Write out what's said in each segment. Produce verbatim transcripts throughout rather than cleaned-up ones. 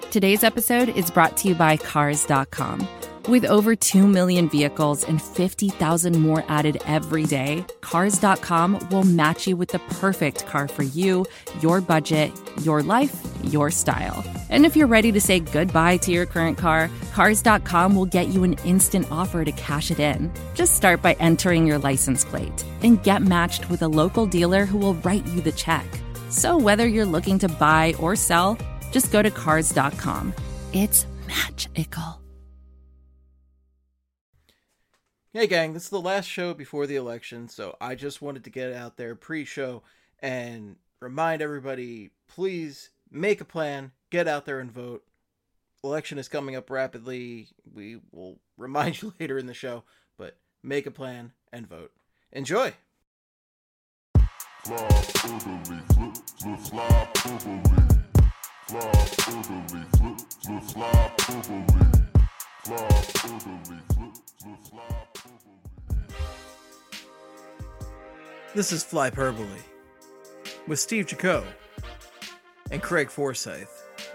Today's episode is brought to you by Cars dot com. With over two million vehicles and fifty thousand more added every day, Cars dot com will match you with the perfect car for you, your budget, your life, your style. And if you're ready to say goodbye to your current car, Cars dot com will get you an instant offer to cash it in. Just start by entering your license plate and get matched with a local dealer who will write you the check. So whether you're looking to buy or sell, just go to Cars dot com. It's magical. Hey gang, this is the last show before the election, so I just wanted to get out there pre-show and remind everybody, please make a plan, get out there and vote. Election is coming up rapidly. We will remind you later in the show, but make a plan and vote. Enjoy! This is Flyperbole with Steve Jaco and Craig Forsyth.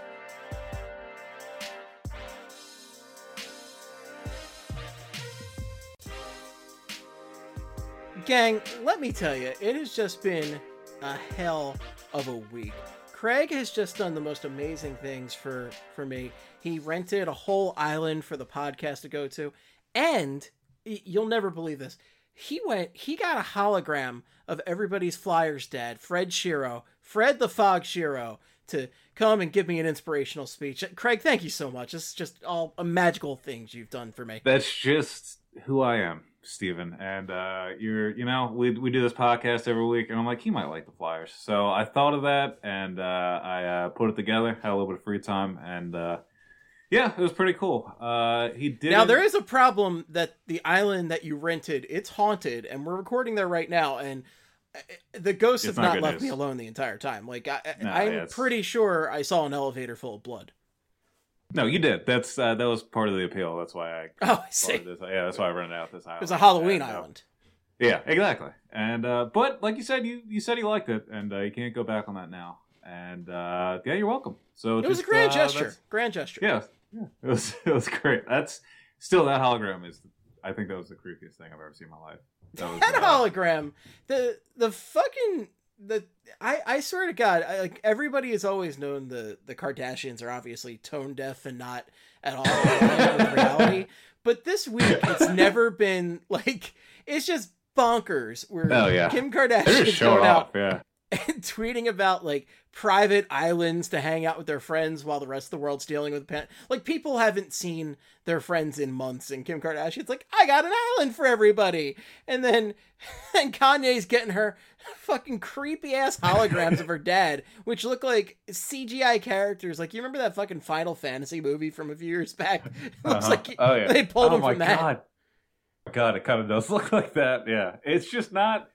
Gang, let me tell you, it has just been a hell of a week. Craig has just done the most amazing things for, for me. He rented a whole island for the podcast to go to, and you'll never believe this. He went, he got a hologram of everybody's Flyers dad, Fred Shero, Fred the Fog Shero, to come and give me an inspirational speech. Craig, thank you so much. It's just all a magical things you've done for me. That's just who I am, Steven. And uh, you're, you know, we we do this podcast every week, and I'm like, he might like the Flyers. So I thought of that, and uh, I uh, put it together, had a little bit of free time, and uh, yeah, it was pretty cool. Uh, he did. Now, there is a problem that the island that you rented, it's haunted, and we're recording there right now, and the ghosts It's have not not left news. me alone the entire time. Like, I, No, I'm yeah, it's- pretty sure I saw an elevator full of blood. No, you did. That's uh, that was part of the appeal. That's why I. Oh, I see. This, yeah, that's why I rented out this island. It was a Halloween And, uh, island. Yeah, exactly. And uh, but like you said, you you said he liked it, and uh, you can't go back on that now. And uh, yeah, you're welcome. So It was a just, grand uh, gesture. that's- Grand gesture. Yeah, yeah, it was it was great. That's still that hologram is. I think that was the creepiest thing I've ever seen in my life. That was, That uh, hologram, the the fucking the I I swear to God, I, like everybody has always known the the Kardashians are obviously tone deaf and not at all aligned with reality. But this week, it's never been like it's just bonkers. Where Oh, yeah. Kim They're Kardashian just is showing going off. out Yeah. and tweeting about like private islands to hang out with their friends while the rest of the world's dealing with pan- like people haven't seen their friends in months, and Kim Kardashian's like, I got an island for everybody, and then and Kanye's getting her fucking creepy ass holograms of her dad, which look like C G I characters. Like, you remember that fucking Final Fantasy movie from a few years back? It looks Uh-huh. like Oh, yeah. they pulled oh him my from that. God. God, it kind of does look like that. Yeah, it's just not.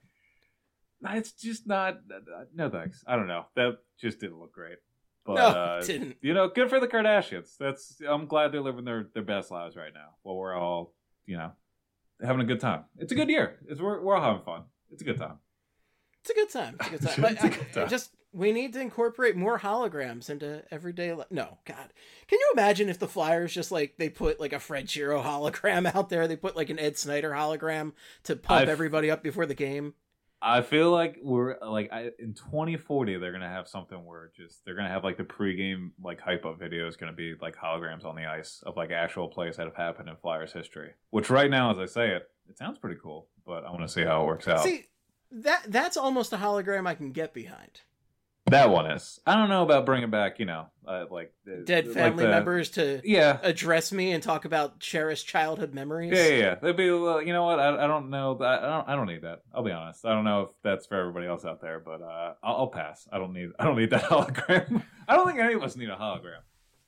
It's just not. No thanks. I don't know. That just didn't look great. But, No, uh, it didn't. You know, good for the Kardashians. That's. I'm glad they're living their, their best lives right now. While we're all, you know, having a good time. It's a good year. It's we're we're all having fun. It's a good time. It's a good time. It's a good time. It's a But good I- time. just we need to incorporate more holograms into everyday life. No, God, can you imagine if the Flyers just like they put like a Fred Shero hologram out there? They put like an Ed Snyder hologram to pump I've- everybody up before the game. I feel like we're like I, in twenty forty they're gonna have something where just they're gonna have like the pregame like hype up video is gonna be like holograms on the ice of like actual plays that have happened in Flyers history. Which right now, as I say it, it sounds pretty cool, but I want to see how it works out. See, that that's almost a hologram I can get behind. That one is. I don't know about bringing back, you know, uh, like uh, Dead like family the- members to Yeah. address me and talk about cherished childhood memories. Yeah, yeah, yeah. They'd be, well, you know what? I, I don't know. I, I don't. I don't need that. I'll be honest. I don't know if that's for everybody else out there, but uh, I'll, I'll pass. I don't need. I don't need that hologram. I don't think any of us need a hologram.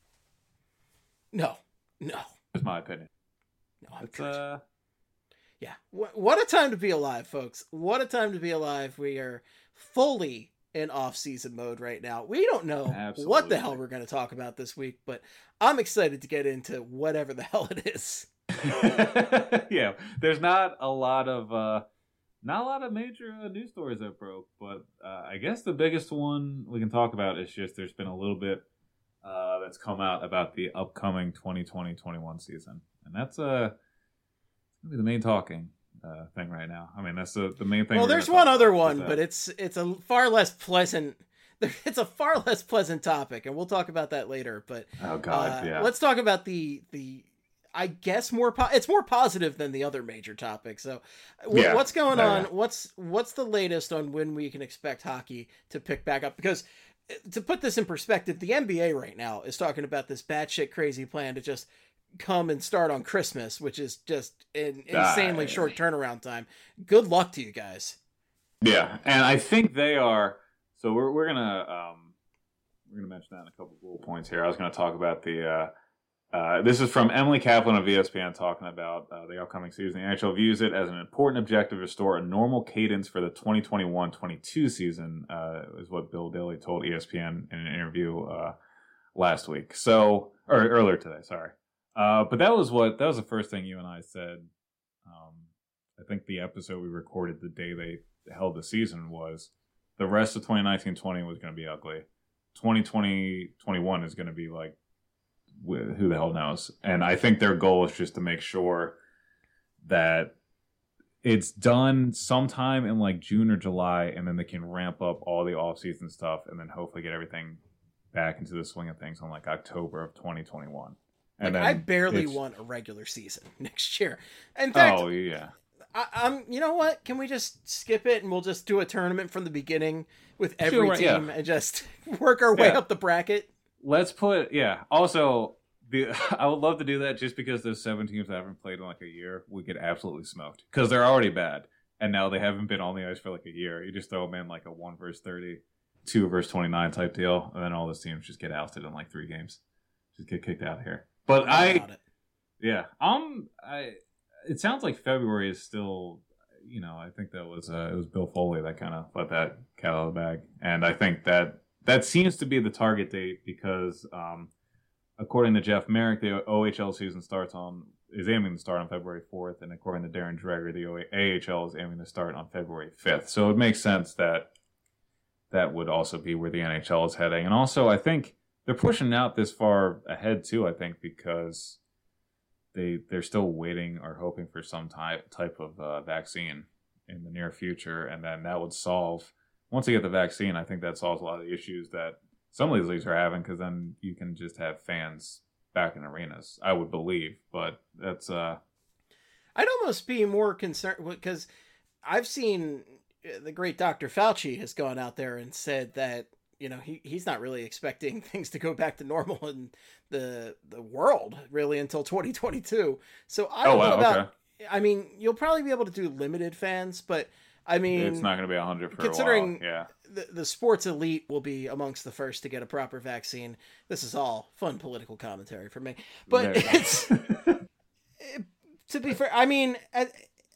No, no, That's my opinion. no. I'm It's good. uh, Yeah. Wh- What a time to be alive, folks. What a time to be alive. We are fully in off-season mode right now. We don't know what the Absolutely. hell we're going to talk about this week, but I'm excited to get into whatever the hell it is. yeah. There's not a lot of uh, not a lot of major uh, news stories that broke, but uh, I guess the biggest one we can talk about is just there's been a little bit uh, that's come out about the upcoming twenty twenty twenty-one season, and that's uh, the main talking uh, thing right now. I mean, that's the the main thing. Well, there's one other one, but it's it's a far less pleasant. It's a far less pleasant topic, and we'll talk about that later. But oh god, uh, yeah. Let's talk about the the. I guess more po- it's more positive than the other major topics. So, w- yeah. what's going yeah, on? Yeah. What's what's the latest on when we can expect hockey to pick back up? Because to put this in perspective, the N B A right now is talking about this batshit crazy plan to just come and start on Christmas, which is just an insanely uh, short turnaround time. Good luck to you guys. Yeah, and I think they are. So we're we're gonna um, we're gonna mention that in a couple of little points here. I was gonna talk about the. Uh, Uh, this is from Emily Kaplan of E S P N talking about uh, the upcoming season. The N H L views it as an important objective to restore a normal cadence for the twenty twenty-one twenty-two season, uh, is what Bill Daly told E S P N in an interview uh, last week. So, or earlier today, sorry. Uh, but that was what that was the first thing you and I said. Um, I think the episode we recorded the day they held the season was the rest of twenty nineteen twenty was going to be ugly. twenty twenty twenty-one is going to be like, who the hell knows? And I think their goal is just to make sure that it's done sometime in like June or July, and then they can ramp up all the off-season stuff, and then hopefully get everything back into the swing of things on like October of twenty twenty-one. And like, then I barely it's... want a regular season next year. In fact, oh yeah, I, I'm. You know what? Can we just skip it and we'll just do a tournament from the beginning with every sure, team yeah. and just work our way Yeah. up the bracket? Let's put, yeah. Also, the, I would love to do that just because those seven teams that haven't played in like a year, we get absolutely smoked. Because they're already bad. And now they haven't been on the ice for like a year. You just throw them in like a one versus thirty, two versus twenty-nine type deal. And then all those teams just get ousted in like three games. Just get kicked out of here. But I, About it. yeah. Um, I, it sounds like February is still, you know, I think that was, uh, it was Bill Foley that kind of let that cat out of the bag. And I think that, That seems to be the target date because, um, according to Jeff Merrick, the O H L season starts on is aiming to start on February fourth, and according to Darren Dreger, the A H L is aiming to start on February fifth. So it makes sense that that would also be where the N H L is heading. And also, I think they're pushing out this far ahead too. I think because they they're still waiting or hoping for some type type of uh, vaccine in the near future, and then that would solve. Once you get the vaccine, I think that solves a lot of the issues that some of these leagues are having, because then you can just have fans back in arenas, I would believe. But that's... uh I'd almost be more concerned, because I've seen the great Doctor Fauci has gone out there and said that, you know, he, he's not really expecting things to go back to normal in the the world, really, until twenty twenty-two. So I don't oh, wow, know about... Okay. I mean, you'll probably be able to do limited fans, but... I mean, it's not going to be one hundred for considering a while. Yeah. the, the sports elite will be amongst the first to get a proper vaccine. This is all fun political commentary for me. But Yeah. it's, it, to be fair, I mean, at,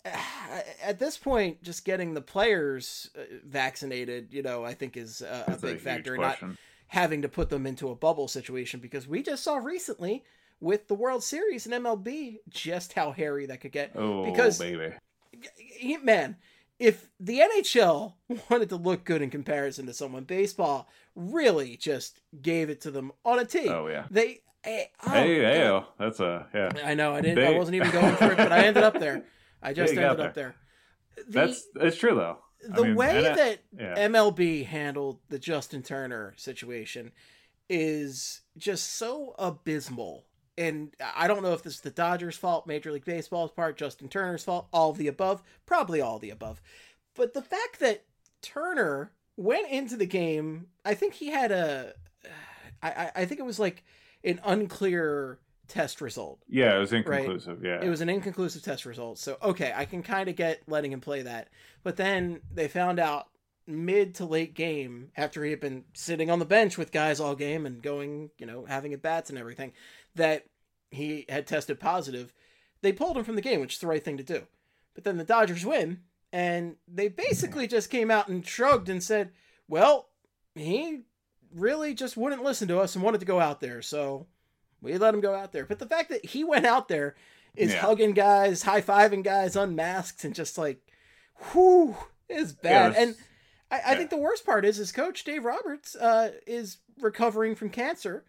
at this point, just getting the players vaccinated, you know, I think is a, a big a factor. Not having to put them into a bubble situation, because we just saw recently with the World Series and M L B just how hairy that could get. Oh, because, baby. Man, if the N H L wanted to look good in comparison to someone, baseball really just gave it to them on a tee. Oh, yeah. They, hey, oh, hey, hey, oh, that's a, yeah. I know, I didn't, They... I wasn't even going for it, but I ended up there. I just yeah, ended there. up there. The, that's, it's true, though. The I mean, way that, that yeah. M L B handled the Justin Turner situation is just so abysmal. And I don't know if this is the Dodgers' fault, Major League Baseball's part, Justin Turner's fault, all of the above, probably all of the above. But the fact that Turner went into the game, I think he had a, I, I think it was like an unclear test result. Yeah, it was inconclusive, right? yeah. It was an inconclusive test result. So, okay, I can kind of get letting him play that. But then they found out mid to late game, after he had been sitting on the bench with guys all game and going, you know, having at bats and everything, that he had tested positive. They pulled him from the game, which is the right thing to do. But then the Dodgers win, and they basically just came out and shrugged and said, well, he really just wouldn't listen to us and wanted to go out there, so we let him go out there. But the fact that he went out there is yeah. hugging guys, high-fiving guys unmasked, and just like, whew, is bad. Yeah, and I, I yeah. think the worst part is his coach, Dave Roberts, uh, is recovering from cancer.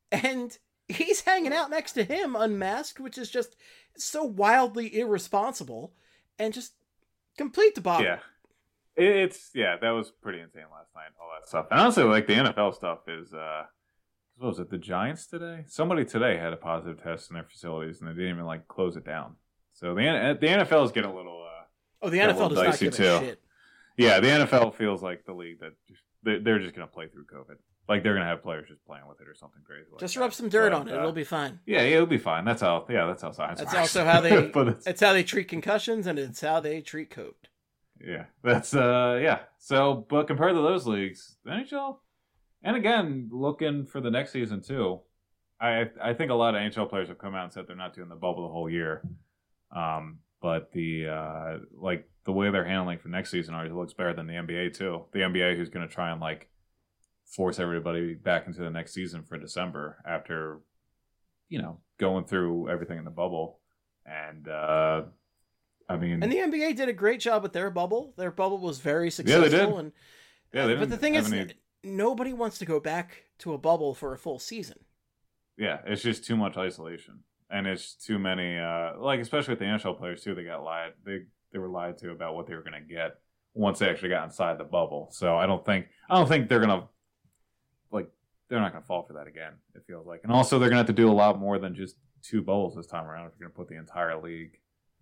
and he's hanging out next to him unmasked, which is just so wildly irresponsible and just complete debacle. Yeah. It's, yeah, that was pretty insane last night, all that stuff. And honestly, like, the N F L stuff is, uh, what was it, the Giants today? Somebody today had a positive test in their facilities, and they didn't even, like, close it down. So the the N F L is getting a little, uh, oh, the N F L does not give a shit. Yeah, the N F L feels like the league that just, they're just going to play through COVID. Like, they're going to have players just playing with it or something crazy like Just that. rub some dirt but, on it. uh, It'll be fine. Yeah, it'll be fine. That's how, yeah, that's how science That's works. also how they, but it's, it's how they treat concussions, and it's how they treat COVID. Yeah, that's, uh, yeah. So, but compared to those leagues, the N H L, and again, looking for the next season too, I I think a lot of N H L players have come out and said they're not doing the bubble the whole year. Um, but the, uh, like, the way they're handling for next season already looks better than the N B A too. The N B A who's going to try and, like, force everybody back into the next season for December after, you know, going through everything in the bubble. And, uh, I mean... And the N B A did a great job with their bubble. Their bubble was very successful. Yeah, they did. And, yeah, they uh, but the thing is, any... nobody wants to go back to a bubble for a full season. Yeah, it's just too much isolation. And it's too many, uh, like, especially with the N H L players, too, they got lied. They, they were lied to about what they were going to get once they actually got inside the bubble. So I don't think, I don't think they're going to, like, they're not going to fall for that again, it feels like. And also, they're going to have to do a lot more than just two bubbles this time around if you're going to put the entire league,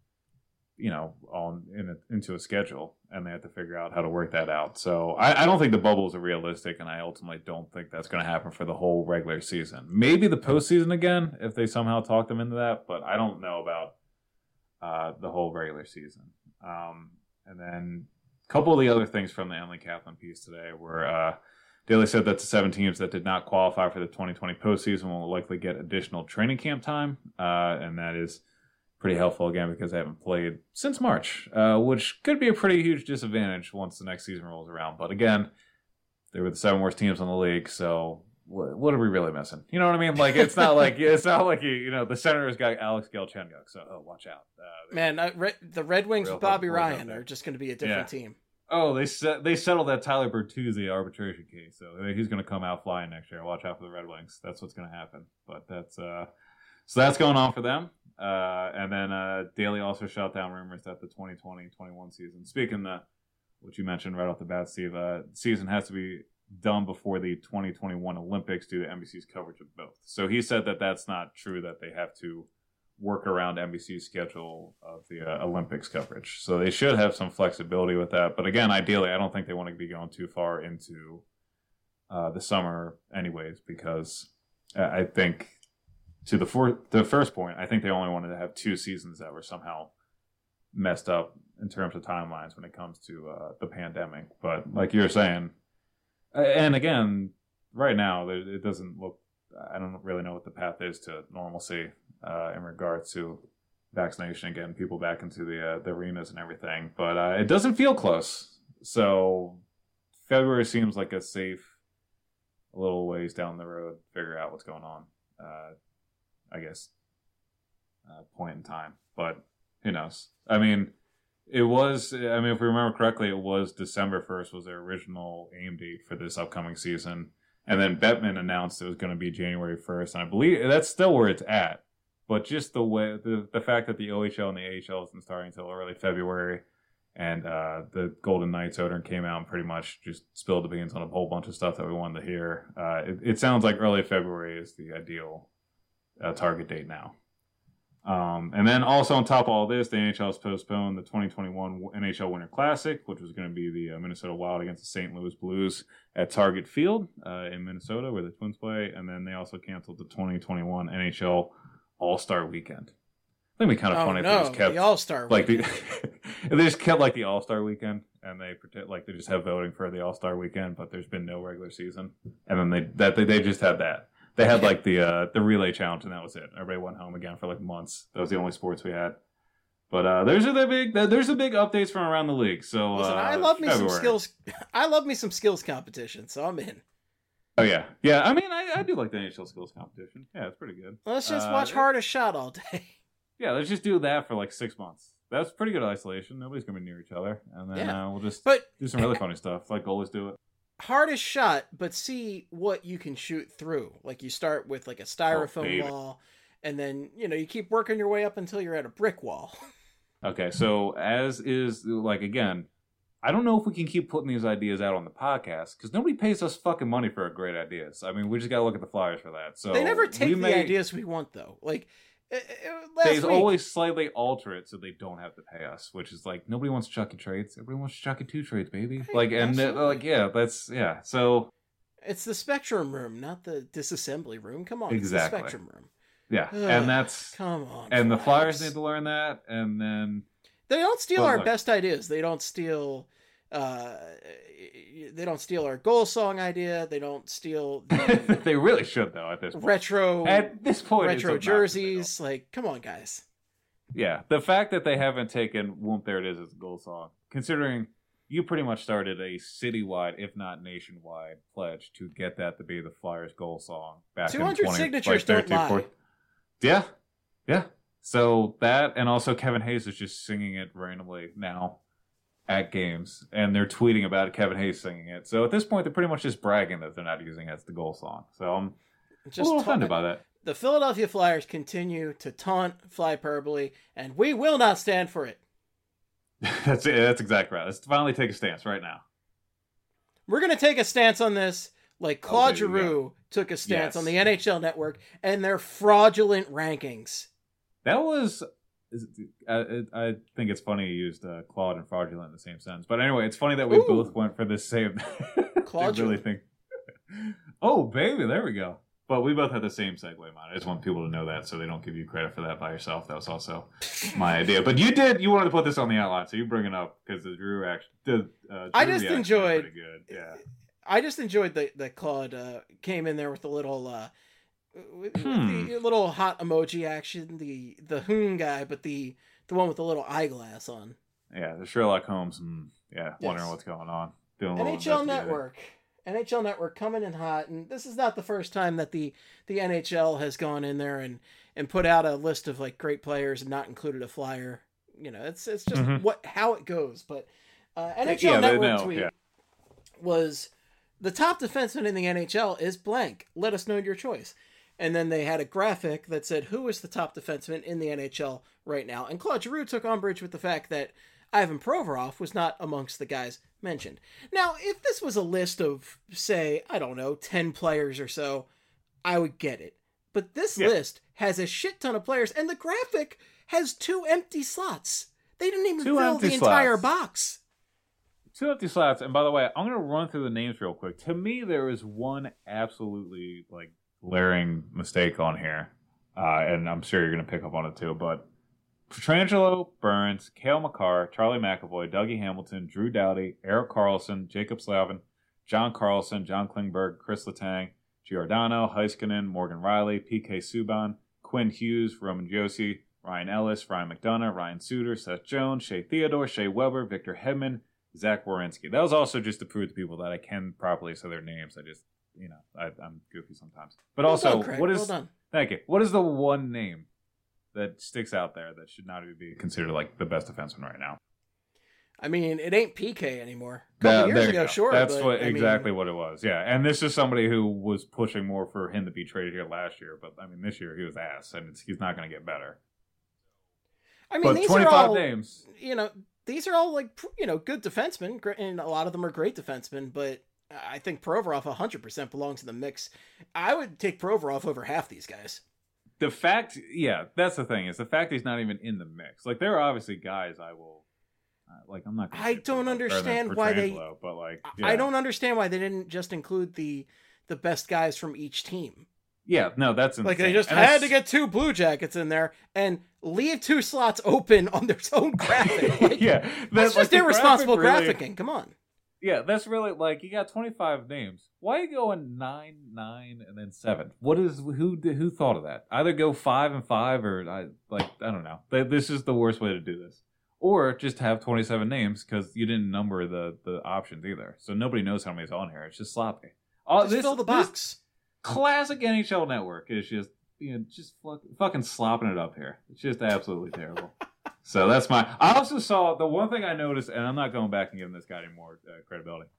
you know, on in a, into a schedule, and they have to figure out how to work that out. So I, I don't think the bubbles are realistic, and I ultimately don't think that's going to happen for the whole regular season. Maybe the postseason again, if they somehow talk them into that, but I don't know about uh, the whole regular season. Um, and then a couple of the other things from the Emily Kaplan piece today were... Uh, Daly said that the seven teams that did not qualify for the twenty twenty postseason will likely get additional training camp time, uh, and that is pretty helpful, again, because they haven't played since March, uh, which could be a pretty huge disadvantage once the next season rolls around. But again, they were the seven worst teams in the league, so what, what are we really missing? You know what I mean? Like, it's not like it's not like you, you know, the Senators got Alex Galchenyuk, so oh, watch out. Uh, Man, I, Re- the Red Wings with Bobby Ryan are just going to be a different yeah. team. Oh, they set, they settled that Tyler Bertuzzi arbitration case, so he's going to come out flying next year. Watch out for the Red Wings. That's what's going to happen. But that's uh, so that's going on for them. Uh, and then uh, Daly also shot down rumors that the twenty twenty twenty-one season, speaking the what you mentioned right off the bat, Steve, uh, season has to be done before the twenty twenty-one Olympics due to N B C's coverage of both. So he said that that's not true, that they have to work around N B C's schedule of the uh, Olympics coverage. So they should have some flexibility with that. But again, ideally, I don't think they want to be going too far into uh, the summer anyways, because I think to the, for- the first point, I think they only wanted to have two seasons that were somehow messed up in terms of timelines when it comes to uh, the pandemic. But like you were saying, and again, right now, it doesn't look, I don't really know what the path is to normalcy uh, in regards to vaccination, getting people back into the, uh, the arenas and everything. But uh, it doesn't feel close. So February seems like a safe, a little ways down the road, figure out what's going on, uh, I guess, uh, point in time. But who knows? I mean, it was, I mean, if we remember correctly, it was December first was their original aim date for this upcoming season. And then Bettman announced it was going to be January first. And I believe that's still where it's at. But just the way, the, the fact that the O H L and the A H L isn't starting until early February, and uh, the Golden Knights owner came out and pretty much just spilled the beans on a whole bunch of stuff that we wanted to hear. Uh, it, it sounds like early February is the ideal uh, target date now. Um, and then also on top of all this, the N H L has postponed the twenty twenty-one N H L Winter Classic, which was going to be the uh, Minnesota Wild against the Saint Louis Blues at Target Field uh, in Minnesota, where the Twins play. And then they also canceled the twenty twenty-one N H L All-Star Weekend. I think it'd be kind of oh, funny no, if they just kept the All-Star like Weekend. the if they just kept like the All-Star Weekend, and they pretend like they just have voting for the All-Star Weekend, but there's been no regular season, and then they that they, they just had that. They had like the uh, the relay challenge, and that was it. Everybody went home again for like months. That was the only sports we had. But uh, there's the big there's the big updates from around the league. So Listen, uh, I love me February. some skills. I love me some skills competition, so I'm in. Oh yeah, yeah. I mean, I, I do like the N H L skills competition. Yeah, it's pretty good. Let's just uh, watch Hardest Shot all day. Yeah, let's just do that for like six months. That's pretty good isolation. Nobody's gonna be near each other, and then Yeah. uh, we'll just But do some really funny stuff, like goalies do it. hardest shot, but see what you can shoot through. Like you start with like a styrofoam oh, wall, and then you know you keep working your way up until you're at a brick wall. Okay, so as is like again, I don't know if we can keep putting these ideas out on the podcast because nobody pays us fucking money for great ideas. I mean, we just gotta look at the flyers for that. So they never take the may... ideas we want though. Like uh, they week, always slightly alter it so they don't have to pay us, which is like nobody wants Chucky trades. Everybody wants Chucky two trades, baby. Right, like and uh, like yeah, that's yeah. So it's the Spectrum room, not the disassembly room. Come on, exactly. It's the Spectrum room. Yeah, Ugh, and that's come on. And Flags. the Flyers need to learn that, and then they don't steal but our look, best ideas. They don't steal. Uh, they don't steal our goal song idea. They don't steal. The they really should though. At this point. retro at this point, retro jerseys. Like, come on, guys. Yeah, the fact that they haven't taken "Whoop There It Is" as a goal song, considering you pretty much started a citywide, if not nationwide, pledge to get that to be the Flyers' goal song back in twenty. two hundred signatures like, don't lie. forty Yeah, yeah. So that, and also Kevin Hayes is just singing it randomly now at games, and they're tweeting about Kevin Hayes singing it. So at this point, they're pretty much just bragging that they're not using it as the goal song. So I'm just a little offended by that. The Philadelphia Flyers continue to taunt Flyperbole, and we will not stand for it. that's it. That's exactly right. Let's finally take a stance right now. We're going to take a stance on this like Claude oh, Giroux took a stance yes. on the N H L Network and their fraudulent rankings. That was... I, I think it's funny you used uh, Claude and fraudulent in the same sentence. But anyway, it's funny that we Ooh. both went for the same... Claude really think... Oh, baby, there we go. But we both had the same segue, man. I just want people to know that so they don't give you credit for that by yourself. That was also my idea. But you did, you wanted to put this on the outline, so you bring it up because the Drew reaction... The, uh, Drew I just enjoyed... Pretty good. Yeah. I just enjoyed that that Claude uh, came in there with the little... Uh, with, hmm. with the little hot emoji action, the the hmm guy, but the the one with the little eyeglass on. Yeah, the Sherlock Holmes. Mm, yeah, yes. Wondering what's going on. Doing N H L Network. N H L Network coming in hot, and this is not the first time that the, the N H L has gone in there and, and put out a list of like great players and not included a flyer. You know, it's it's just mm-hmm. what how it goes. But uh, N H L yeah, Network tweet yeah. was the top defenseman in the N H L is blank. Let us know your choice. And then they had a graphic that said who is the top defenseman in the N H L right now. And Claude Giroux took umbrage with the fact that Ivan Provorov was not amongst the guys mentioned. Now, if this was a list of, say, I don't know, ten players or so, I would get it. But this yeah. list has a shit ton of players, and the graphic has two empty slots. They didn't even two fill the slots. entire box. Two empty slots. And by the way, I'm going to run through the names real quick. To me, there is one absolutely, like, glaring mistake on here. Uh, and I'm sure you're going to pick up on it too, but Pietrangelo, Burns, Cale Makar, Charlie McAvoy, Dougie Hamilton, Drew Doughty, Erik Karlsson, Jacob Slavin, John Carlson, John Klingberg, Chris Letang, Giordano, Heiskanen, Morgan Riley, P K Subban, Quinn Hughes, Roman Josi, Ryan Ellis, Ryan McDonough, Ryan Suter, Seth Jones, Shea Theodore, Shea Weber, Victor Hedman, Zach Werenski. That was also just to prove to people that I can properly say their names. I just, you know, I, I'm goofy sometimes. But well also, done, Craig. what is... Well done. Thank you. What is the one name that sticks out there that should not be considered like the best defenseman right now? I mean, it ain't P K anymore. A couple that, years ago, sure. That's but, what, I exactly mean... what it was. Yeah, and this is somebody who was pushing more for him to be traded here last year. But I mean, this year he was ass, and it's, he's not going to get better. I mean, but these twenty-five are all, names. You know, these are all like you know good defensemen, and a lot of them are great defensemen. But I think Provorov one hundred percent belongs in the mix. I would take Provorov over half these guys. The fact, yeah, that's the thing, is the fact he's not even in the mix. Like, there are obviously guys I will, uh, like, I'm not gonna I don't understand why they, but like, yeah. I don't understand why they didn't just include the the best guys from each team. Yeah, no, that's insane. Like, they just and had to get two Blue Jackets in there and leave two slots open on their own graphic. Like, yeah. That, that's just like, irresponsible graphic really... graphicking. Come on. Yeah, that's really, like, you got twenty-five names. Why are you going nine, nine, and then seven? What is, who who thought of that? Either go five and five, or, I like, I don't know. This is the worst way to do this. Or just have twenty-seven names, because you didn't number the, the options either. So nobody knows how many's on here. It's just sloppy. Oh, just this, fill the box. Classic N H L Network is just, you know, just fucking slopping it up here. It's just absolutely terrible. So that's my... I also saw... The one thing I noticed, and I'm not going back and giving this guy any more uh, credibility.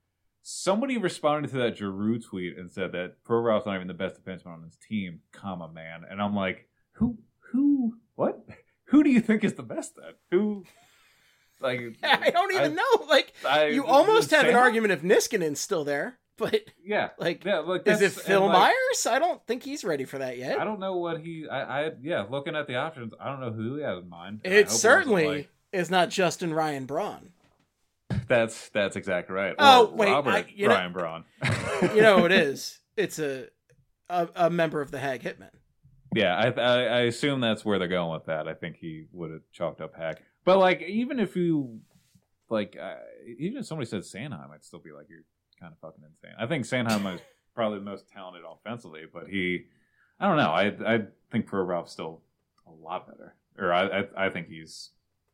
Somebody responded to that Giroux tweet and said that Provorov's not even the best defenseman on his team, comma, man. And I'm like, who, who, what? Who do you think is the best then? Who, like... I don't even I, know. Like, I, you almost have an argument if Niskanen's still there, but... Yeah. Like, yeah, like is it Phil like, Myers? I don't think he's ready for that yet. I don't know what he... I, I Yeah, looking at the options, I don't know who he has in mind. It certainly it like, is not Justin Ryan Braun. That's that's exactly right. Or oh wait, Robert I, you Brian know, Braun. You know who it is? It's a, a a member of the Hag Hitmen. Yeah, I, I I assume that's where they're going with that. I think he would have chalked up Hag. But like, even if you like, uh, even if somebody said Sanheim, I'd still be like, you're kind of fucking insane. I think Sanheim is probably the most talented offensively, but he, I don't know. I I think Provorov's still a lot better, or I I, I think he's.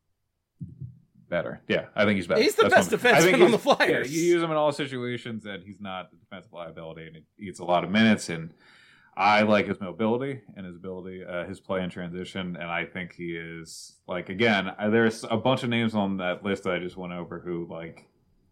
Better. Yeah, I think he's better. He's the That's best defenseman on the Flyers. Yeah, you use him in all situations, and he's not a defensive liability, and he eats a lot of minutes, and I like his mobility and his ability, uh, his play in transition, and I think he is, like, again, I, there's a bunch of names on that list that I just went over who, like,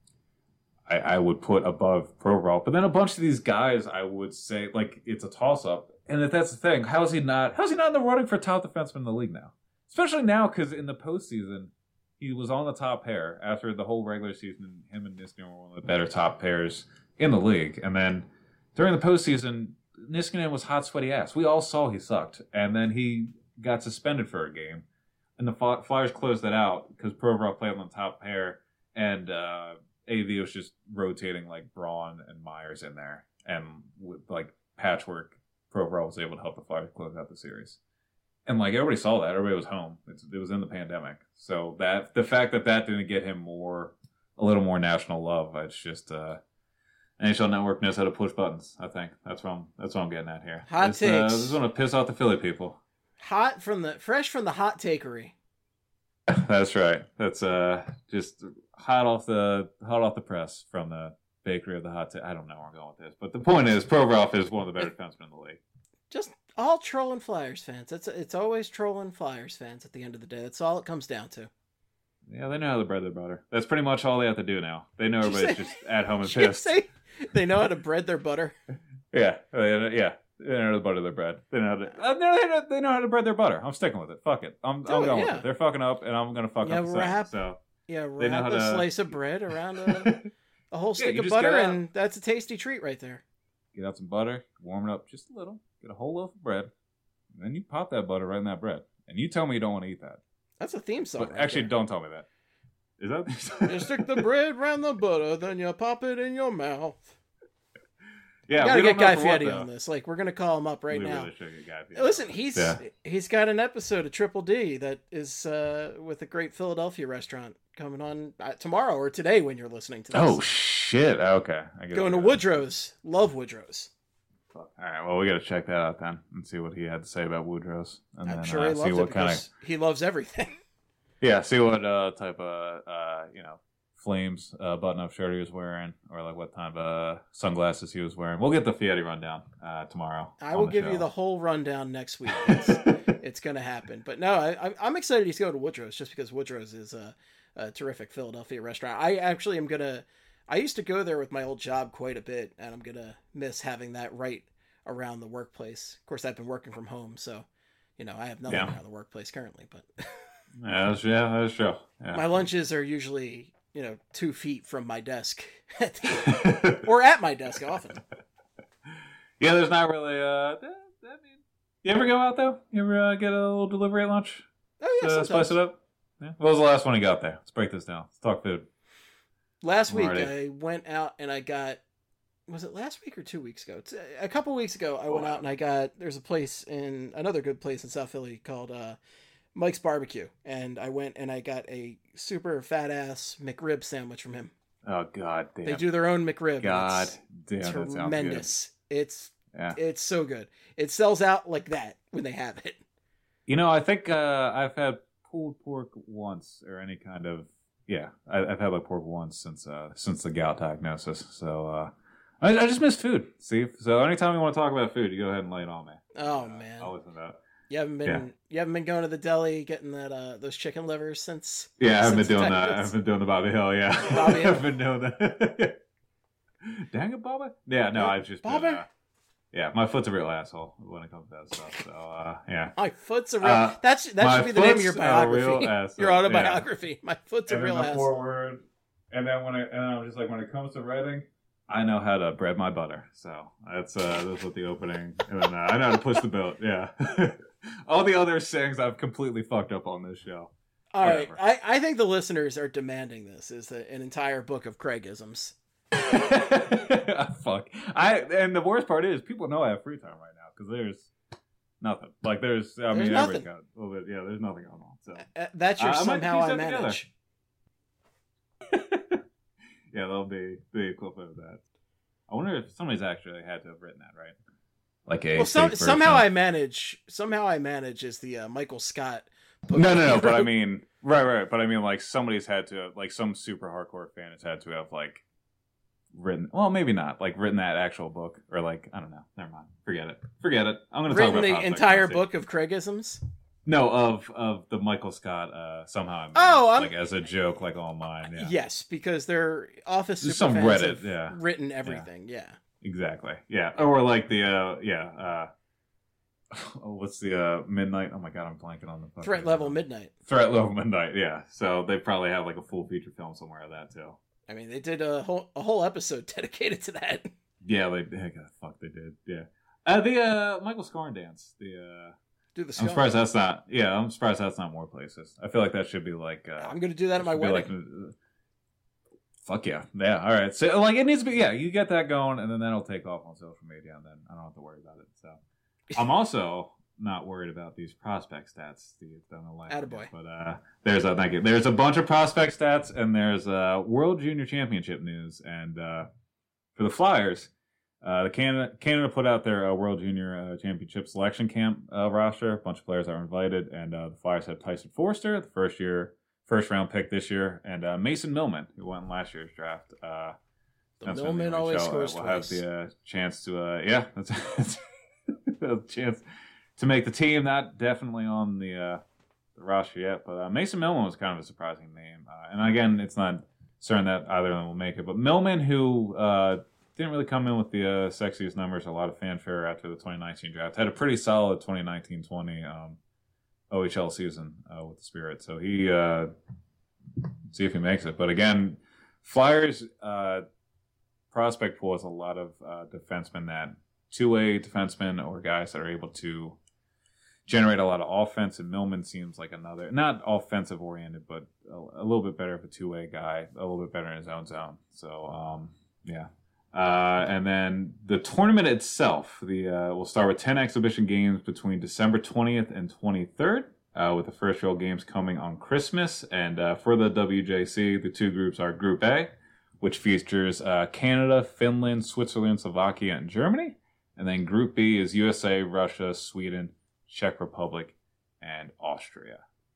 I, I would put above Provorov, but then a bunch of these guys I would say, like, it's a toss-up, and if that's the thing, how is he not, how is he not in the running for top defenseman in the league now? Especially now, because in the postseason, he was on the top pair after the whole regular season. Him and Niskanen were one of the better top pairs in the league. And then during the postseason, Niskanen was hot, sweaty ass. We all saw he sucked. And then he got suspended for a game. And the Flyers closed that out because Provorov played on the top pair. And uh, A V was just rotating like Braun and Myers in there. And with like patchwork, Provorov was able to help the Flyers close out the series. And like everybody saw that, everybody was home. It's, it was in the pandemic, so that the fact that that didn't get him more, a little more national love, it's just uh, N H L Network knows how to push buttons. I think that's what I'm that's what I'm getting at here. Hot this, takes. Uh, this is going to piss off the Philly people. Hot from the fresh from the hot takery. That's right. That's uh just hot off the hot off the press from the bakery of the hot. Ta- I don't know where I'm going with this, but the point is, Provorov is one of the better defensemen in the league. Just all trolling Flyers fans. It's it's always trolling Flyers fans at the end of the day. That's all it comes down to. Yeah, they know how to bread their butter. That's pretty much all they have to do now. They know everybody's say, just at home and did you pissed. say they know how to bread their butter. Yeah, they, yeah, they know how to butter their bread. They know how to. Uh, they, know, they know how to bread their butter. I'm sticking with it. Fuck it. I'm Do I'm it, going yeah. with it. They're fucking up, and I'm gonna fuck yeah, up the wrap, same. So yeah, they know wrap how a to... slice of bread around a, a whole stick yeah, of butter, and that's a tasty treat right there. Get out some butter, warm it up just a little. Get a whole loaf of bread, and then you pop that butter right in that bread. And you tell me you don't want to eat that. That's a theme song. But right actually, there. don't tell me that. Is that? You stick the bread around the butter, then you pop it in your mouth. Yeah, we gotta we get Guy Fieri what, on this. Like, we're gonna call him up right we now. Really should get Guy Fieri. Listen, he's yeah. he's got an episode of Triple D that is uh, with a great Philadelphia restaurant coming on uh, tomorrow or today when you're listening to this. Oh shit! Okay, I get going to Woodrow's. Love Woodrow's. All right, well, we got to check that out then and see what he had to say about Woodrow's, and I'm then sure uh, he see loves what it kind because of he loves everything. yeah, see what uh, type of uh, you know Flames uh, button-up shirt he was wearing, or like what type of uh, sunglasses he was wearing. We'll get the Fieri rundown uh, tomorrow. I will give show. you the whole rundown next week. It's, it's going to happen. But no, I, I'm excited he's going to Woodrow's just because Woodrow's is a, a terrific Philadelphia restaurant. I actually am going to. I used to go there with my old job quite a bit, and I'm going to miss having that right around the workplace. Of course, I've been working from home, so you know I have nothing yeah. around the workplace currently. But yeah, that's, yeah, that's true. Yeah. My lunches are usually you know two feet from my desk, at the, or at my desk often. Yeah, there's not really. Uh, that, that mean, you ever go out though? You ever uh, get a little delivery at lunch? Oh yeah, uh, spice it up. Yeah. What was the last one you got there? Let's break this down. Let's talk food. Last week Already. I went out and I got. Was it last week or two weeks ago? It's a couple weeks ago, I went out and I got. There's a place in another good place in South Philly called uh, Mike's Barbecue, and I went and I got a super fat ass McRib sandwich from him. Oh God damn! They do their own McRib. God it's, damn! it's That sounds tremendous. good. It's yeah. It's so good. It sells out like that when they have it. You know, I think uh, I've had pulled pork once, or any kind of yeah. I, I've had like pork once since uh, since the gout diagnosis. So uh, I, I just miss food. See, so anytime you want to talk about food, you go ahead and lay it on me. Oh uh, man, I'll listen to that. You haven't been yeah. you haven't been going to the deli getting that uh, those chicken livers since. Yeah, I've been since doing that. I've been doing the Bobby Hill. Yeah, Bobby Hill. I've been doing that. dang it, Bubba. Yeah, no, I've just been, Bubba. uh, yeah, my foot's a real asshole when it comes to that stuff. So uh, yeah, my foot's a real. Uh, That's that my should be the name of your foot's a real biography, asshole, your autobiography. Yeah. My foot's and a real then the asshole. forward, and then when I and I'm just like when it comes to writing, I know how to bread my butter. So that's uh, that's what the opening, and then uh, I know how to push the boat. Yeah, all the other sayings I've completely fucked up on this show. All Whatever. right, I, I think the listeners are demanding this is a, an entire book of Craigisms. Fuck. I and the worst part is people know I have free time right now because there's nothing. Like there's, I there's mean, nothing. Got a little bit, yeah, there's nothing going on. So uh, that's your uh, somehow I, I manage. yeah, that'll be the equivalent of that. I wonder if somebody's actually had to have written that, right? Like a well, some, somehow I manage. Somehow I manage is the uh, Michael Scott. Book no, no, no. But I mean, right, right. But I mean, like somebody's had to, like some super hardcore fan has had to have like. Written, well, maybe not like written that actual book, or like I don't know. Never mind. Forget it. Forget it. I'm going to talk about the entire book of Craigisms. No, of of the Michael Scott. Uh, somehow. I mean, oh, I'm... like as a joke, like all mine. Yeah. Yes, because their office super some fans Reddit, have yeah, written everything. Yeah. yeah. Exactly. Yeah. Or like the uh, yeah. Uh, oh, what's the uh, midnight? Oh my god, I'm blanking on the Threat Level Midnight. Threat Level Midnight. Yeah. So they probably have like a full feature film somewhere of that too. I mean, they did a whole a whole episode dedicated to that. Yeah, they heck, fuck they did. Yeah, uh, the uh, Michael Scarn dance. The uh, do the. I'm surprised that's not. Yeah, I'm surprised that's not more places. I feel like that should be like. Uh, I'm gonna do that at my wedding. Like, uh, fuck yeah, yeah. All right, so like it needs to be. Yeah, you get that going, and then that'll take off on social media, and then I don't have to worry about it. So I'm also not worried about these prospect stats. Steve, down the line. Attaboy. But uh, there's a thank you. There's a bunch of prospect stats, and there's uh, World Junior Championship news. And uh, for the Flyers, uh, the Canada Canada put out their uh, World Junior uh, Championship selection camp uh, roster. A bunch of players are invited, and uh, the Flyers have Tyson Forster, the first year, first round pick this year, and uh, Mason Millman, who won last year's draft. Uh, the Millman always scores We'll twice. have the uh, chance to, uh, yeah, that's a chance. To make the team, not definitely on the uh, the roster yet, but uh, Mason Millman was kind of a surprising name. Uh, and again, it's not certain that either of them will make it. But Millman, who uh, didn't really come in with the uh, sexiest numbers, a lot of fanfare after the twenty nineteen draft, had a pretty solid twenty nineteen twenty um, O H L season uh, with the Spirit. So he, uh, see if he makes it. But again, Flyers uh, prospect pool has a lot of uh, defensemen that two-way defensemen or guys that are able to generate a lot of offense, and Millman seems like another, not offensive oriented, but a, a little bit better of a two-way guy, a little bit better in his own zone. So, um, yeah. Uh, and then the tournament itself, the uh, we'll start with ten exhibition games between December twentieth and twenty-third, uh, with the first real games coming on Christmas. And uh, for the W J C, the two groups are Group A, which features uh, Canada, Finland, Switzerland, Slovakia, and Germany. And then Group B is U S A, Russia, Sweden, Czech Republic, and Austria.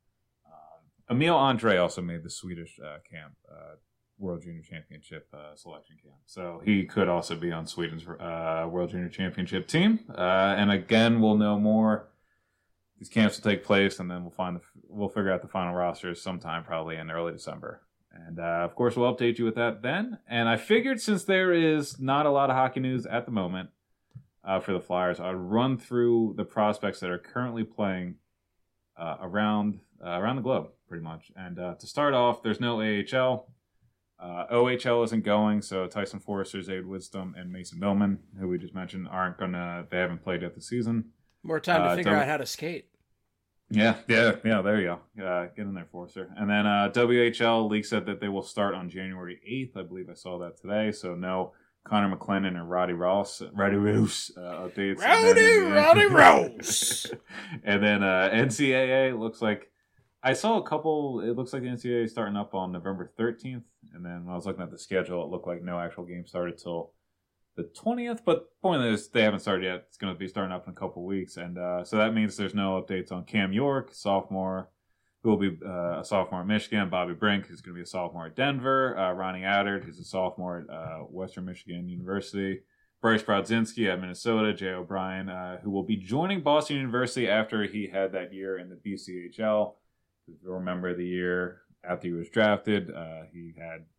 Um, Emil Andre also made the Swedish uh, camp, uh, World Junior Championship uh, selection camp. So he could also be on Sweden's uh, World Junior Championship team. Uh, and again, we'll know more. These camps will take place, and then we'll find the, we'll figure out the final rosters sometime probably in early December. And uh, of course, we'll update you with that then. And I figured since there is not a lot of hockey news at the moment, Uh, for the Flyers, I'd run through the prospects that are currently playing uh, around uh, around the globe, pretty much. And uh, to start off, there's no A H L. Uh, O H L isn't going, so Tyson Forster, Zayd Wisdom, and Mason Millman, who we just mentioned, aren't gonna. They haven't played yet this season. More time to uh, figure w- out how to skate. Yeah, yeah, yeah. There you go. Uh, get in there, Forster. And then uh, W H L league said that they will start on January eighth. I believe I saw that today. So no Connor McLennan and Roddy Ross, Roddy Roos uh, updates. Rowdy, Roddy Roos. And then uh, N C A A looks like I saw a couple. It looks like the N C A A is starting up on November thirteenth. And then when I was looking at the schedule, it looked like no actual game started till the twentieth. But the point is, they haven't started yet. It's going to be starting up in a couple weeks, and uh, so that means there's no updates on Cam York, sophomore, who will be uh, a sophomore at Michigan, Bobby Brink, who's going to be a sophomore at Denver, uh, Ronnie Attard, who's a sophomore at uh, Western Michigan University, Bryce Brodzinski at Minnesota, Jay O'Brien, uh, who will be joining Boston University after he had that year in the B C H L. If you remember the year after he was drafted, uh, he had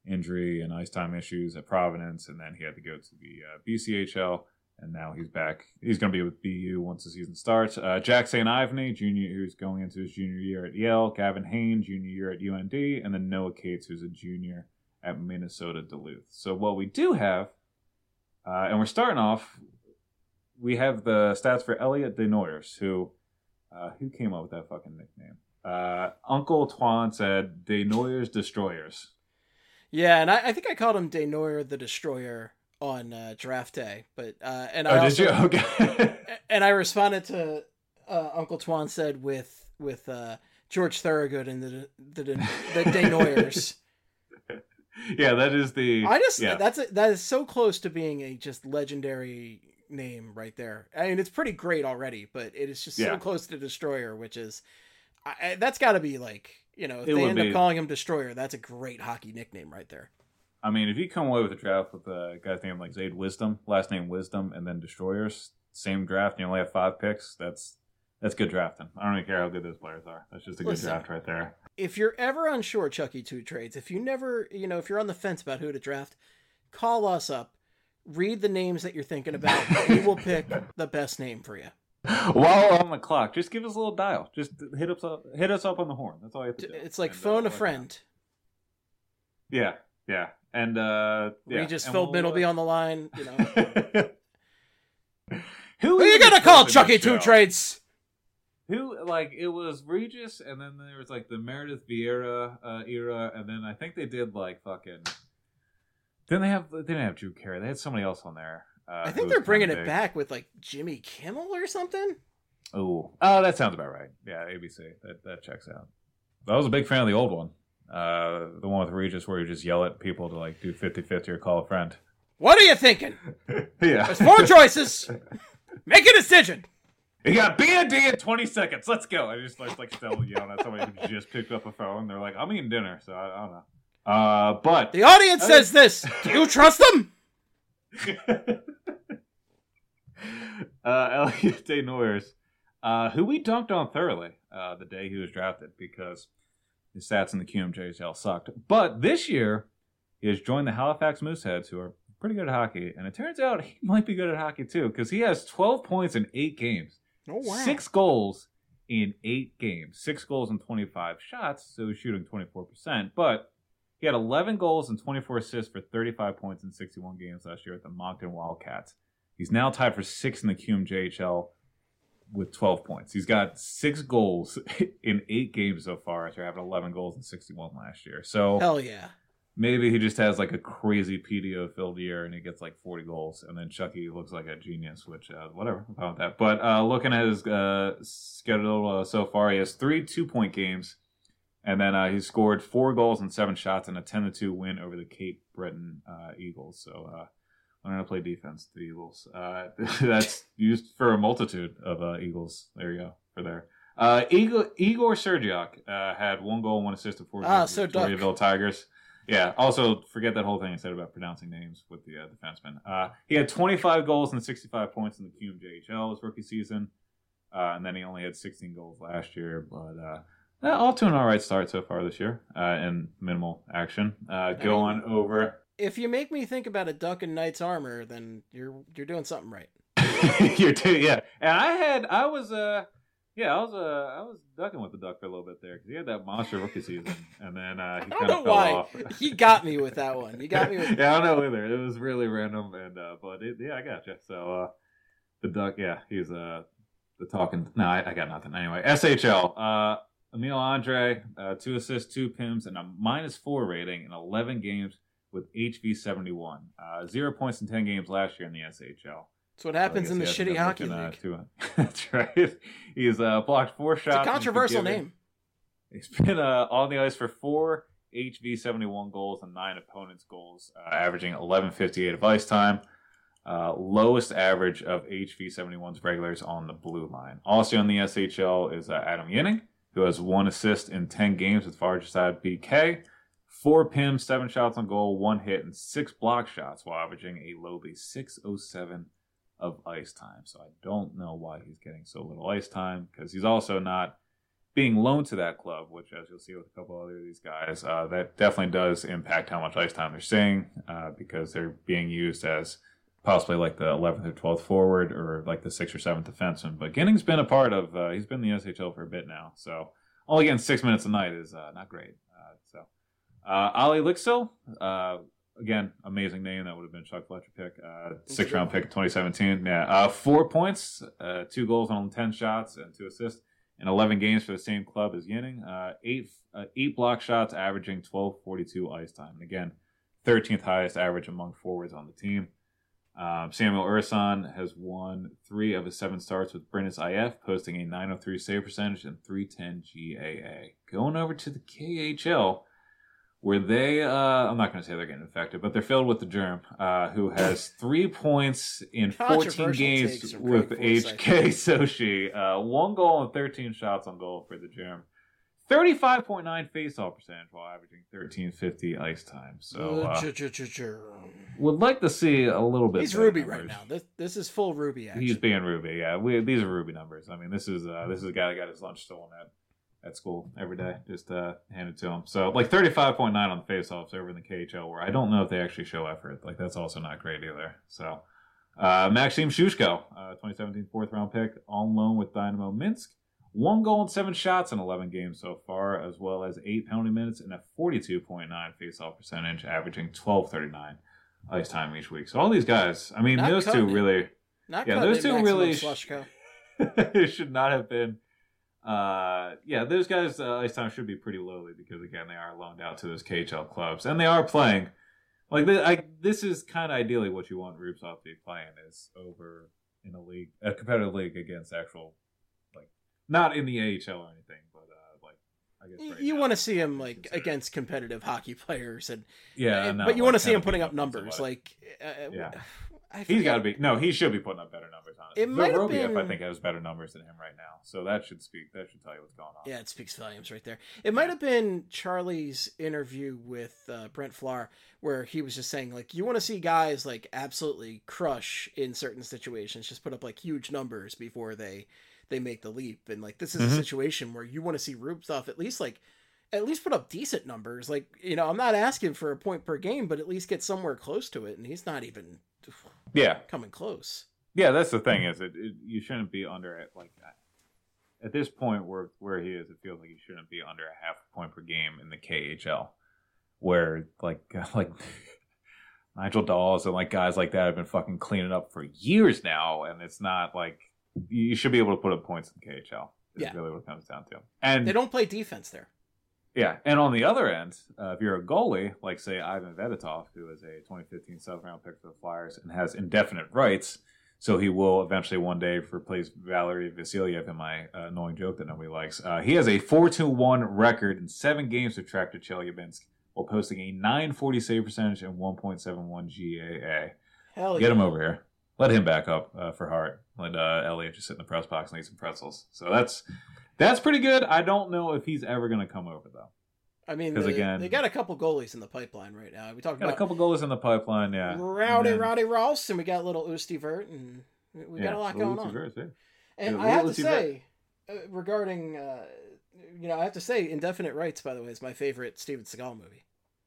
injury and ice time issues at Providence, and then he had to go to the uh, B C H L, and now he's back. He's going to be with B U once the season starts. Uh, Jack Saint Ivany, junior, who's going into his junior year at Yale. Gavin Hayne, junior year at U N D, and then Noah Cates, who's a junior at Minnesota Duluth. So what we do have, uh, and we're starting off, we have the stats for Elliot Desnoyers, who uh, who came up with that fucking nickname. Uh, Uncle Twan said Desnoyers Destroyers. Yeah, and I, I think I called him Desnoyer the Destroyer on uh, draft day, but uh, and I oh, also, did you? Okay. And I responded to uh, Uncle Twan said with with uh, George Thorogood and the the the, the Desnoyers. Yeah, that is the. I just yeah. that's a, that is so close to being a just legendary name right there. I mean, it's pretty great already, but it is just yeah. so close to Destroyer, which is I, that's got to be like. You know, if it they end be. up calling him Destroyer, that's a great hockey nickname right there. I mean, if you come away with a draft with a guy's name like Zayd Wisdom, last name Wisdom, and then Destroyers, same draft, and you only have five picks, that's that's good drafting. I don't even care how good those players are. That's just a Listen, good draft right there. If you're ever unsure, Chucky Two Trades, if you never, you know, if you're on the fence about who to draft, call us up, read the names that you're thinking about, we will pick the best name for you. While on the clock, just give us a little dial. Just hit us up, hit us up on the horn. That's all you have to do. It's like and, phone uh, a friend. Yeah, yeah, and uh, yeah. Regis and Philbin we'll, will be on the line. You know, who, who are you gonna call, Chucky Two Trades? Who like it was Regis, and then there was like the Meredith Vieira uh, era, and then I think they did like fucking. Didn't they have? They didn't have Drew Carey. They had somebody else on there. Uh, I think they're bringing it back with like Jimmy Kimmel or something. Oh, oh, that sounds about right. Yeah, A B C. That that checks out. I was a big fan of the old one, uh, the one with Regis, where you just yell at people to like do fifty-fifty or call a friend. What are you thinking? Yeah, there's four choices. Make a decision. You got B and D in twenty seconds. Let's go. I just like like still yelling at somebody who just picked up a phone. They're like, I'm eating dinner, so I, I don't know. Uh, but the audience I says this. Do you trust them? uh, Elliot Desnoyers, uh, who we dunked on thoroughly uh, the day he was drafted because his stats in the Q M J H L sucked. But this year, he has joined the Halifax Mooseheads, who are pretty good at hockey. And it turns out he might be good at hockey, too, because he has twelve points in eight games. Oh, wow. Six goals in eight games. Six goals and twenty-five shots, so he's shooting twenty-four percent. But he had eleven goals and twenty-four assists for thirty-five points in sixty-one games last year at the Moncton Wildcats. He's now tied for sixth in the Q M J H L with twelve points. He's got six goals in eight games so far after having eleven goals and sixty-one last year. So hell yeah. Maybe he just has like a crazy P D O-filled year and he gets like forty goals. And then Chucky looks like a genius, which, uh, whatever about that. But uh, looking at his uh, schedule uh, so far, he has three two-point games. And then uh, he scored four goals and seven shots in a ten to two win over the Cape Breton uh, Eagles. So uh, learn how to play defense, the Eagles. Uh, that's used for a multitude of uh, Eagles. There you go, for there. Uh, Igor, Igor Sergiak uh, had one goal, one assist, and four ah, games so with the Victoriaville Tigers. Yeah, also, forget that whole thing I said about pronouncing names with the uh, defenseman. Uh, he had twenty-five goals and sixty-five points in the Q M J H L his rookie season. Uh, and then he only had sixteen goals last year. But uh, all to an all right start so far this year uh, in minimal action. Uh, go on over. If you make me think about a duck in knight's armor, then you're you're doing something right. You're too, yeah. And I had, I was, uh, yeah, I was, uh, I was ducking with the duck for a little bit there because he had that monster rookie season, and then uh, he kind of fell why. off. He got me with that one. You got me with. Yeah, I don't know either. It was really random, and uh, but it, yeah, I got you. So uh, the duck, yeah, he's uh, the talking. No, I, I got nothing. Anyway, S H L. Uh, Emil Andre, uh, two assists, two P I Ms, and a minus four rating in eleven games with H V seventy-one. Uh, zero points in ten games last year in the S H L. That's what happens so in the shitty hockey looking, league. Uh, That's right. He's uh, blocked four shots. It's a controversial name. He's been uh, on the ice for four H V seventy-one goals and nine opponents' goals, uh, averaging eleven fifty-eight of ice time. Uh, lowest average of H V seventy-one's regulars on the blue line. Also on the S H L is uh, Adam Yinning, who has one assist in ten games with Fargeside B K. Four P I Ms, seven shots on goal, one hit, and six block shots while averaging a lowly six oh seven of ice time. So I don't know why he's getting so little ice time because he's also not being loaned to that club, which, as you'll see with a couple other of these guys, uh, that definitely does impact how much ice time they're seeing uh, because they're being used as possibly like the eleventh or twelfth forward or like the sixth or seventh defenseman. But Ginning's been a part of, uh, he's been in the S H L for a bit now. So only getting six minutes a night is uh, not great. Uh, so uh, Ali Lixil, uh, again, amazing name. That would have been Chuck Fletcher pick. Uh, sixth round pick in twenty seventeen. Yeah, uh, four points, uh, two goals on ten shots, and two assists in eleven games for the same club as Yinning. Uh, eight uh, eight block shots, averaging twelve forty-two ice time. And again, thirteenth highest average among forwards on the team. Um, Samuel Urson has won three of his seven starts with Brindis I F, posting a nine oh three save percentage and three ten G A A. Going over to the K H L, where they, uh, I'm not going to say they're getting infected, but they're filled with the germ, uh, who has three points in fourteen games with H K Sochi. Uh, one goal and thirteen shots on goal for the germ. thirty-five point nine faceoff percentage while averaging thirteen fifty ice time. So, uh, would like to see a little bit. He's Ruby numbers. Right now. This this is full Ruby action. He's being Ruby, yeah. We, these are Ruby numbers. I mean, this is uh, this is a guy that got his lunch stolen at. at school every day, just uh, hand it to him. So, like, thirty-five point nine on the faceoffs over in the K H L, where I don't know if they actually show effort. Like, that's also not great either. So, uh, Maxim Shushko, uh, twenty seventeen fourth round pick, on loan with Dynamo Minsk. One goal and seven shots in eleven games so far, as well as eight penalty minutes and a forty-two point nine faceoff percentage, averaging twelve thirty-nine ice time each week. So, all these guys, I mean, not those two it. really... Not yeah, those two really sh- should not have been... Uh, yeah, those guys' uh, ice time should be pretty lowly because, again, they are loaned out to those K H L clubs. And they are playing. Like, this, I, this is kind of ideally what you want Rubtsov to be playing is over in a league, a competitive league against actual, like, not in the A H L or anything, but, uh, like, I guess right you now, want to see him, like, against competitive hockey players. and Yeah, and, no, but you like, want to see him putting up numbers. Like, uh, yeah. I He's got to be no. He should be putting up better numbers on it. It might have Vorobiev, been... I think, has better numbers than him right now, so that should speak. That should tell you what's going on. Yeah, it speaks volumes right there. It might have been Charlie's interview with uh, Brent Flahr, where he was just saying, like, you want to see guys like absolutely crush in certain situations, just put up like huge numbers before they they make the leap. And like this is mm-hmm. a situation where you want to see Rubtsov at least like. At least put up decent numbers. Like, you know, I'm not asking for a point per game, but at least get somewhere close to it. And he's not even yeah coming close. Yeah, that's the thing is it, it you shouldn't be under it like that. At this point where where he is, it feels like he shouldn't be under a half a point per game in the K H L, where like like Nigel Dawes and like guys like that have been fucking cleaning up for years now, and it's not like you should be able to put up points in the K H L. Is yeah. really what it comes down to. And they don't play defense there. Yeah, and on the other end, uh, if you're a goalie, like, say, Ivan Vedetov, who is a twenty fifteen seventh round pick for the Flyers and has indefinite rights, so he will eventually one day replace Valery Vasilyev in my uh, annoying joke that nobody likes. Uh, he has a four two one record in seven games with Tractor Chelyabinsk while posting a nine forty save percentage and one point seven one G A A. Hell Get yeah. him over here. Let him back up uh, for Hart. Let uh, Elliot just sit in the press box and eat some pretzels. So that's... That's pretty good. I don't know if he's ever going to come over, though. I mean, they, again, they got a couple goalies in the pipeline right now. We talked got about a couple goalies in the pipeline, yeah. Rowdy, then, Roddy Ross, and we got little Usti Vert, and we got yeah, a lot going on. Vert, yeah. And yeah, I have to Usti say, uh, regarding, uh, you know, I have to say, Indefinite Rights, by the way, is my favorite Steven Seagal movie.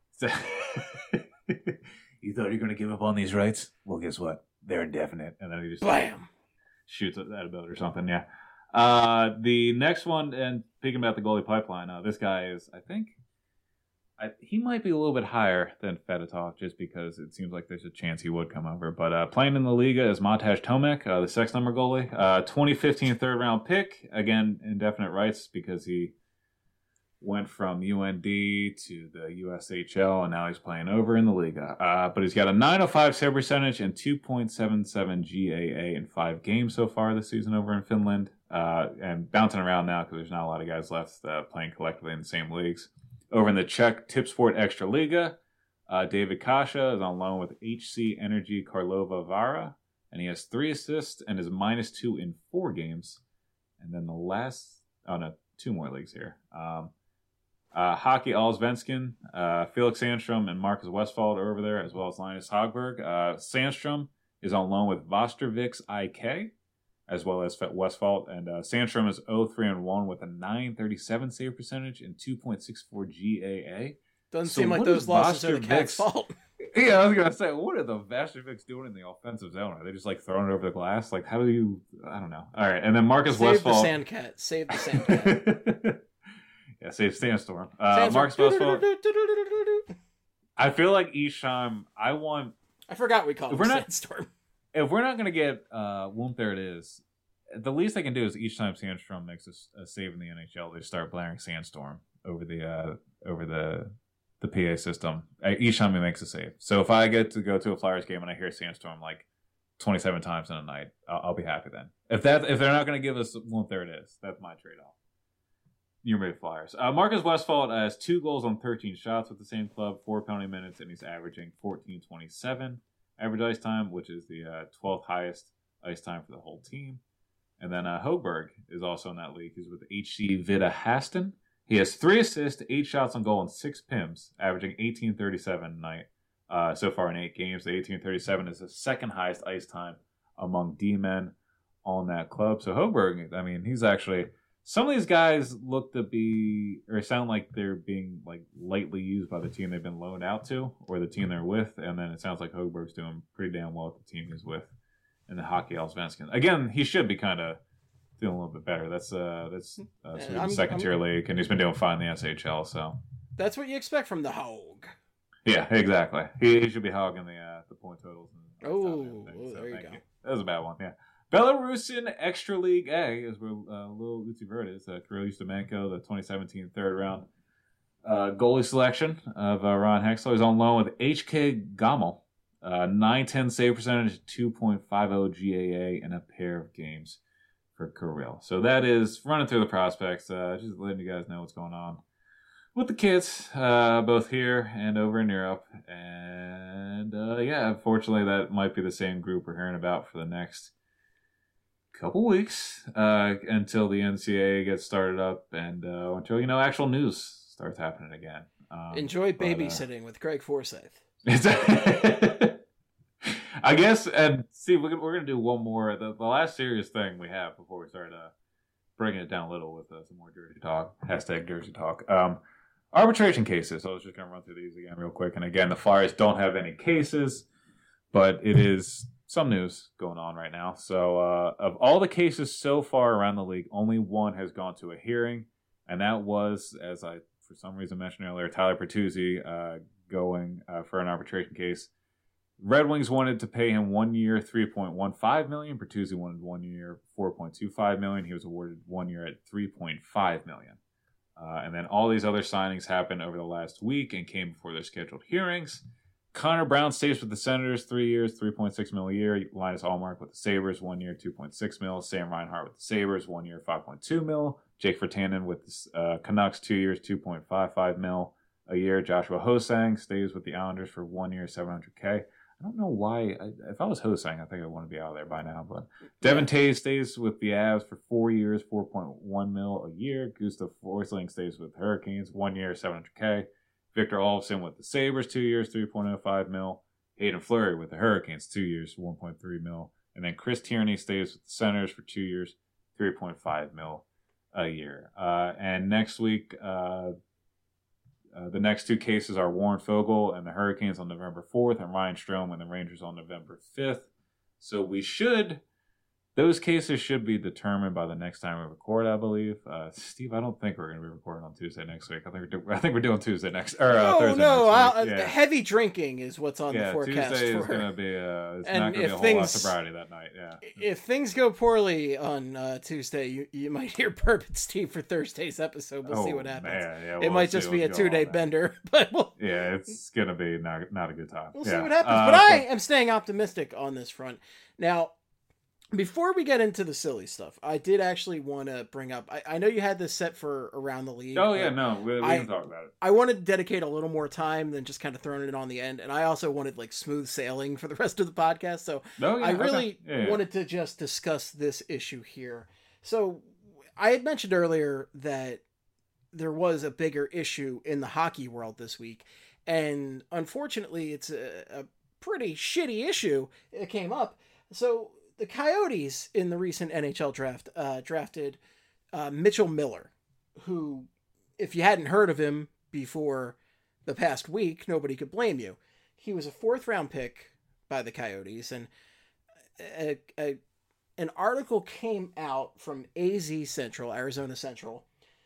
You thought you were going to give up on these rights? Well, guess what? They're indefinite. And then he just bam shoots at that boat or something, yeah. Uh, the next one, and speaking about the goalie pipeline, uh, this guy is, I think, I, he might be a little bit higher than Fedotov just because it seems like there's a chance he would come over. But uh, playing in the Liga is Matej Tomek, uh, the sex number goalie. Uh, twenty fifteen third round pick. Again, indefinite rights because he went from U N D to the U S H L, and now he's playing over in the Liga. Uh, but he's got a nine oh five save percentage and two point seven seven G A A in five games so far this season over in Finland. Uh, and bouncing around now because there's not a lot of guys left uh, playing collectively in the same leagues. Over in the Czech Tipsport Extra Liga, uh, David Kasha is on loan with H C Energy Karlova Vara, and he has three assists and is minus two in four games. And then the last, oh no, two more leagues here. Um, uh, Hockey Allsvenskan, uh, Felix Sandstrom and Marcus Westfald are over there, as well as Linus Hogberg. Uh, Sandstrom is on loan with Vosterviks I K. as well as Westfalt. And uh, Sandstrom is oh three and one with a nine thirty-seven save percentage and two point six four G A A. Doesn't So seem like what those is losses are the Vastervik's- Cats' fault. Yeah, I was gonna say, what are the Vasterviks doing in the offensive zone? Are they just like throwing it over the glass? Like, how do you? I don't know. All right, and then Marcus Save the Westfalt. Sandcat. Save the Sandcat. Yeah, save Sandstorm. Uh, Sandstorm. Marcus Westfalt. I feel like Isham. I want. I forgot we called If him we're not- Sandstorm. If we're not gonna get uh, Womp, there it is. The least I can do is each time Sandstrom makes a, a save in the N H L, they start blaring Sandstorm over the uh, over the the P A system. Uh, each time he makes a save. So if I get to go to a Flyers game and I hear Sandstorm like twenty-seven times in a night, I'll, I'll be happy then. If that if they're not going to give us Womp, there it is. That's my trade off. You're made Flyers. Uh, Marcus Westfalt has two goals on thirteen shots with the same club, four penalty minutes, and he's averaging fourteen twenty-seven average ice time, which is the uh, twelfth highest ice time for the whole team. And then uh, Hoberg is also in that league. He's with H C Vita Haston. He has three assists, eight shots on goal, and six P I Ms, averaging eighteen thirty-seven a night uh, so far in eight games. The eighteen thirty-seven is the second highest ice time among D-men on that club. So Hoberg, I mean, he's actually... Some of these guys look to be, or sound like they're being like lightly used by the team they've been loaned out to, or the team they're with, and then it sounds like Hoberg's doing pretty damn well with the team he's with in the Hockey Allsvenskan. Again, he should be kind of feeling a little bit better. That's uh, that's uh, I'm- second tier I'm- league, and he's been doing fine in the S H L. So That's what you expect from the Hog. yeah, exactly. He, he should be hogging the uh, the point totals. And Oh, everything. oh, there you thank go. That was a bad one. Yeah. Belarusian Extra League A is where uh, Lil Lucy Vert is. Uh, Kirill Ustimenko, the twenty seventeen third round uh, goalie selection of uh, Ron Hexler. He's on loan with H K Gomel. Uh, nine ten save percentage, two point five oh G A A, and a pair of games for Kirill. So that is running through the prospects. Uh, just letting you guys know what's going on with the kids, uh, both here and over in Europe. And uh, yeah, unfortunately, that might be the same group we're hearing about for the next couple weeks uh, until the N C A A gets started up and uh, until, you know, actual news starts happening again. Um, Enjoy but, uh, babysitting with Greg Forsyth. I guess, and see, we're, we're going to do one more. The, the last serious thing we have before we start uh, bringing it down a little with uh, some more Jersey talk. Hashtag Jersey talk. Um, arbitration cases. So I was just going to run through these again real quick. And again, the Flyers don't have any cases, but it is some news going on right now. So uh, of all the cases so far around the league, only one has gone to a hearing. And that was, as I for some reason mentioned earlier, Tyler Bertuzzi uh, going uh, for an arbitration case. Red Wings wanted to pay him one year, three point one five million dollars. Bertuzzi wanted one year, four point two five million dollars. He was awarded one year at three point five million dollars. Uh, and then all these other signings happened over the last week and came before their scheduled hearings. Connor Brown stays with the Senators, three years, three point six million dollars a year. Linus Allmark with the Sabres, one year, two point six million dollars. Sam Reinhart with the Sabres, one year, five point two million dollars. Jake Virtanen with the uh, Canucks, two years, two point five five million dollars a year. Joshua Hosang stays with the Islanders for one year, seven hundred thousand dollars. I don't know why. I, if I was Hosang, I think I'd want to be out of there by now. But Devin Tays stays with the Avs for four years, four point one million a year. Gustav Forsling stays with Hurricanes, one year, seven hundred thousand. Victor Olofsson with the Sabres, two years, three point oh five million. Hayden Fleury with the Hurricanes, two years, one point three million. And then Chris Tierney stays with the Senators for two years, three point five million a year. Uh, and next week, uh, Uh, the next two cases are Warren Fogle and the Hurricanes on November fourth and Ryan Strome and the Rangers on November fifth. So we should, those cases should be determined by the next time we record, I believe. Uh, Steve, I don't think we're going to be recording on Tuesday next week. I think we're, do- I think we're doing Tuesday next, or uh, No, Thursday no, next uh, week. Yeah. heavy drinking is what's on yeah, the forecast Tuesday for. is going to be, uh, it's And not going to be if a whole lot of things- sobriety that night. Yeah. If things go poorly on uh, Tuesday, you, you might hear Bourbon Steve for Thursday's episode. We'll oh, see what happens. Man, yeah, It we'll might see just be a what's going two-day on there. bender, but we'll, Yeah, it's going to be not, not a good time. we'll yeah. see what happens. Uh, but I so- am staying optimistic on this front. Now, before we get into the silly stuff, I did actually want to bring up, I, I know you had this set for around the league. Oh, but yeah, no, we, we I- can talk about it. I wanted to dedicate a little more time than just kind of throwing it on the end. And I also wanted like smooth sailing for the rest of the podcast. So No, yeah, I okay. really Yeah, yeah. wanted to just discuss this issue here. So I had mentioned earlier that there was a bigger issue in the hockey world this week. And unfortunately, it's a, a pretty shitty issue that came up. So the Coyotes in the recent N H L draft uh, drafted uh, Mitchell Miller, who, if you hadn't heard of him before the past week, nobody could blame you. He was a fourth round pick by the Coyotes, and a, a, an article came out from A Z Central, Arizona Central,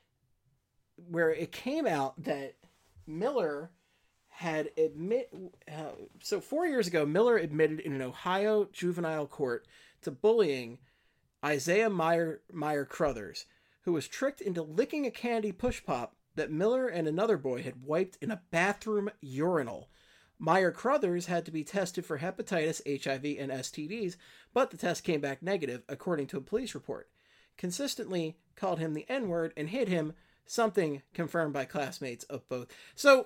where it came out that Miller had admit uh, so four years ago, Miller admitted in an Ohio juvenile court to bullying Isaiah Meyer Meyer Crothers, who was tricked into licking a candy push pop that Miller and another boy had wiped in a bathroom urinal. Meyer Crothers had to be tested for hepatitis, H I V, and S T Ds, but the test came back negative, according to a police report. Consistently called him the N-word and hit him, something confirmed by classmates of both. So,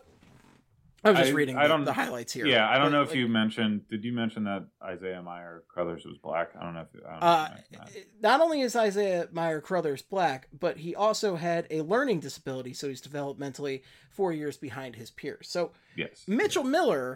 I was just I, reading I the, the highlights here. Yeah, I don't but, know if like, you mentioned, did you mention that Isaiah Meyer Crothers was black? I don't know if, I don't uh, know if not only is Isaiah Meyer Crothers black, but he also had a learning disability, so he's developmentally four years behind his peers. So, yes, Mitchell yes. Miller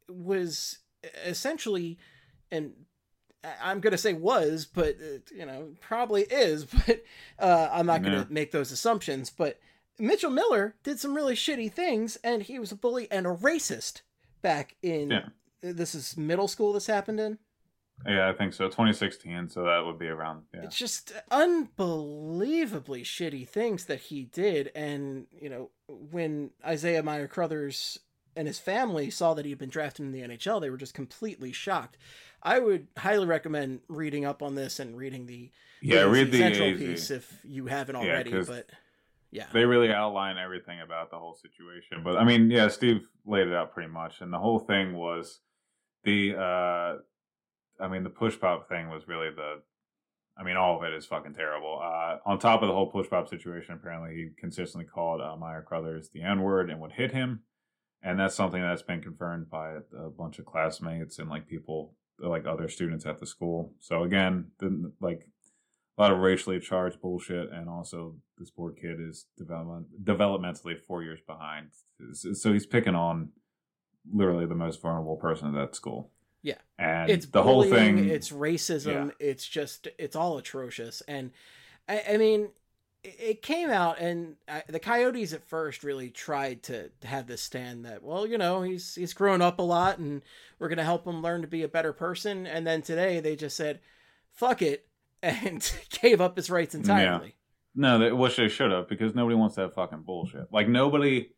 was essentially, and I'm going to say was, but, uh, you know, probably is, but uh, I'm not going to yeah. make those assumptions, but Mitchell Miller did some really shitty things, and he was a bully and a racist back in, yeah. this is middle school this happened in? Yeah, I think so. twenty sixteen, so that would be around, yeah. It's just unbelievably shitty things that he did, and, you know, when Isaiah Meyer Crothers and his family saw that he had been drafted in the N H L, they were just completely shocked. I would highly recommend reading up on this and reading the yeah, A Z read the Central A Z piece if you haven't already, yeah, but... Yeah, they really outline everything about the whole situation. But I mean, yeah, Steve laid it out pretty much, and the whole thing was the, uh, I mean, the push pop thing was really the, I mean, all of it is fucking terrible. Uh, on top of the whole push pop situation, apparently he consistently called uh, Meyer Crothers the N word and would hit him, and that's something that's been confirmed by a bunch of classmates and like people, like other students at the school. So again, the, like. A lot of racially charged bullshit, and also this poor kid is development, developmentally four years behind. So he's picking on literally the most vulnerable person at that school. Yeah. And it's the bullying, whole thing... It's racism. Yeah. It's just, it's all atrocious. And, I, I mean, it came out, and I, the Coyotes at first really tried to, to have this stand that, well, you know, he's he's grown up a lot, and we're going to help him learn to be a better person. And then today they just said, fuck it, and gave up his rights entirely. Yeah. No, they, which they should have, because nobody wants that fucking bullshit. Like, nobody,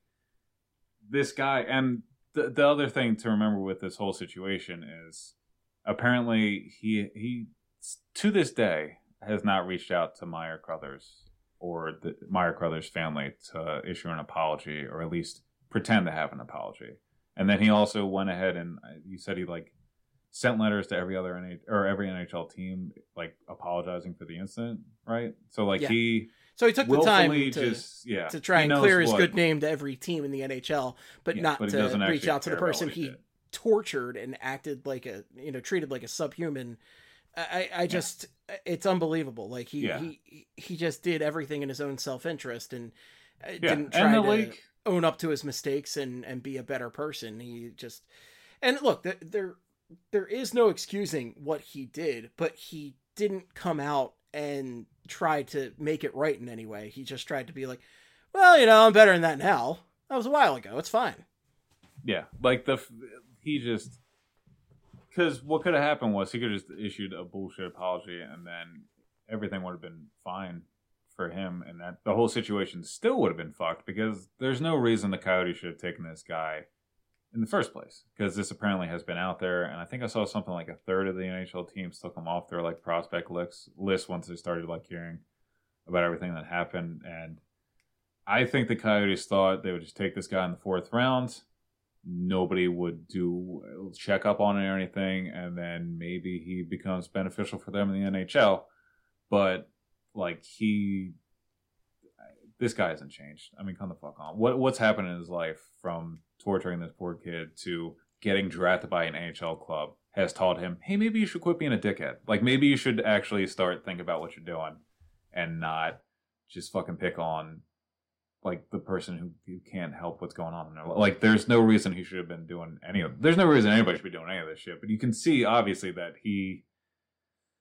this guy, and the, the other thing to remember with this whole situation is, apparently, he, he, to this day, has not reached out to Meyer Crothers or the Meyer Crothers family to issue an apology, or at least pretend to have an apology. And then he also went ahead and, he said he, like, sent letters to every other N H L or every N H L team, like apologizing for the incident, right? So like yeah. he, so he took the time to just, yeah, to try and clear his what, good name to every team in the N H L, but yeah, not but to reach out to the person he, he tortured and acted like a, you know, treated like a subhuman. I, I just, yeah. it's unbelievable. Like he, yeah. he, he just did everything in his own self-interest and yeah. didn't try to league... own up to his mistakes and, and be a better person. He just, and look, there. There is no excusing what he did, but he didn't come out and try to make it right in any way. He just tried to be like, well, you know, I'm better than that now. That was a while ago. It's fine. Yeah. Like the, he just, because what could have happened was he could have just issued a bullshit apology and then everything would have been fine for him. And that the whole situation still would have been fucked, because there's no reason the Coyotes should have taken this guy in the first place, because this apparently has been out there, and I think I saw something like a third of the N H L teams took him off their like prospect list list once they started like hearing about everything that happened. And I think the Coyotes thought they would just take this guy in the fourth round, nobody would do check up on it or anything, and then maybe he becomes beneficial for them in the N H L. But like he, this guy hasn't changed. I mean, come the fuck on. What what's happened in his life from torturing this poor kid to getting drafted by an N H L club has taught him, hey, maybe you should quit being a dickhead. Like, maybe you should actually start thinking about what you're doing and not just fucking pick on, like, the person who, who can't help what's going on in their life. Like, there's no reason he should have been doing any of There's no reason anybody should be doing any of this shit. But you can see, obviously, that he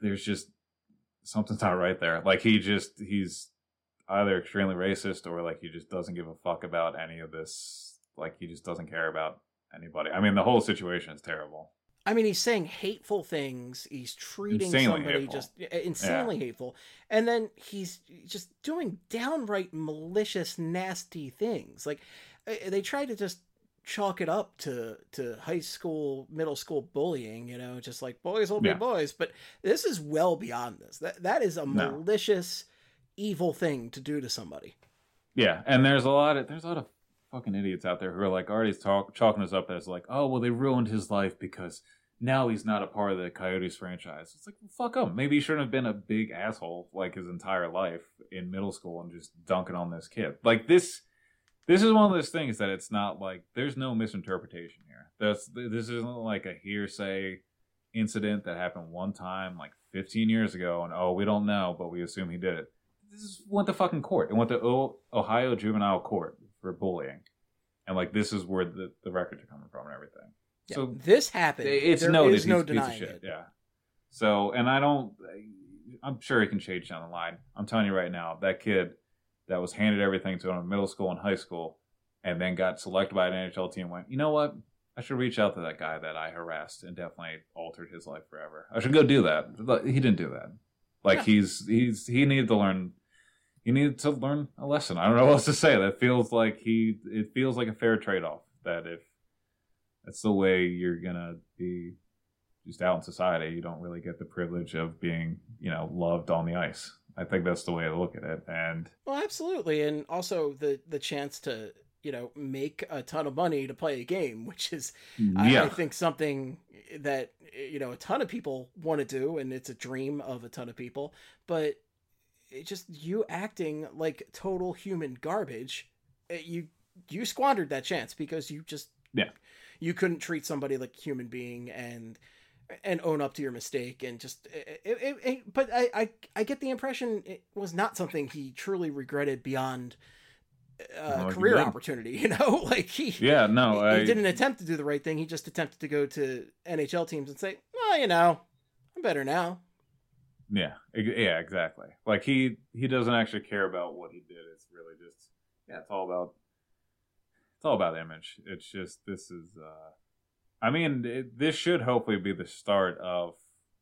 there's just something's not right there. Like he just he's either extremely racist or like he just doesn't give a fuck about any of this. Like he just doesn't care about anybody. I mean, the whole situation is terrible. I mean, he's saying hateful things. He's treating Insanely somebody hateful. just insanely Yeah. hateful. And then he's just doing downright malicious, nasty things. Like, they try to just chalk it up to, to high school, middle school bullying, you know, just like boys will be Yeah. boys. But this is well beyond this. That That is a No. malicious, evil thing to do to somebody. Yeah, and there's a lot of there's a lot of fucking idiots out there who are like already talk, chalking us up as like, oh well, they ruined his life because now he's not a part of the Coyotes franchise. It's like, well, fuck him. Maybe he shouldn't have been a big asshole like his entire life in middle school and just dunking on this kid. Like this, this is one of those things that it's not like there's no misinterpretation here. That's this isn't like a hearsay incident that happened one time like fifteen years ago and oh we don't know but we assume he did it. This is, went to fucking court. It went to o- Ohio Juvenile Court for bullying. And, like, this is where the, the records are coming from and everything. Yeah, so this happened. it's there noted. is no He's a piece of denying shit. it. Yeah. So, and I don't, I'm sure he can change down the line. I'm telling you right now, that kid that was handed everything to him in middle school and high school and then got selected by an N H L team went, you know what? I should reach out to that guy that I harassed and definitely altered his life forever. I should go do that. But he didn't do that. Like, Yeah. he's, he's, he needed to learn. He needed to learn a lesson. I don't know what else to say. That feels like he. It feels like a fair trade-off. That if that's the way you're gonna be, just out in society, you don't really get the privilege of being, you know, loved on the ice. I think that's the way to look at it. And Well, absolutely, and also the the chance to, you know, make a ton of money to play a game, which is, I, yeah, I think, something that, you know, a ton of people want to do, and it's a dream of a ton of people. But it just you acting like total human garbage, you you squandered that chance because you just Yeah. you couldn't treat somebody like a human being and and own up to your mistake and just it, it, it, but I, I I get the impression it was not something he truly regretted beyond uh, No, he career didn't. opportunity, you know, like he yeah, no, he, I, he didn't attempt to do the right thing. He just attempted to go to N H L teams and say, well, you know, I'm better now. yeah, ex- yeah, exactly. Like he he doesn't actually care about what he did. It's really just yeah, it's all about it's all about image. It's just this is. uh I mean, it, this should hopefully be the start of.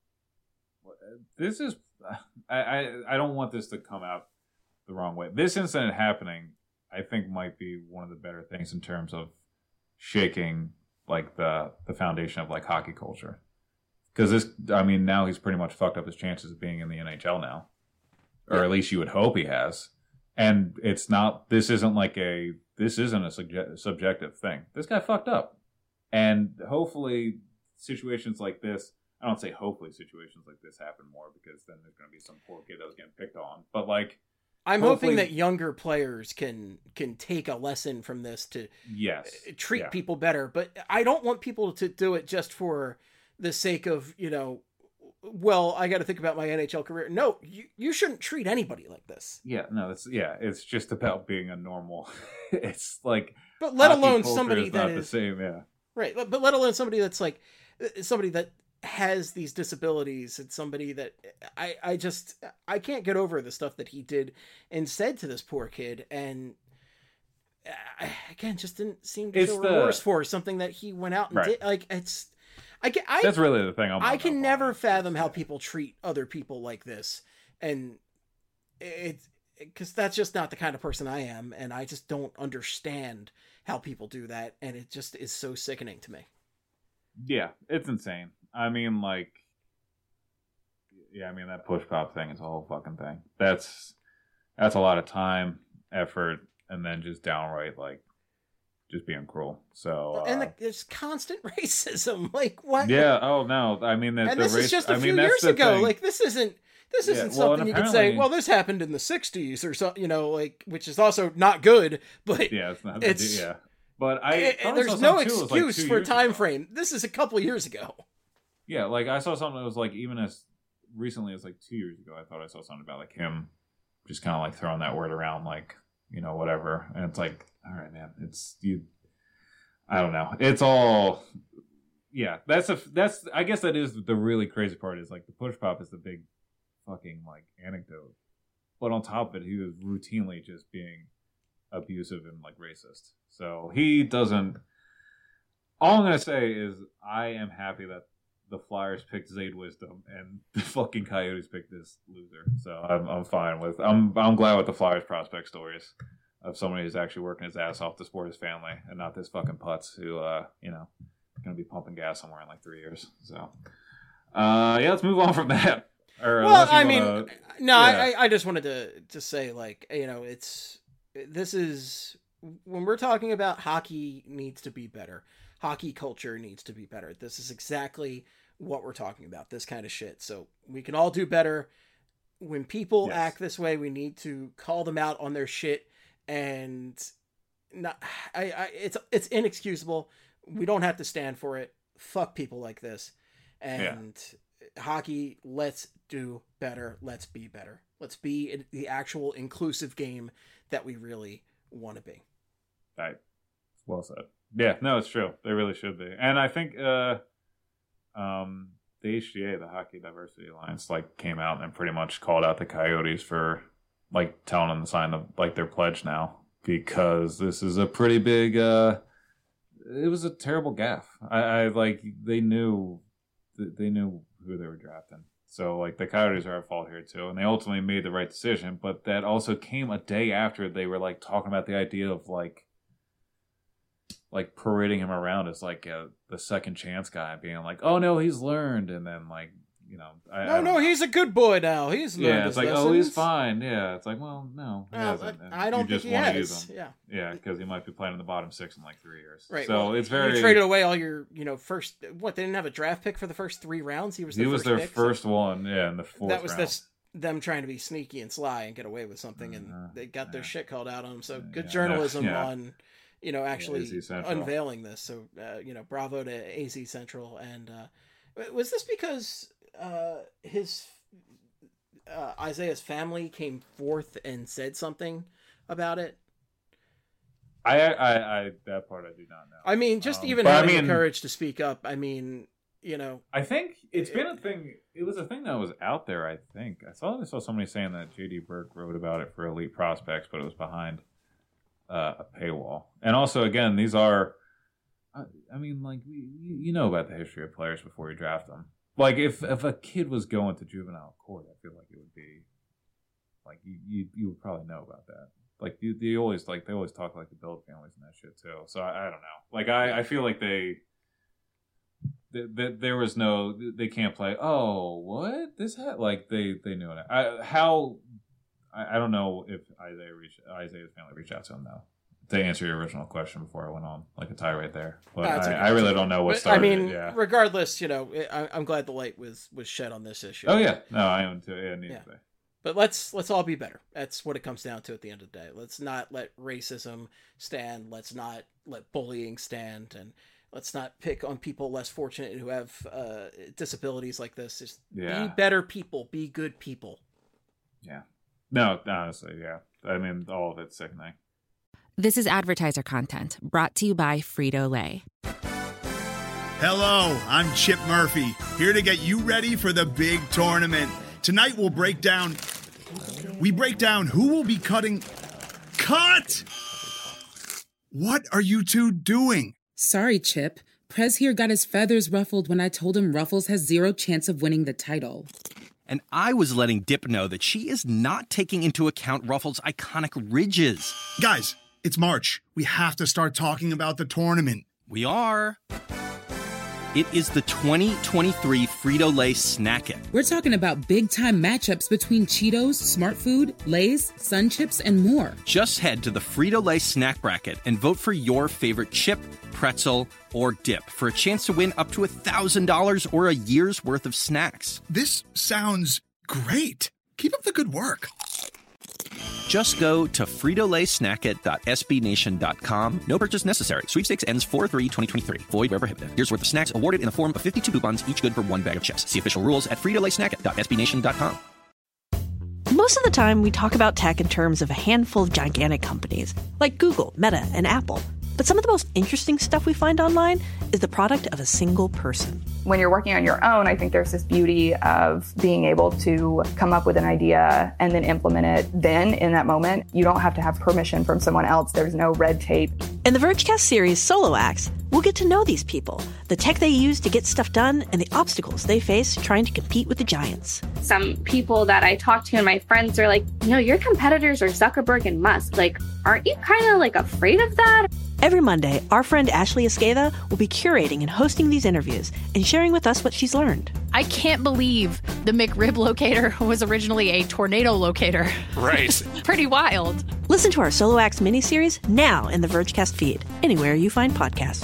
This is, I, I I don't want this to come out the wrong way. This incident happening, I think, might be one of the better things in terms of shaking like the the foundation of like hockey culture. Because this, I mean, now he's pretty much fucked up his chances of being in the N H L now, or Yeah. at least you would hope he has. And it's not. This isn't like a. This isn't a subje- subjective thing. This guy fucked up, and hopefully, situations like this. I don't say hopefully situations like this happen more because then there's going to be some poor kid that was getting picked on. But like, I'm Hopefully- hoping that younger players can can take a lesson from this to yes, treat yeah. people better. But I don't want people to do it just for the sake of, you know, well, I got to think about my N H L career. No, you, you shouldn't treat anybody like this. Yeah, no, it's yeah, it's just about being a normal. It's like, But let hockey alone culture somebody is that not is the same. Yeah, right. But let alone somebody that's like uh, somebody that has these disabilities and somebody that I I just I can't get over the stuff that he did and said to this poor kid, and uh, again just didn't seem to It's feel the- remorse for something that he went out and Right. did. Like it's I can I that's really the thing. I'm I hung can up never on. fathom how Yeah. people treat other people like this, and it's because that's just not the kind of person I am, and I just don't understand how people do that, and it just is so sickening to me. Yeah, it's insane. I mean, like, yeah, I mean that push pop thing is a whole fucking thing. That's that's a lot of time, effort, and then just downright like just being cruel. So, uh, And the, there's constant racism. Like what? yeah. Oh no, I mean, the, And the this race, is just a I few mean, that's years the ago. thing. Like this isn't. This Yeah, isn't well, and something you could say. apparently- Well, this happened in the sixties or something. You know, like which is also not good. But yeah, it's not. it's- yeah, but I it- thought I saw there's no something, too, it was, like, excuse two for a years time ago. frame. This is a couple years ago. Yeah, like I saw something that was like even as recently as like two years ago. I thought I saw something about like him just kind of like throwing that word around, like you know whatever. And it's like, all right, man, it's you. I don't know. It's all yeah, that's a that's I guess that is the really crazy part is like the push pop is the big fucking like anecdote, but on top of it, he was routinely just being abusive and like racist. So he doesn't. All I'm gonna say is I am happy that the Flyers picked Zade Wisdom and the fucking Coyotes picked this loser. So I'm I'm fine with I'm I'm glad with the Flyers prospect stories of somebody who's actually working his ass off to support his family and not this fucking putz who uh you know going to be pumping gas somewhere in like three years. So uh yeah, let's move on from that. Or, well, I wanna, mean, no, yeah. I I just wanted to to say like you know it's this is when we're talking about hockey needs to be better. Hockey culture needs to be better. This is exactly what we're talking about, this kind of shit. So we can all do better. When people yes. act this way, we need to call them out on their shit. And not, I, I, it's it's inexcusable. We don't have to stand for it. Fuck people like this. And yeah. hockey, let's do better. Let's be better. Let's be the actual inclusive game that we really want to be. Right. Well said. Yeah, no, it's true. They really should be. And I think uh, um, the H D A, the Hockey Diversity Alliance, like came out and pretty much called out the Coyotes for like telling them to sign the, like their pledge now because this is a pretty big. Uh, it was a terrible gaffe. I, I like they knew they knew who they were drafting. So like the Coyotes are at fault here too, and they ultimately made the right decision. But that also came a day after they were like talking about the idea of like. like parading him around as like a, the second chance guy, being like, "Oh no, he's learned," and then like you know, I, no, I no, know. he's a good boy now. He's learned yeah, it's his like, lessons. oh, he's fine. Yeah, it's like, well, no, he well, hasn't. And I don't you think just he want to has. use him. Yeah, yeah, because he might be playing in the bottom six in like three years. Right. So well, it's very. You traded away all your, you know, first. What they didn't have a draft pick for the first three rounds. He was. Their he was first their pick, first so one. Yeah, in the fourth. That was round. this. Them trying to be sneaky and sly and get away with something, and uh, they got their yeah. shit called out on them. So good yeah, journalism yeah. on, you know, actually yeah, unveiling this. So uh, you know, bravo to A Z Central. And uh, was this because uh, his uh, Isaiah's family came forth and said something about it? I, I, I, that part I do not know. I mean, just um, even having I mean, the courage to speak up. I mean, you know, I think it's it, been a thing. It was a thing that was out there. I think I saw I saw somebody saying that J D Burke wrote about it for Elite Prospects, but it was behind uh, a paywall. And also, again, these are. I, I mean, like you, you know about the history of players before you draft them. Like if if a kid was going to juvenile court, I feel like it would be like you you, you would probably know about that. Like you, they always like they always talk like the Bill families and that shit too. So I, I don't know. Like I, I feel like they. That there was no, they can't play. Oh, what this had like they they knew it. I, how I, I don't know if Isaiah reached Isaiah's family reached out to him though. To answer your original question before I went on like a tirade there, but I, okay. I really don't know what but, started. I mean, it, yeah. regardless, you know, I, I'm glad the light was was shed on this issue. Oh yeah, no, I am too. Yeah, needs yeah. to be. But let's let's all be better. That's what it comes down to at the end of the day. Let's not let racism stand. Let's not let bullying stand, and let's not pick on people less fortunate who have uh, disabilities like this. Just yeah. be better people. Be good people. Yeah. No, honestly, yeah. I mean, all of it's sickening. This is advertiser content brought to you by Frito-Lay. Hello, I'm Chip Murphy, here to get you ready for the big tournament. Tonight we'll break down... We break down who will be cutting... Cut! What are you two doing? Sorry, Chip. Prez here got his feathers ruffled when I told him Ruffles has zero chance of winning the title. And I was letting Dip know that she is not taking into account Ruffles' iconic ridges. Guys, it's March. We have to start talking about the tournament. We are. It is the twenty twenty-three Frito-Lay Snack It. We're talking about big-time matchups between Cheetos, Smart Food, Lay's, Sun Chips, and more. Just head to the Frito-Lay Snack Bracket and vote for your favorite chip, pretzel, or dip for a chance to win up to one thousand dollars or a year's worth of snacks. This sounds great. Keep up the good work. Just go to Frito Lay Snack It dot S B Nation dot com. No purchase necessary. Sweepstakes ends four three twenty twenty-three. Void where prohibited. Here's worth of snacks awarded in the form of fifty-two coupons, each good for one bag of chips. See official rules at Frito Lay Snack It dot S B Nation dot com. Most of the time, we talk about tech in terms of a handful of gigantic companies, like Google, Meta, and Apple. But some of the most interesting stuff we find online is the product of a single person. When you're working on your own, I think there's this beauty of being able to come up with an idea and then implement it then in that moment. You don't have to have permission from someone else. There's no red tape. In the Vergecast series Solo Acts, we'll get to know these people, the tech they use to get stuff done, and the obstacles they face trying to compete with the giants. Some people that I talk to and my friends are like, you know, your competitors are Zuckerberg and Musk. Like, aren't you kind of like afraid of that? Every Monday, our friend Ashley Esqueda will be curating and hosting these interviews and sharing with us what she's learned. I can't believe the McRib locator was originally a tornado locator. Right. Pretty wild. Listen to our Solo Acts miniseries now in the Vergecast feed, anywhere you find podcasts.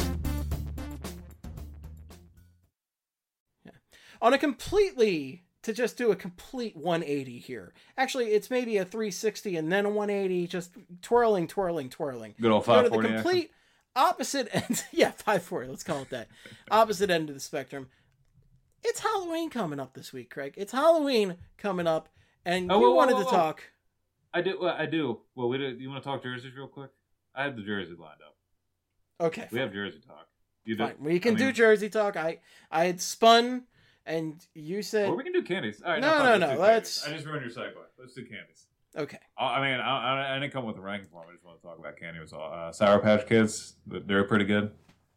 Yeah. On a completely, to just do a complete one eighty here. Actually, it's maybe a three sixty and then a one eighty, just twirling, twirling, twirling. Good old Go five to the forty. complete opposite end. Yeah, five forty, let's call it that. Opposite end of the spectrum. It's Halloween coming up this week, Craig. It's Halloween coming up, and Oh, you whoa, whoa, wanted whoa, to whoa. talk. I do. Well, I do. Well, we do. You want to talk jerseys real quick? I have the jersey lined up. Okay, We fine. have jersey talk. You do. Fine. We can I do mean- Jersey talk. I I had spun, and you said Or we can do candies. All right, No, fine, no, let's no, do let's- candies. I just ruined your segue. Let's do candies. okay. I I mean, I, I, I didn't come with a ranking form. I just want to talk about candy. It was all uh, Sour Patch Kids. They're pretty good.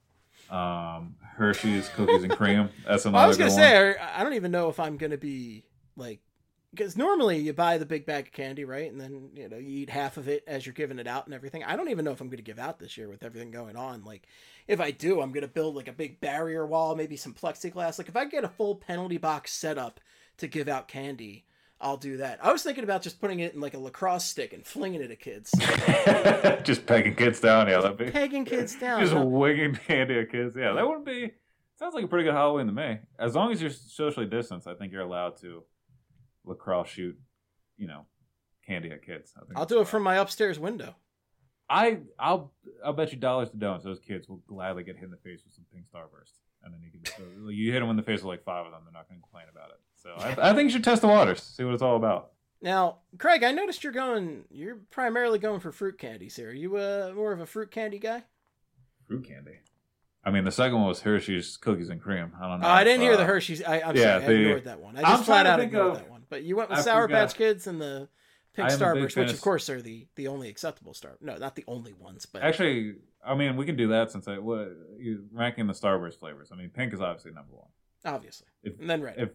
Um, Hershey's Cookies and Cream. That's another I was good gonna one. say I I don't even know if I'm gonna be like, because normally you buy the big bag of candy, right, and then you know you eat half of it as you're giving it out and everything. I don't even know if I'm gonna give out this year with everything going on. Like, if I do, I'm gonna build like a big barrier wall, maybe some plexiglass. Like, if I get a full penalty box set up to give out candy, I'll do that. I was thinking about just putting it in like a lacrosse stick and flinging it at kids, Just pegging kids down. Yeah, that'd be. pegging kids down. Just huh? winging candy at kids. Yeah, that wouldn't be. Sounds like a pretty good Halloween to me. As long as you're socially distanced, I think you're allowed to lacrosse shoot, you know, candy at kids. I think I'll that's do it fine. from my upstairs window. I I'll I'll bet you dollars to donuts those kids will gladly get hit in the face with some pink starburst, and then you can so you hit them in the face with like five of them, they're not going to complain about it. So I, I think you should test the waters, see what it's all about. Now, Craig, I noticed you're going. You're primarily going for fruit candies here. Are you uh, more of a fruit candy guy? Fruit candy. I mean, the second one was Hershey's Cookies and Cream. I don't know. Oh, I if, didn't hear uh, the Hershey's. I, I'm yeah, sorry, I the- ignored that one. I I'm just flat trying to out think ignored of- that one. But you went with I Sour forgot. Patch Kids and the Pink I am a big Starburst, fan which of- of course are the, the only acceptable star. No, not the only ones, but Actually, I mean, we can do that since I what you ranking the Starburst flavors. I mean, pink is obviously number one. obviously. If, And then red. If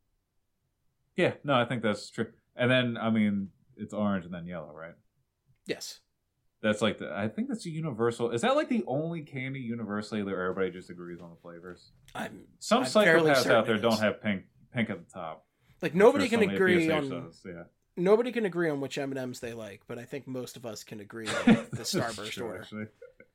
yeah, no, I think that's true. And then I mean, it's orange and then yellow, right? Yes. That's like the. I think that's a universal. Is that like the only candy universally that everybody just agrees on the flavors? I'm Some I'm fairly psychopaths certain out there it don't is. have pink pink at the top. like I'm nobody sure can somebody at agree P S H on does, yeah. nobody can agree on which M and M's they like, but I think most of us can agree on the Starburst True, order. actually.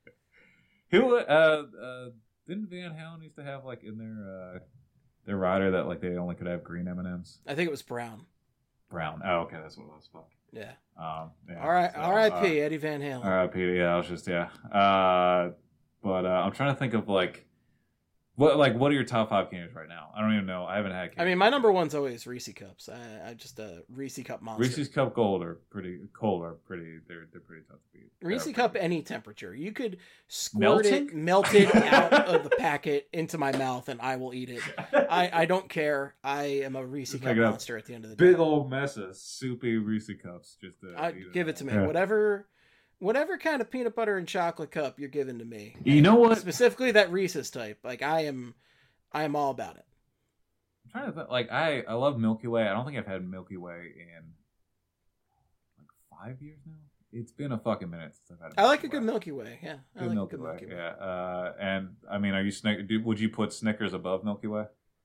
Who uh, uh didn't Van Halen used to have like in their uh their rider that like they only could have green M and M's? I think it was brown. Brown. Oh, okay, that's what it was. Fuck. Yeah. Um. Yeah, All right. so, R I P uh, Eddie Van Halen. R I P Yeah, I was just yeah. Uh, but uh, I'm trying to think of like what like what are your top five candies right now? I don't even know. I haven't had. I mean, my number one's always Reese Cups. I, I just a Reese Cup monster. Reese's Cup Gold are pretty cold are pretty they're they're pretty tough to beat. Reese They're Cup pretty- any temperature. You could squirt Melting? it, melt it out of the packet into my mouth, and I will eat it. I, I don't care. I am a Reese Just Cup pick it up. monster at the end of the day. Big old mess of soupy Reese Cups. Just to I, eat give it to me. Yeah. Whatever, whatever kind of peanut butter and chocolate cup you're giving to me. You know what? Specifically that Reese's type. Like I am, I am all about it. I'm trying to think. Like I, I love Milky Way. I don't think I've had Milky Way in like five years now. It's been a fucking minute since I've had. I like a Milky good Way. Milky Way. Yeah, I Good like Milky, a good Way. Milky Way. Yeah. Uh, and I mean, are you Snick? Do, would you put Snickers above Milky Way?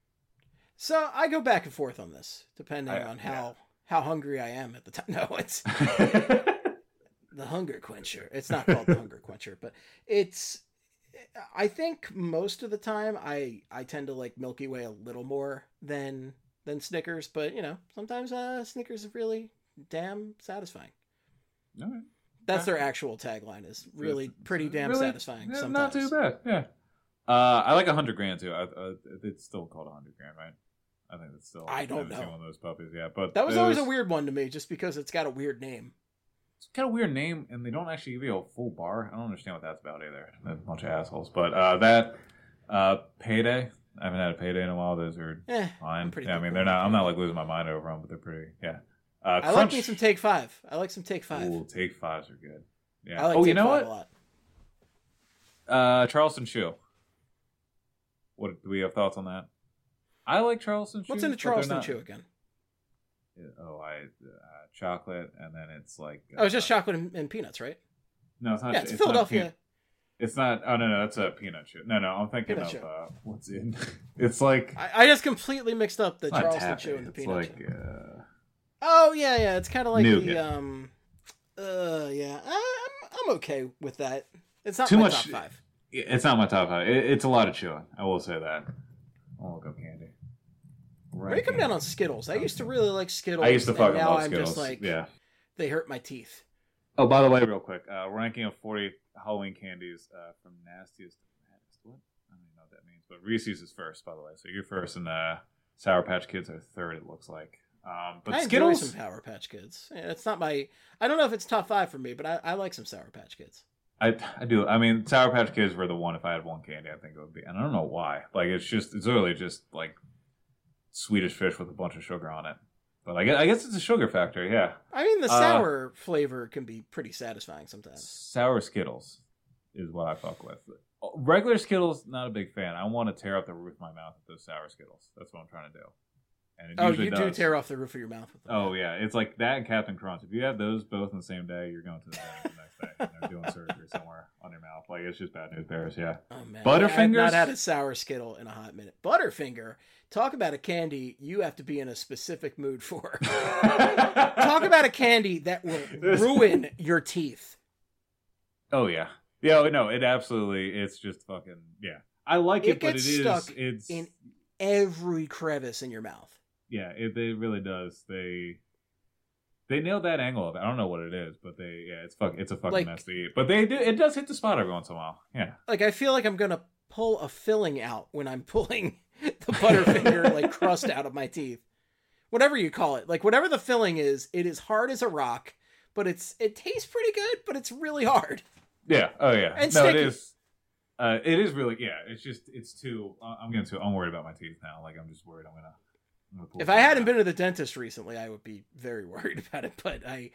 So I go back and forth on this, depending I- on how yeah. how hungry I am at the time. No, it's the hunger quencher. It's not called the hunger quencher, but it's. I think most of the time I I tend to like Milky Way a little more than than Snickers, but you know sometimes uh, Snickers is really damn satisfying. All right. That's their actual tagline is really pretty damn Really? satisfying. Yeah, sometimes. not too bad. Yeah. Uh, I like a hundred grand too. I, uh, it's still called a hundred grand, right? I think it's still. I don't haven't seen know. one of those puppies. Yeah, but That was it always a weird one to me, just because it's got a weird name. it's kind of weird name, and they don't actually give you a full bar. I don't understand what that's about either. They're a bunch of assholes. But uh, that uh, Payday, I haven't had a Payday in a while. Those are eh, fine. Yeah, I mean, they're not. I'm not like losing my mind over them, but they're pretty. Yeah. Uh, I like me some Take Five. I like some Take Five. Ooh, Take Fives are good. Yeah. I like oh, Take you know Five what? a lot. Uh, Charleston Chew. What do we have thoughts on that? I like Charleston Chew. What's in a Charleston Chew again? Oh, I uh, chocolate, and then it's like. Uh, oh, it's just chocolate and, and peanuts, right? No, it's not. Yeah, it's, it's Philadelphia. Not it's not. Oh no, no, that's a peanut chew. No, no, I'm thinking peanut of chew. uh, what's in. It's like. I, I just completely mixed up the Charleston taffy. Chew and the it's peanut like, chew. Uh, oh yeah, yeah. It's kind of like nougat. the um. Uh, yeah. I, I'm I'm okay with that. It's not too my much. top five. It's not my top five. It, it's a lot of chewing. I will say that. I'll go candy. Where do you come down on Skittles? I used to really like Skittles. I used to fucking now love I'm Skittles. Just like, yeah. They hurt my teeth. Oh, by the way, real quick, uh, ranking of forty Halloween candies uh, from nastiest to maddest. What? I don't even know what that means. But Reese's is first, by the way. So you're first, and uh, Sour Patch Kids are third. It looks like. Um, but I Skittles, enjoy some Sour Patch Kids. Yeah, it's not my. I don't know if it's top five for me, but I, I like some Sour Patch Kids. I I do. I mean, Sour Patch Kids were the one. If I had one candy, I think it would be. And I don't know why. Like it's just. It's literally just like Swedish Fish with a bunch of sugar on it. But I guess, I guess it's a sugar factor, yeah. I mean, the Uh, sour flavor can be pretty satisfying sometimes. Sour Skittles is what I fuck with. Regular Skittles, not a big fan. I want to tear up the roof of my mouth with those sour Skittles. That's what I'm trying to do. And it oh, usually you does. do tear off the roof of your mouth with them. Oh, yeah. It's like that and Captain Crunch. If you have those both on the same day, you're going to the dentist the next day. And they're doing surgery somewhere on your mouth. Like, it's just bad news bears, yeah. Oh, man. Butterfingers? I've not had a sour Skittle in a hot minute. Butterfinger, talk about a candy you have to be in a specific mood for. Talk about a candy that will ruin your teeth. Oh, yeah. Yeah, no, it absolutely, it's just fucking, yeah. I like it, It but it gets is, stuck it's... in every crevice in your mouth. Yeah, it, it really does. They they nailed that angle of it. I don't know what it is, but they yeah, it's fuck it's a fucking Like- mess to eat. But they do it does hit the spot every once in a while. Yeah. Like, I feel like I'm going to pull a filling out when I'm pulling the Butterfinger, like, crust out of my teeth. Whatever you call it. Like, whatever the filling is, it is hard as a rock, but it's it tastes pretty good, but it's really hard. Yeah. Oh yeah. And no, sticky. it is. Uh, it is really yeah. It's just it's too. Uh, I'm getting too. I'm worried about my teeth now. Like I'm just worried. I'm gonna. I'm gonna pull If I something hadn't out. been to the dentist recently, I would be very worried about it, but I,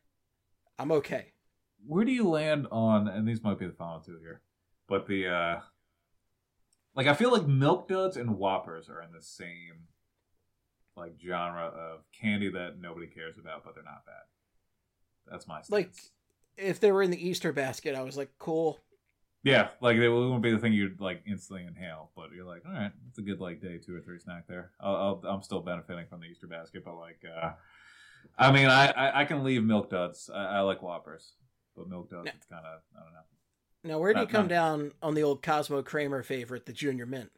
I'm okay. Where do you land on? And these might be the final two here, but the uh, like I feel like Milk Duds and Whoppers are in the same like genre of candy that nobody cares about, but they're not bad. That's my stance. Like, if they were in the Easter basket, I was like, cool. Yeah, like it won't be the thing you'd like instantly inhale, but you're like, all right, it's a good like day two or three snack there. I'll, I'll, I'm still benefiting from the Easter basket, but like, uh, I mean, I, I, I can leave Milk Duds. I, I like Whoppers, but Milk Duds, Yeah. it's kind of I don't know. Now, where do you Not- come not- down on the old Cosmo Kramer favorite, the Junior Mint?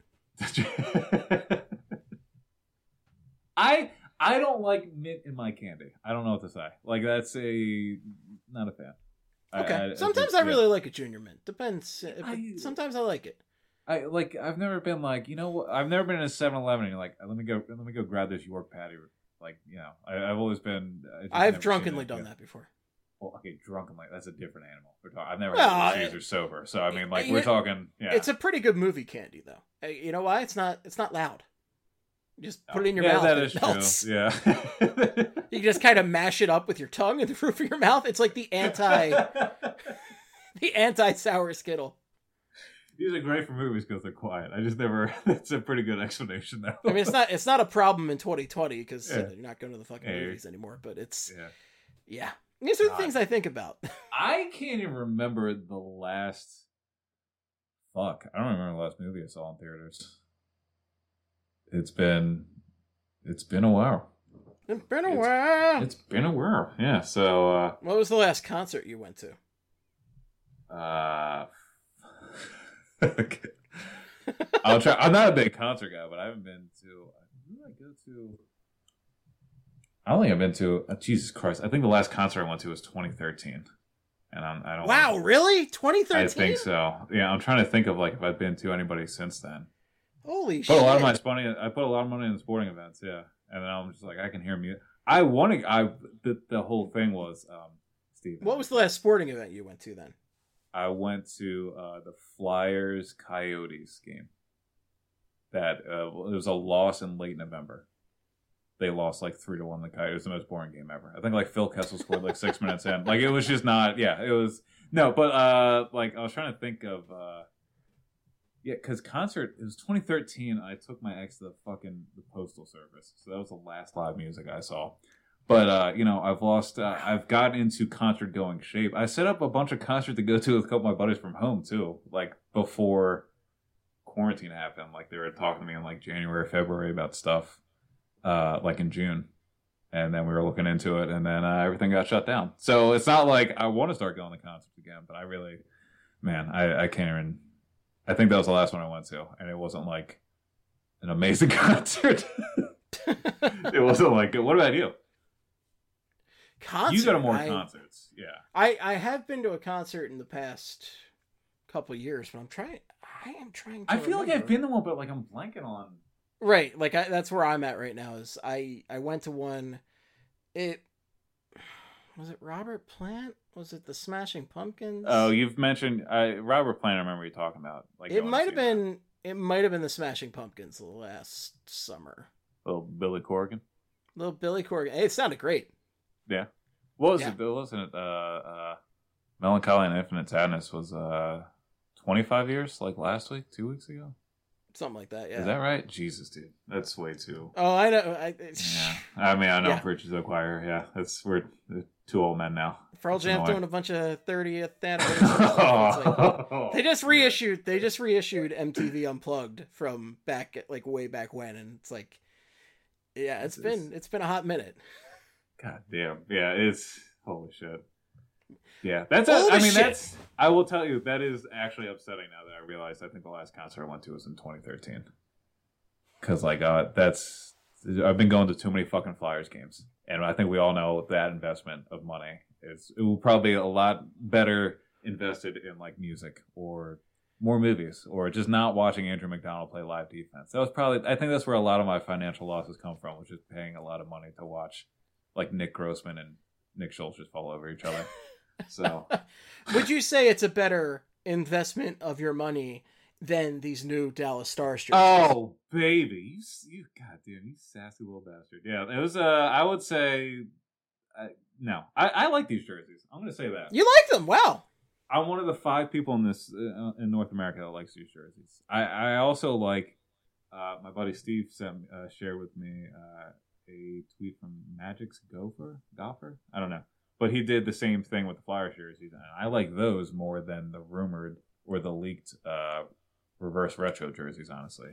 I I don't like mint in my candy. I don't know what to say. Like that's a not a fan. I- Okay. I- I Sometimes just- I yeah. really like a Junior Mint. Depends. If I- it- Sometimes I like it. I like. I've never been like you know. what I've never been in a seven eleven and you're like, let me go. Let me go grab this York patty. Like you know, I, I've always been. I just I've never drunkenly seen it. done Yeah. that before. Well, okay, drunkenly. That's a different animal. We're talking. I've never Well, had cheese it- or sober. So I mean, like it- we're talking. Yeah. It's a pretty good movie candy, though. Hey, you know why? It's not. It's not loud. You just put it in your yeah, mouth. that and is it melts. true. Yeah. You just kind of mash it up with your tongue in the roof of your mouth. It's like the anti, the anti sour Skittle. These are great for movies because they're quiet. I just never. That's a pretty good explanation, though. I mean, it's not. It's not a problem in twenty twenty because Yeah. you're not going to the fucking Hey. movies anymore. But it's Yeah. yeah. These are the God. things I think about. I can't even remember the last. Fuck, I don't remember the last movie I saw in theaters. It's been, it's been a while. It's been a It's- while. It's been a while, yeah. So, uh, What was the last concert you went to? uh, I'll try. I'm not a big concert guy, but I haven't been to. Who did I go to? I don't think I've been to. Uh, Jesus Christ! I think the last concert I went to was twenty thirteen, and I'm, I don't. Wow, really? twenty thirteen? I think so. Yeah, I'm trying to think of like if I've been to anybody since then. Holy Put shit! a lot of my money. I put a lot of money in sporting events. Yeah, and then I'm just like I can hear music. I want to. I the, the whole thing was um, Steve. What was the last sporting event you went to then? I went to uh, the Flyers Coyotes game. That uh, it was a loss in late November. They lost like three to one. The Coyotes. It was the most boring game ever. I think like Phil Kessel scored like six minutes in. Like it was just not. Yeah, it was no. But uh, like I was trying to think of. Uh, yeah, because concert. It was twenty thirteen. I took my ex to the fucking the Postal Service. So that was the last live music I saw. But, uh, you know, I've lost, uh, I've gotten into concert going shape. I set up a bunch of concerts to go to with a couple of my buddies from home, too. Like, before quarantine happened. Like, they were talking to me in, like, January, February about stuff, uh, like, in June. And then we were looking into it, and then uh, everything got shut down. So it's not like I want to start going to concerts again, but I really, man, I, I can't even, I think that was the last one I went to. And it wasn't, like, an amazing concert. It wasn't like, what about you? Concert, you go to more I, concerts, yeah. I, I have been to a concert in the past couple of years, but I'm trying. I am trying. to I feel remember. like I've been to one, but like I'm blanking on. Right, like I, that's where I'm at right now. Is I I went to one. It was it Robert Plant? Was it the Smashing Pumpkins? Oh, you've mentioned uh, Robert Plant. I remember you talking about. Like it might have been. That. It might have been the Smashing Pumpkins last summer. Little Billy Corgan. Little Billy Corgan. It sounded great. Yeah. What was yeah. it? Wasn't it? Uh, uh, Melancholy and Infinite Sadness was uh, twenty-five years, like last week, two weeks ago. Something like that. Yeah. Is that right? Jesus, dude, that's way too. Oh, I know. I, yeah. I mean, I know yeah. Bridges of Choir. Yeah, that's we're two old men now. Pearl Jam doing a bunch of thirtieth anniversary stuff. Like, they just reissued. They just reissued M T V Unplugged from back at, like way back when, and it's like, yeah, it's been it's been a hot minute. God damn. Yeah, it's holy shit. Yeah, that's a, I mean shit. that's I will tell you that is actually upsetting now that I realized I think the last concert I went to was in twenty thirteen. Cuz like uh that's I've been going to too many fucking Flyers games, and I think we all know that investment of money is it will probably be a lot better invested in like music or more movies or just not watching Andrew McDonald play live defense. That was probably I think that's where a lot of my financial losses come from, which is paying a lot of money to watch like Nick Grossman and Nick Schultz just fall over each other. So, would you say it's a better investment of your money than these new Dallas Stars jerseys? Oh, baby, you, you goddamn, you sassy little bastard. Yeah, it was. Uh, I would say, uh, no, I, I like these jerseys. I'm going to say that you like them. Wow, I'm one of the five people in this uh, in North America that likes these jerseys. I, I also like. Uh, my buddy Steve sent uh, shared with me. Uh, a tweet from Magic's Gopher, Gopher? I don't know. But he did the same thing with the Flyers jerseys. And I like those more than the rumored or the leaked uh, reverse retro jerseys, honestly.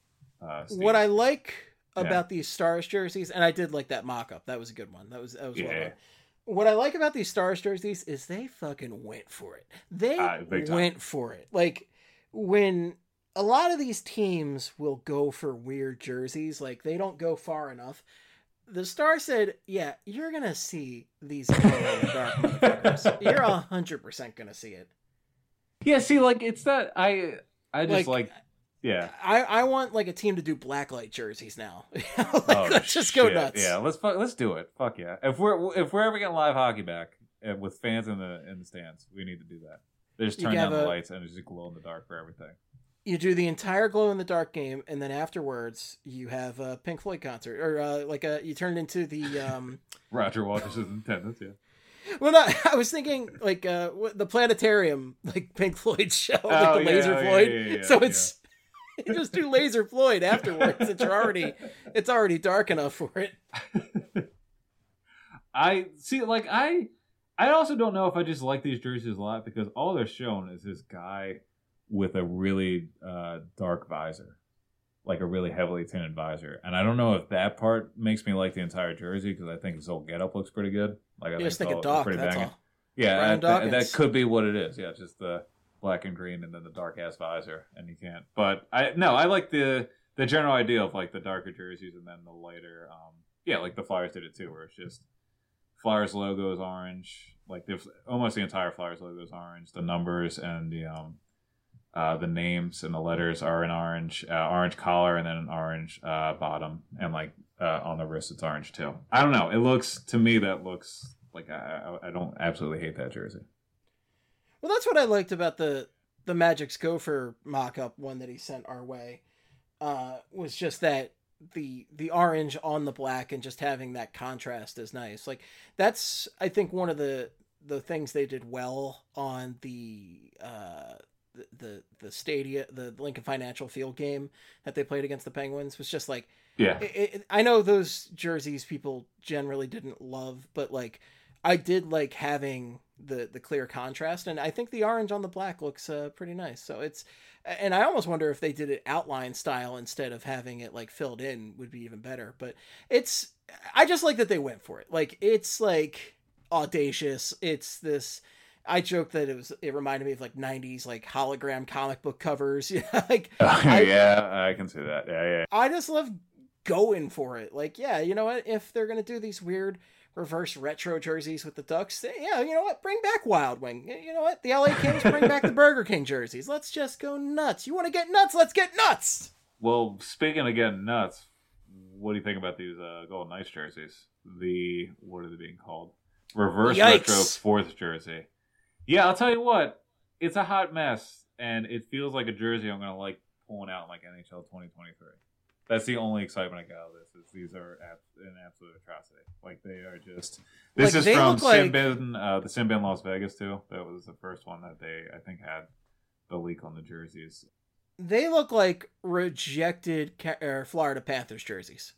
Uh, what I like yeah. about these Stars jerseys, and I did like that mock-up. That was a good one. That was, that was yeah. well done. What I like about these Stars jerseys is they fucking went for it. They uh, went for it. Like, when a lot of these teams will go for weird jerseys, like they don't go far enough. The Star said, yeah, you're going to see these glow in the dark motherfuckers. You're one hundred percent going to see it. Yeah, see, like, it's that, I I just like, like yeah. I, I want, like, a team to do blacklight jerseys now. like, oh, let's just go shit. nuts. Yeah, let's let's do it. Fuck yeah. If we're if we're ever getting live hockey back with fans in the in the stands, we need to do that. They just turn down the a, lights and it's just glow in the dark for everything. You do the entire glow in the dark game, and then afterwards you have a Pink Floyd concert, or uh, like a you turn it into the um... Roger Waters' attendance. Yeah. Well, no, I was thinking like uh, the planetarium, like Pink Floyd show, like oh, the yeah, Laser oh, Floyd. Yeah, yeah, yeah, so it's you just do Laser Floyd afterwards. It's already it's already dark enough for it. I see, like I, I also don't know if I just like these jerseys a lot because all they're showing is this guy with a really uh, dark visor, like a really heavily tinted visor. And I don't know if that part makes me like the entire jersey because I think his whole getup looks pretty good. Like I you just think think of Doc, that's banging. all. Yeah, that, that, that could be what it is. Yeah, just the black and green and then the dark ass visor, and you can't. But I no, I like the the general idea of like the darker jerseys and then the lighter. Um, yeah, like the Flyers did it too, where it's just Flyers logo is orange. Like the almost the entire Flyers logo is orange. The numbers and the um. Uh, the names and the letters are in orange, uh, orange collar, and then an orange uh, bottom, and like uh, on the wrist it's orange too. I don't know. It looks to me that looks Like I, I don't absolutely hate that jersey. Well, that's what I liked about the the Magic's Gopher mock-up one that he sent our way. Uh, was just that the the orange on the black and just having that contrast is nice. Like that's I think one of the the things they did well on the uh the the, the Stadia the Lincoln Financial Field game that they played against the Penguins was just like yeah. It, it, I know those jerseys people generally didn't love, but like I did like having the the clear contrast, and I think the orange on the black looks uh, pretty nice. So it's, and I almost wonder if they did it outline style instead of having it like filled in would be even better. But it's, I just like that they went for it. Like it's like audacious. It's this. I joked that it was. It reminded me of like nineties like hologram comic book covers. Yeah, like oh, I, yeah, I can see that. Yeah, yeah. I just love going for it. Like, yeah, you know what? If they're gonna do these weird reverse retro jerseys with the Ducks, yeah, you know what? Bring back Wild Wing. You know what? The L A Kings bring back the Burger King jerseys. Let's just go nuts. You want to get nuts? Let's get nuts. Well, speaking of getting nuts, what do you think about these uh, Golden Knights jerseys? The what are they being called? Reverse Yikes. retro fourth jersey. Yeah, I'll tell you what. It's a hot mess, and it feels like a jersey I'm gonna like pulling out in like N H L twenty twenty-three. That's the only excitement I got out of this. Is these are an absolute atrocity. Like they are just. This like is from like... Sinbin, uh, the Sinbin Las Vegas too. That was the first one that they I think had the leak on the jerseys. They look like rejected uh, Florida Panthers jerseys.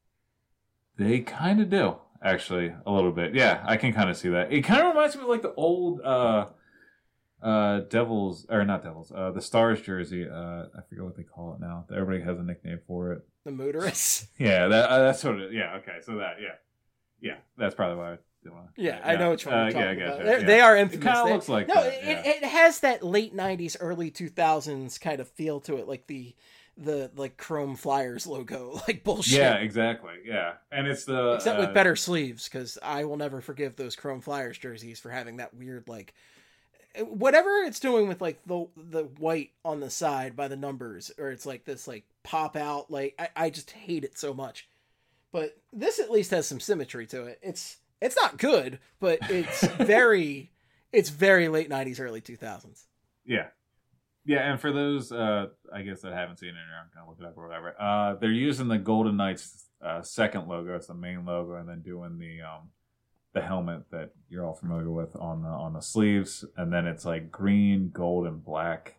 They kind of do, actually, a little bit. Yeah, I can kind of see that. It kind of reminds me of like the old uh, uh, Devils, or not Devils, uh, the Stars jersey. Uh, I forget what they call it now. Everybody has a nickname for it. The Mooterus. Yeah, that uh, that's what it. Yeah, okay, so that yeah, yeah, that's probably why I didn't want to. Yeah, yeah, I know which one you're uh, talking yeah, about. gotcha, yeah. They are infamous. It kind of they, looks like no, that, it, yeah. it has that late nineties, early two thousands kind of feel to it, like the the like Chrome Flyers logo, like bullshit. Yeah, exactly. Yeah, and it's the except uh, with better sleeves, because I will never forgive those Chrome Flyers jerseys for having that weird like whatever it's doing with like the the white on the side by the numbers, or it's like this like pop out. Like I, I just hate it so much. But this at least has some symmetry to it. It's it's not good, but it's very it's very late nineties, early two thousands. Yeah. Yeah, and for those, uh, I guess, that haven't seen it, or I'm going to look it up or whatever, uh, they're using the Golden Knights uh, second logo. It's the main logo, and then doing the um, the helmet that you're all familiar with on the, on the sleeves. And then it's like green, gold, and black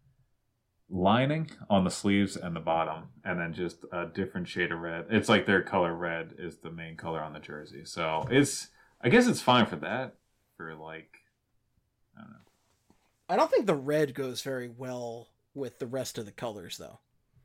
lining on the sleeves and the bottom, and then just a different shade of red. It's like their color red is the main color on the jersey. So it's, I guess it's fine for that, for like, I don't know. I don't think the red goes very well with the rest of the colors, though.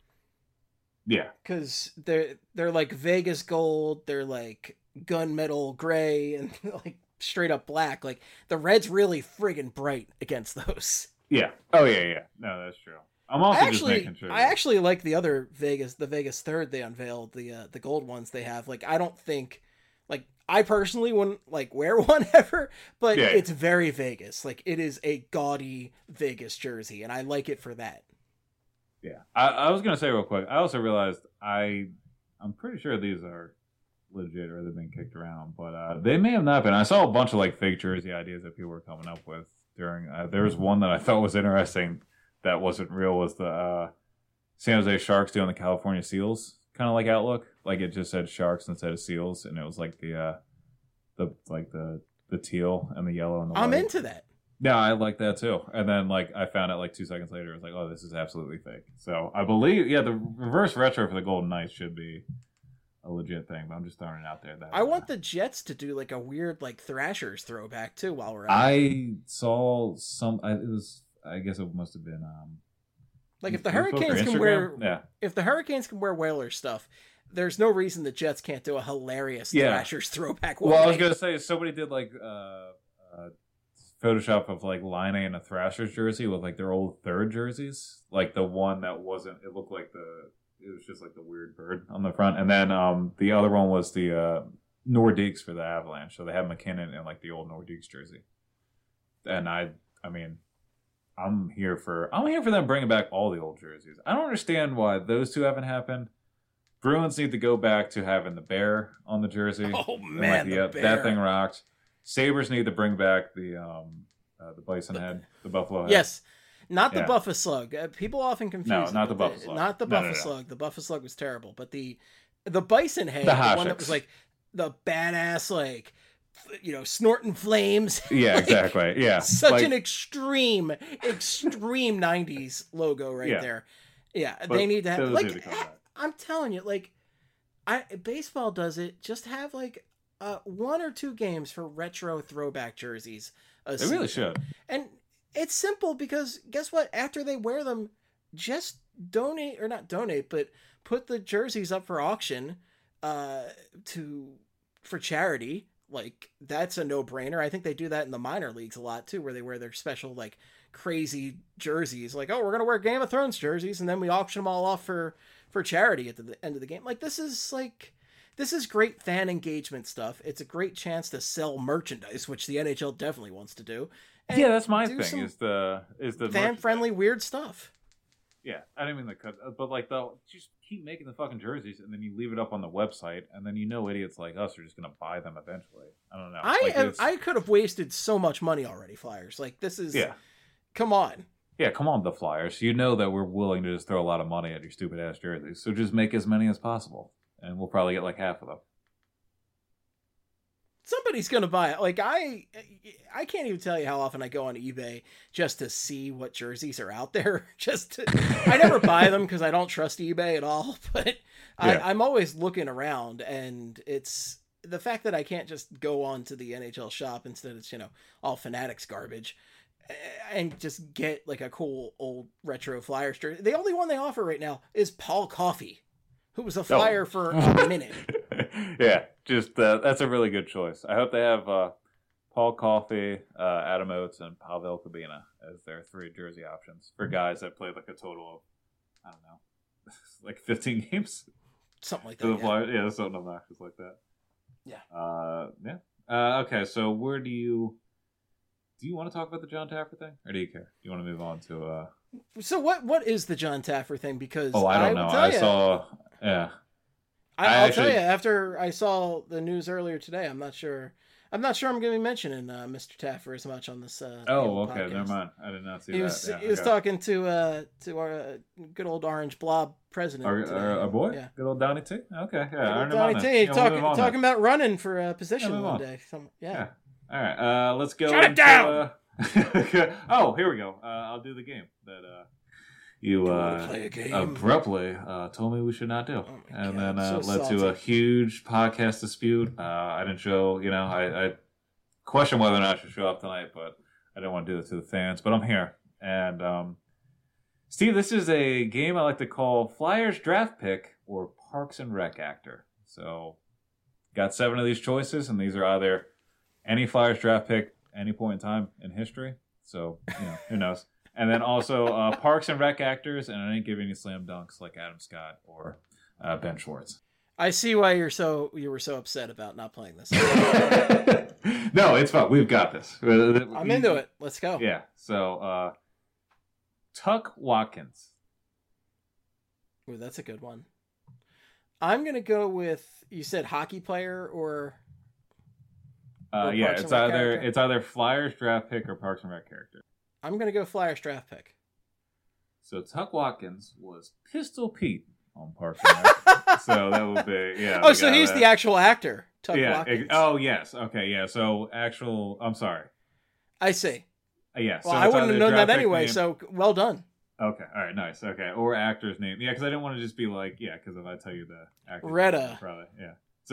Yeah, because they're they're like Vegas gold, they're like gunmetal gray, and like straight up black. Like the red's really friggin' bright against those. Yeah. Oh yeah, yeah. No, that's true. I'm also I actually, just making sure. I actually like the other Vegas, the Vegas third they unveiled, the uh, the gold ones they have. Like I don't think, like I personally wouldn't like wear one ever, but yeah. It's very Vegas. Like it is a gaudy Vegas jersey, and I like it for that. Yeah, I, I was gonna say real quick. I also realized I, I'm pretty sure these are legit or they've been kicked around, but uh, they may have not been. I saw a bunch of like fake jersey ideas that people were coming up with during. Uh, there was one that I thought was interesting that wasn't real. Was the uh, San Jose Sharks doing the California Seals kind of like outlook? Like it just said Sharks instead of Seals, and it was like the uh, the like the the teal and the yellow and the. I'm white. into that. Yeah, I like that too. And then, like, I found out like two seconds later, it was like, oh, this is absolutely fake. So I believe, yeah, the reverse retro for the Golden Knights should be a legit thing. But I'm just throwing it out there. That I want the Jets to do like a weird like Thrashers throwback too. While we're at I it. saw some. I, it was. I guess it must have been. Um, like if the Facebook or Hurricanes can Instagram? wear, yeah. if the Hurricanes can wear Whalers stuff, there's no reason the Jets can't do a hilarious Yeah. Thrashers throwback. Well, I was gonna say somebody did like. Uh, uh, Photoshop of like Line A in a Thrashers jersey with like their old third jerseys, like the one that wasn't. It looked like the. It was just like the weird bird on the front, and then um the other one was the uh, Nordiques for the Avalanche. So they had McKinnon in like the old Nordiques jersey, and I, I mean, I'm here for I'm here for them bringing back all the old jerseys. I don't understand why those two haven't happened. Bruins need to go back to having the bear on the jersey. Oh And, man, like, the yeah, bear. that thing rocked. Sabres need to bring back the um uh, the bison head, the buffalo head. Yes. Not the Yeah. Buffa Slug. Uh, people often confuse No, it not the with Buffa Slug. Not the No, no, Buffa no. Slug. The Buffa Slug was terrible, but the the bison head, The the, one that Hashiks. was like the badass, like f- you know, snorting flames. Yeah, Like, exactly. Yeah. Such Like- an extreme, extreme nineties logo right Yeah. there. Yeah, But they need to have those like need to come back. I'm telling you, like I baseball does it. Just have like uh, one or two games for retro throwback jerseys. a They really season. should. And it's simple because guess what? After they wear them, just donate or not donate, but put the jerseys up for auction uh, to for charity. Like that's a no-brainer. I think they do that in the minor leagues a lot too, where they wear their special like crazy jerseys. Like, oh, we're gonna wear Game of Thrones jerseys, and then we auction them all off for for charity at the end of the game. Like this is like. This is great fan engagement stuff. It's a great chance to sell merchandise, which the N H L definitely wants to do. And Yeah, that's my do thing. some Is the is the fan-friendly weird stuff. Yeah, I didn't mean the cut, but like the just keep making the fucking jerseys, and then you leave it up on the website, and then you know idiots like us are just gonna buy them eventually. I don't know. I Like, have, it's- I could have wasted so much money already, Flyers. Like this is yeah, come on. yeah. Come on, the Flyers. You know that we're willing to just throw a lot of money at your stupid ass jerseys, so just make as many as possible, and we'll probably get like half of them. Somebody's gonna buy it. Like I, I can't even tell you how often I go on eBay just to see what jerseys are out there. Just to, I never buy them because I don't trust eBay at all. But Yeah. I, I'm always looking around, and it's the fact that I can't just go on to the N H L shop instead. It's you know all Fanatics garbage, and just get like a cool old retro Flyers jersey. The only one they offer right now is Paul Coffey, who was a Flyer for a minute. Yeah, just uh, that's a really good choice. I hope they have uh, Paul Coffey, uh, Adam Oates, and Pavel Kabina as their three jersey options for guys that played like a total of I don't know, like fifteen games. Something like For that. the Yeah. Flyers. Yeah, something obnoxious like that. Yeah. Uh, yeah. Uh, okay, so where do you do you want to talk about the John Taffer thing, or do you care? Do you want to move on to? Uh... So what what is the John Taffer thing? Because Oh, I don't will know. tell I ya- saw. Yeah. I, I I'll actually- tell you after I saw the news earlier today. I'm not sure. I'm not sure I'm going to be mentioning uh, Mister Taffer as much on this. Uh, Oh, podcast. okay. Never mind. I did not see He that. was Yeah, he was okay. talking to uh to our uh, good old Orange Blob president. Our, today. our, our boy, Yeah. good old Donnie T. Okay, yeah. Good I old never Donnie mind T. that. Yeah, we'll talking move on talking then. about running for a position Yeah, move one on. day. Some, yeah. Yeah. All right. Uh, let's go. Shut it into, down! Uh... oh, here we go. Uh, I'll do the game that uh, you uh, play a game? abruptly uh, told me we should not do, Oh my and God, then uh, I'm so led to a salty. huge podcast dispute. Uh, I didn't show. You know, I, I questioned whether or not I should show up tonight, but I didn't want to do it to the fans. But I'm here, and um, Steve, this is a game I like to call Flyers Draft Pick or Parks and Rec Actor. So, got seven of these choices, and these are either any Flyers draft pick any point in time in history. So, you know, who knows? And then also uh, Parks and Rec actors, and I didn't give any slam dunks like Adam Scott or uh, Ben Schwartz. I see why you're so you were so upset about not playing this. No, it's fine. We've got this. I'm into it. Let's go. Yeah. So, uh, Tuck Watkins. Ooh, that's a good one. I'm gonna go with you said hockey player or Uh, Or yeah, Parks it's and Rec either character? it's either Flyers draft pick or Parks and Rec character. I'm gonna go Flyers draft pick. So Tuck Watkins was Pistol Pete on Parks and Rec. So that would be yeah. Oh, the so guy he's that- the actual actor, Tuck yeah. Watkins. ex- oh yes. Okay. Yeah. So actual. I'm sorry. I see. Uh, yeah. Well, so I it's wouldn't either have known draft that pick anyway. name- So well done. Okay. All right. Nice. Okay. Or actor's name. Yeah, because I didn't want to just be like yeah. Because if I tell you the actor, Retta. probably yeah. So.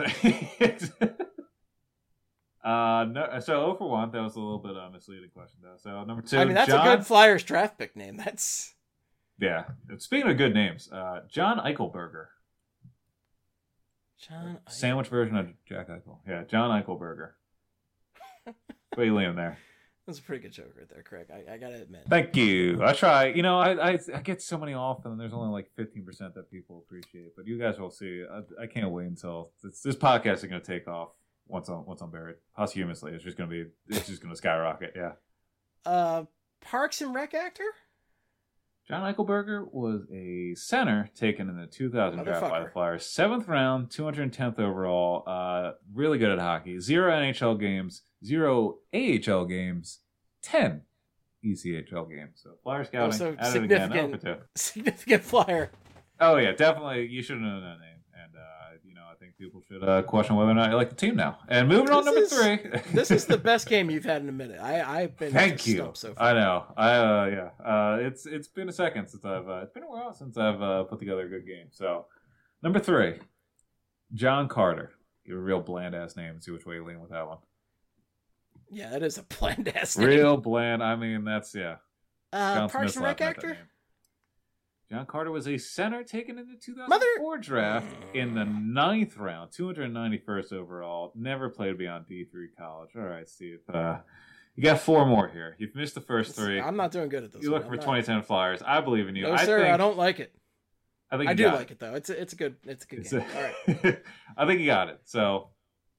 Uh no, so oh for one, that was a little bit uh, misleading question though. So number two, I mean, that's John, a good Flyers draft pick name. That's yeah. Speaking of good names, uh, John Eichelberger, John. sandwich version of Jack Eichel. Yeah, John Eichelberger. What are you leaning there? That's a pretty good joke right there, Craig. I, I gotta admit. Thank you. I try. You know, I I, I get so many off, and there's only like fifteen percent that people appreciate. But you guys will see. I, I can't wait until this, this podcast is going to take off once I'm once I'm buried posthumously. It's just going to be. It's just going to skyrocket. Yeah. Uh, Parks and Rec actor. John Eichelberger was a center taken in the two thousand draft by the Flyers. Seventh round, two hundred tenth overall. Uh, really good at hockey. Zero N H L games, zero A H L games, ten E C H L games. So Flyer scouting. Also at significant, it again. Oh, for two. significant Flyer. Oh yeah, definitely. You should know that name. And uh, you know, I think people should uh, question whether or not you like the team now. And moving on, number is, three. This is the best game you've had in a minute. I I've been Thank you. stumped so far. I know. I uh, yeah. Uh, it's it's been a second since I've uh, it's been a while since I've uh, put together a good game. So number three, John Carter. Give a real bland ass name and see which way you lean with that one. Yeah, that is a bland ass name. Real bland. I mean, that's yeah. Uh, John Parks Smith's and Rec laughing at that actor. name. John Carter was a center taken in the two thousand four Mother- draft in the ninth round, two hundred ninety-first overall. Never played beyond D three college. All right, Steve. Uh, you got four more here. You've missed the first three. I'm not doing good at this. You're looking one. for I'm twenty ten Flyers. I believe in you. No, I sir, think, I don't like it. I think I you do got like it. though. It's a, it's a good it's a good It's game. a- All right. I think you got it. So,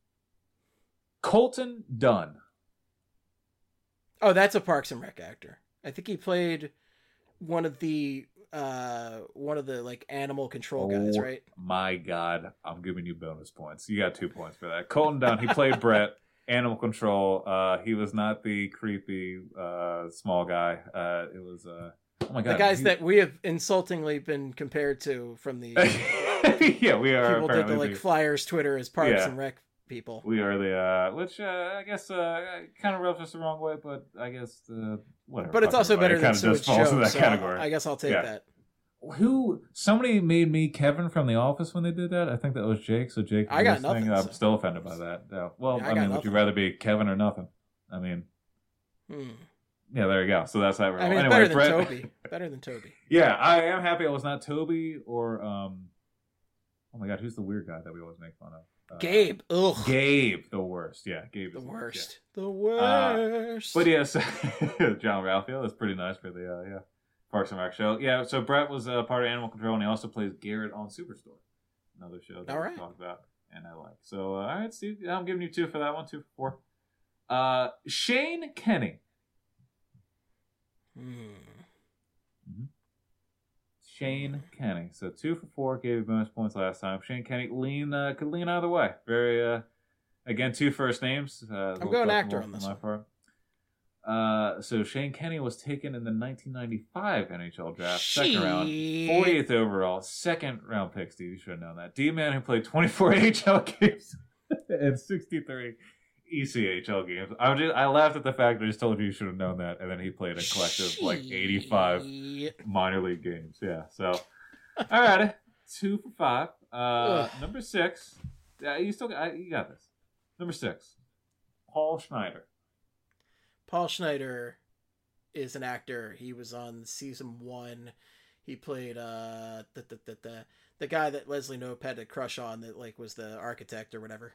Colton Dunn. Oh, that's a Parks and Rec actor. I think he played one of the uh one of the like animal control guys, Oh, right? My God, I'm giving you bonus points. You got two points for that. Colton Dunn, he played Brett, Animal Control. Uh, he was not the creepy uh, small guy. Uh, it was, uh, oh my God. The guys he... that we have insultingly been compared to from the yeah, we are. people did the like the... Flyers Twitter as Parks Yeah. and Rec people. We are the, uh, which uh, I guess uh, kind of rubs us the wrong way, but I guess uh, whatever. But it's Fuck also everybody. better than It kinda Sewage just falls Joe, in that so category. I guess I'll take Yeah. that. Who somebody made me Kevin from The Office when they did that? I think that was Jake. So Jake, I got listening, nothing, I'm so- still offended by that. Yeah. Well, Yeah, I I, got mean, would nothing. you rather be Kevin or nothing? I mean, Hmm. yeah, there you go. So that's that. I mean, anyway, better than Brett, Toby. Better than Toby. Yeah, I am happy it was not Toby or um. Oh my God, who's the weird guy that we always make fun of? Uh, Gabe. Ugh. Gabe, the worst. Yeah, Gabe The is worst. yeah. The worst. But yes, John Ralphio. That's pretty nice for the uh, yeah Parks and Rec show. Yeah, so Brett was uh, part of Animal Control, and he also plays Garrett on Superstore, another show that All we right. talked about, and I like. So uh, all right, Steve, I'm giving you two for that one, two for four. Uh, Shane Kenny. Hmm. Shane Kenny. So two for four. Gave you bonus points last time. Shane Kenny lean uh, could lean either way. Very uh, again two first names. Uh, I'm going actor on this my one. part. Uh, so Shane Kenny was taken in the nineteen ninety-five N H L draft, second round, Shit. fortieth overall, second round pick. Steve, you should have known that. D-man who played twenty-four N H L games and sixty-three E C H L games. I was just, I laughed at the fact that I just told you you should have known that, and then he played a collective like eighty-five Shit. minor league games. Yeah. So, all right, two for five. Uh, Ugh. number six. Uh, you still got you got this. Number six. Paul Schneider. Paul Schneider is an actor. He was on season one. He played uh the the the the, the guy that Leslie Knope had a crush on that like was the architect or whatever.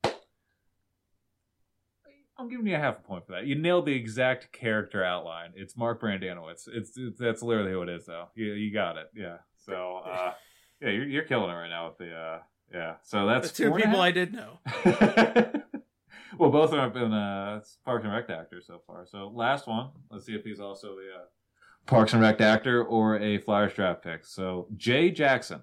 I'm giving you a half a point for that. You nailed the exact character outline. It's Mark Brandanowitz. It's, it's that's literally who it is, though. You you got it. Yeah. So uh, yeah, you're you're killing it right now with the uh, yeah. So that's The two four and a people half. I did know. Well, both of them have been uh, Parks and Rec actors so far. So last one. Let's see if he's also the uh, Parks and Rec actor or a Flyers draft pick. So Jay Jackson.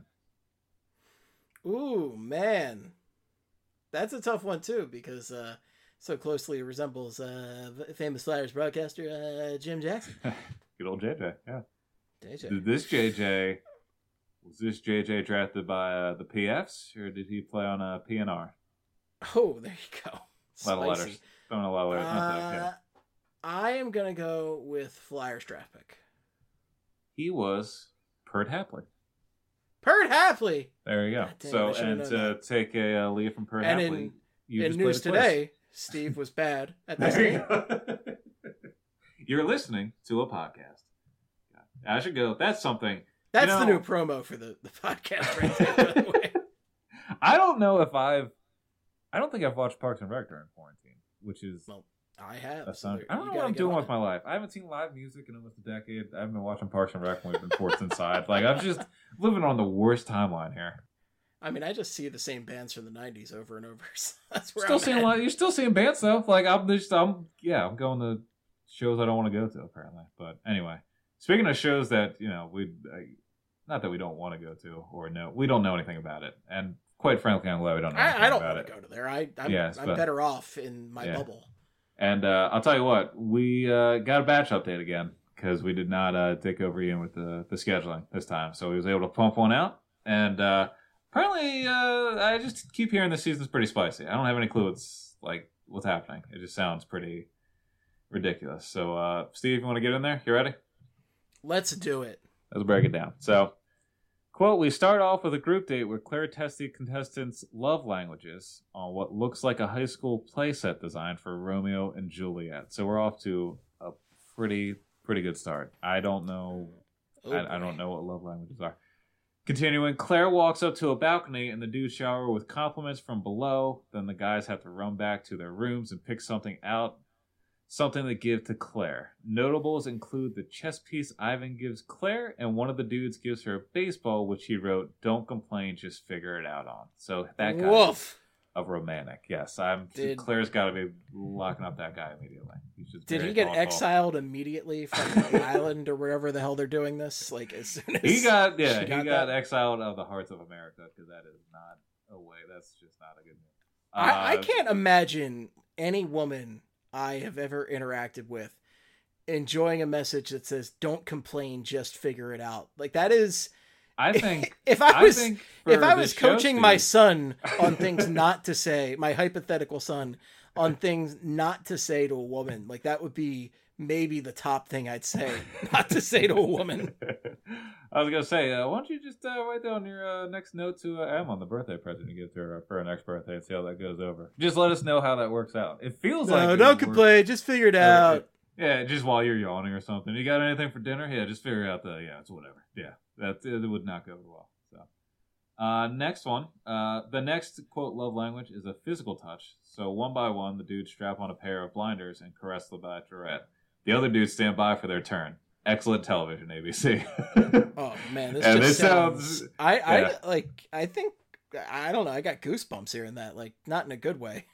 Ooh, man. That's a tough one too because uh so closely resembles uh famous Flyers broadcaster uh Jim Jackson. Good old J J. Yeah. J J. Did this J J was this J J drafted by uh, the P Fs or did he play on a P N R? Oh, there you go. A lot of Spicy. letters. Throwing a lot of letters. Not that, Uh, okay. I am gonna go with Flyers draft pick. He was Pert Hapley. Pert Hapley. There you go. God dang it, so I should've and known to that. take a uh, lead from Pert And Hapley, in, you in just news played a quiz. today, Steve was bad at this There you game. go. You're listening to a podcast. I should go. That's something. That's you know, the new promo for the, the podcast right there, by the way. I don't know if I've. I don't think I've watched Parks and Rec during quarantine, which is. Well, I have. a so sound- there- I don't you know gotta what I'm get doing on with it. my life. I haven't seen live music in almost a decade. I haven't been watching Parks and Rec when we've been forced inside. Like I'm just living on the worst timeline here. I mean, I just see the same bands from the nineties over and over. So that's where Still I'm seeing at. a lot. You're still seeing bands though. Like I'm just, I'm yeah, I'm going to shows I don't want to go to apparently. But anyway, speaking of shows that, you know, we not that we don't want to go to or know, we don't know anything about it. And quite frankly, I'm glad we don't know anything I, I don't about want it. to go to there. I, I'm, yes, I'm but, better off in my yeah. bubble. And uh, I'll tell you what, we uh, got a batch update again because we did not uh, take over Ian with the, the scheduling this time. So he was able to pump one out. And uh, apparently, uh, I just keep hearing this season's pretty spicy. I don't have any clue what's, like, what's happening. It just sounds pretty ridiculous. So, uh, Steve, you want to get in there? You ready? Let's do it. Let's break it down. So, quote, we start off with a group date where Claire tests the contestants' love languages on what looks like a high school playset design for Romeo and Juliet. So we're off to a pretty, pretty good start. I don't know. Oh, I, I don't know what love languages are. Continuing, Claire walks up to a balcony and the dudes shower with compliments from below. Then the guys have to run back to their rooms and pick something out, something to give to Claire. Notables include the chess piece Ivan gives Claire, and one of the dudes gives her a baseball, which he wrote, "Don't complain, just figure it out" on. So that guy Woof. a romantic. Yes, I'm. Did- Claire's got to be locking up that guy immediately. He's just Did very he get thoughtful. exiled immediately from the island or wherever the hell they're doing this? Like as soon as He got yeah, she he got got that? exiled of the hearts of America because that is not a way. That's just not a good move. I, I Uh, can't imagine any woman I have ever interacted with enjoying a message that says "Don't complain, just figure it out." Like that is. I think if I was think if for I the was show, coaching my Steve- son on things not to say, my hypothetical son on things not to say to a woman, like that would be maybe the top thing I'd say not to say to a woman. I was gonna say, uh, why don't you just uh, write down your uh, next note to uh, Em on the birthday present you give to her for her next birthday and see how that goes over. Just let us know how that works out. It feels like No, it don't would work- complain, just figure it or- out. Yeah, just while you're yawning or something. You got anything for dinner? Yeah, just figure out the yeah, it's whatever. Yeah, that it would not go over well. So, uh, next one. Uh, the next quote love language is a physical touch. So one by one, the dudes strap on a pair of blinders and caress the bachelorette. The other dudes stand by for their turn. Excellent television, A B C. Oh man, this And just this sounds. sounds- I, yeah. I like. I think I don't know. I got goosebumps here and that. Like not in a good way.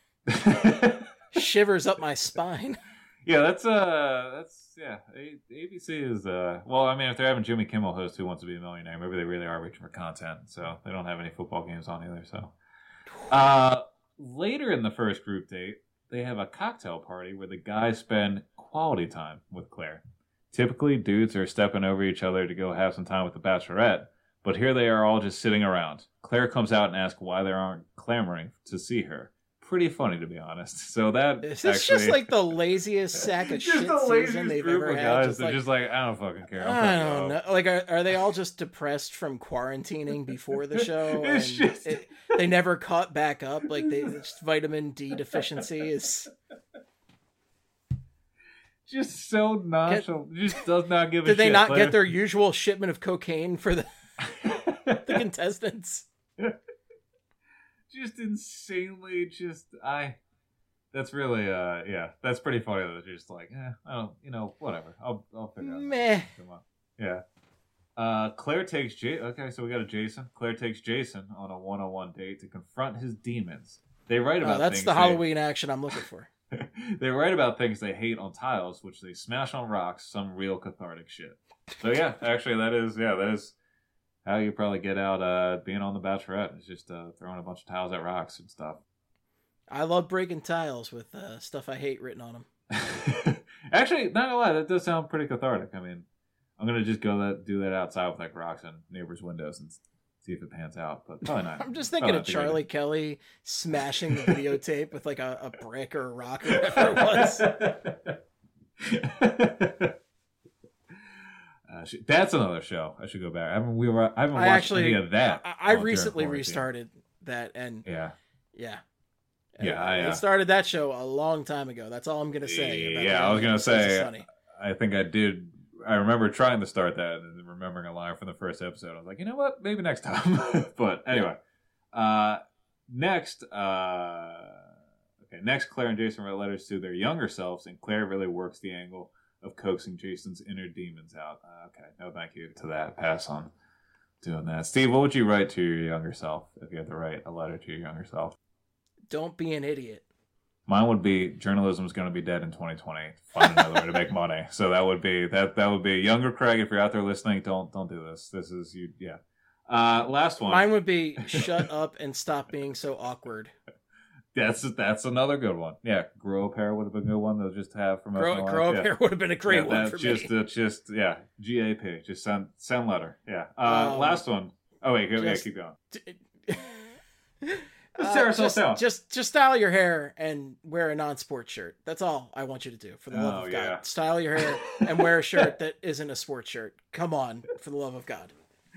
Shivers up my spine. Yeah, that's uh, that's yeah. A- ABC is uh, well, I mean, if they're having Jimmy Kimmel host Who Wants to Be a Millionaire, maybe they really are reaching for content. So they don't have any football games on either. So, uh, later in the first group date, they have a cocktail party where the guys spend quality time with Claire. Typically, dudes are stepping over each other to go have some time with the bachelorette, but here they are all just sitting around. Claire comes out and asks why they aren't clamoring to see her. Pretty funny, to be honest. So that Is actually, this just like the laziest sack of just shit the season laziest they've group ever of had? guys. Just They're like, just like, I don't fucking care. I'm I fucking don't know. off. Like, are, are they all just depressed from quarantining before the show? It's and just- it, they never caught back up. Like, they it's vitamin D deficiency is. Just so nonchalant. Just does not give a Did shit. they not Claire. get their usual shipment of cocaine for the the contestants? Just insanely, just I. That's really, uh, yeah, that's pretty funny. That they're just like, eh, I don't, you know, whatever. I'll, I'll figure it out. Meh. Come on. Yeah. Uh, Claire takes J. Okay, so we got a Jason. Claire takes Jason on a one-on-one date to confront his demons. They write about Oh, that's things the they- Halloween action I'm looking for. They write about things they hate on tiles, which they smash on rocks. Some real cathartic shit. So yeah, actually, that is yeah, that is how you probably get out uh, being on the Bachelorette. Is just uh, throwing a bunch of tiles at rocks and stuff. I love breaking tiles with uh, stuff I hate written on them. Actually, not gonna lie, that does sound pretty cathartic. I mean, I'm gonna just go that do that outside with like rocks and neighbors' windows and see if it pans out. But probably not. I'm just Probably thinking not of the greatest. Charlie Kelly smashing the videotape with like a, a brick or a rock or whatever it was. Uh, sh- that's another show. I should go back. I haven't. We were. I haven't watched I actually, any of that. I, I during recently quarantine. restarted that, and Yeah. yeah, Yeah, Uh, I, uh, I started that show a long time ago. That's all I'm gonna say. About Yeah, I was gonna Sons of say. Sunny. I think I did. I remember trying to start that and remembering a line from the first episode. I was like, you know what? Maybe next time. But anyway, uh, next, uh, okay, next, Claire and Jason write letters to their younger selves, and Claire really works the angle of coaxing Jason's inner demons out. Uh, okay, no, thank you to that. Pass on doing that. Steve, what would you write to your younger self if you had to write a letter to your younger self? Don't be an idiot. Mine would be journalism is going to be dead in twenty twenty. Find another way to make money. So that would be that. That would be younger Craig. If you're out there listening, don't don't do this. This is you. Yeah. Uh, last one. Mine would be shut up and stop being so awkward. That's that's another good one. Yeah, grow a pair would have been a good one to just have from grow, grow a yeah. pair would have been a great yeah, one for just, me. Uh, just yeah, G A P. Just send send letter. Yeah. Uh, um, last one. Oh wait, go, just, yeah, keep going. D- Let's tear uh, ourselves just, down. Just just style your hair and wear a non-sport shirt. That's all I want you to do. For the love oh, of yeah. God, style your hair and wear a shirt that isn't a sports shirt. Come on, for the love of God.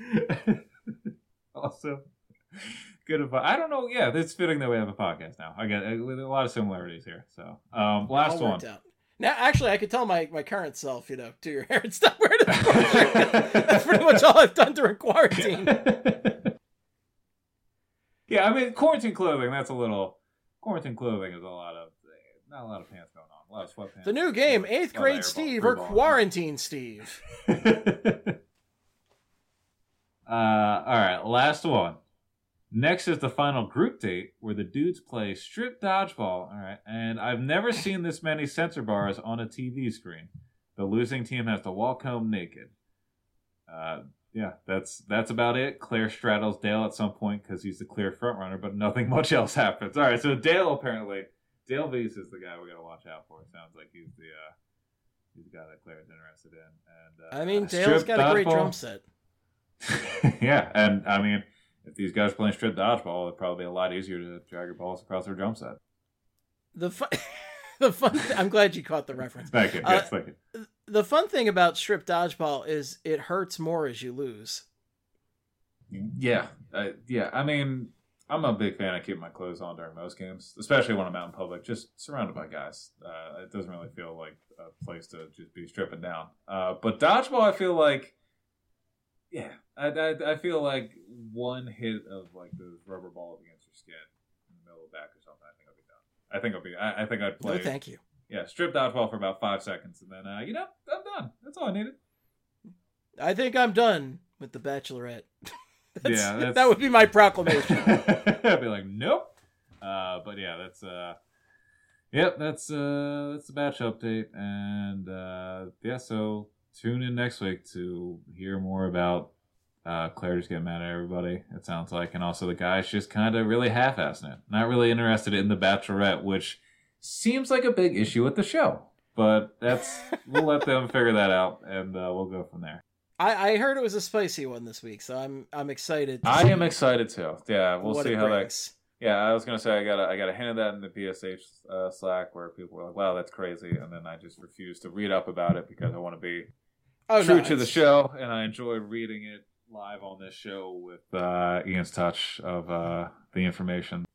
Also, good advice. I don't know. Yeah, it's fitting that we have a podcast now. I get a, a lot of similarities here. So, um, last one. Out. Now, actually, I could tell my, my current self, you know, do your hair and stop wearing a sports shirt. That's pretty much all I've done during quarantine. Yeah, I mean, quarantine clothing, that's a little... Quarantine clothing is a lot of... Not a lot of pants going on. A lot of sweatpants. The new game, eighth grade Steve or Quarantine Steve. uh, Alright, last one. Next is the final group date where the dudes play strip dodgeball. Alright, and I've never seen this many censor bars on a T V screen. The losing team has to walk home naked. Uh... Yeah, that's that's about it. Claire straddles Dale at some point because he's the clear front runner, but nothing much else happens. All right, so Dale apparently, Dale Weiss is the guy we got to watch out for. It sounds like he's the uh, he's the guy that Claire's interested in. And uh, I mean, Dale's got dodgeball. a great drum set. Yeah, and I mean, if these guys are playing strip dodgeball, it'd probably be a lot easier to drag your balls across their drum set. The fun, the fun. Th- I'm glad you caught the reference. Thank you. Uh, yes, thank you. The fun thing about strip dodgeball is it hurts more as you lose. Yeah, uh, yeah. I mean, I'm a big fan of keeping my clothes on during most games, especially when I'm out in public, just surrounded by guys. Uh, it doesn't really feel like a place to just be stripping down. Uh, but dodgeball, I feel like, yeah, I, I, I feel like one hit of like those rubber balls against your skin in the middle of the back or something, I think I'll be done. I think I'll be. I, I think I'd play. No, thank you. Yeah, strip dodgeball for about five seconds, and then, uh, you know, I'm done. That's all I needed. I think I'm done with The Bachelorette. that's, yeah, that's... that would be my proclamation. I'd be like, nope. Uh, but yeah, that's, uh, yep, that's, uh, that's the Batch update. And, uh, yeah, so tune in next week to hear more about, uh, Claire just getting mad at everybody, it sounds like. And also the guys just kind of really half-assing it. Not really interested in The Bachelorette, which seems like a big issue with the show, but that's we'll let them figure that out, and uh, we'll go from there. I, I heard it was a spicy one this week, so I'm I'm excited. To I see am excited too. Yeah, we'll see how brings. that. Yeah, I was gonna say I got a, I got a hint of that in the P S H uh, Slack where people were like, "Wow, that's crazy," and then I just refused to read up about it because I want to be oh, true no, to the show, and I enjoy reading it live on this show with uh, Ian's touch of uh, the information.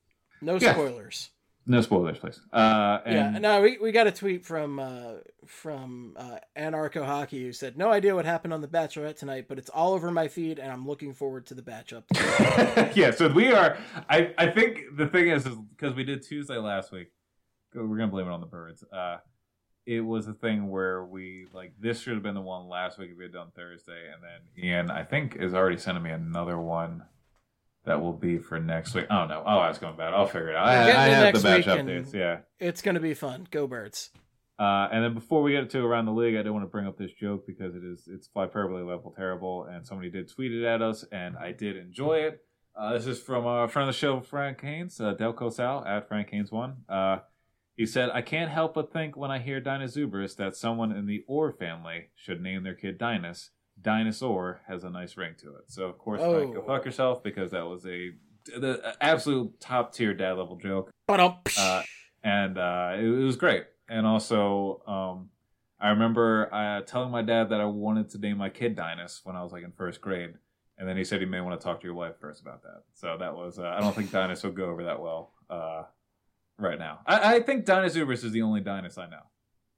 No yeah. spoilers. No spoilers, please. Uh, and yeah, no, we we got a tweet from uh, from uh, Anarcho Hockey who said, "No idea what happened on The Bachelorette tonight, but it's all over my feed, and I'm looking forward to the batch up." Yeah, so we are. I I think the thing is, is because we did Tuesday last week, we're gonna blame it on the birds. Uh, it was a thing where we like this should have been the one last week if we had done Thursday, and then Ian I think is already sending me another one. That will be for next week. Oh, no. Oh, I was going bad. I'll figure it out. I, I have the batch updates. Yeah. It's going to be fun. Go Birds. Uh, and then before we get to Around the League, I do want to bring up this joke because it is it's Flyperbole level terrible, and somebody did tweet it at us, and I did enjoy it. Uh, this is from a friend of the show, Frank Haynes, uh, Delco Sal, at Frank Haynes one. Uh, he said, I can't help but think when I hear Dinosaurus that someone in the Orr family should name their kid Dinus. Dinosaur has a nice ring to it. So, of course, oh. Frank, go fuck yourself because that was a the absolute top-tier dad-level joke. Uh, and uh, it, it was great. And also, um, I remember uh, telling my dad that I wanted to name my kid Dinus when I was like in first grade. And then he said he may want to talk to your wife first about that. So that was, uh, I don't think Dinus would go over that well uh, right now. I, I think Dinosaurus is the only Dinus I know.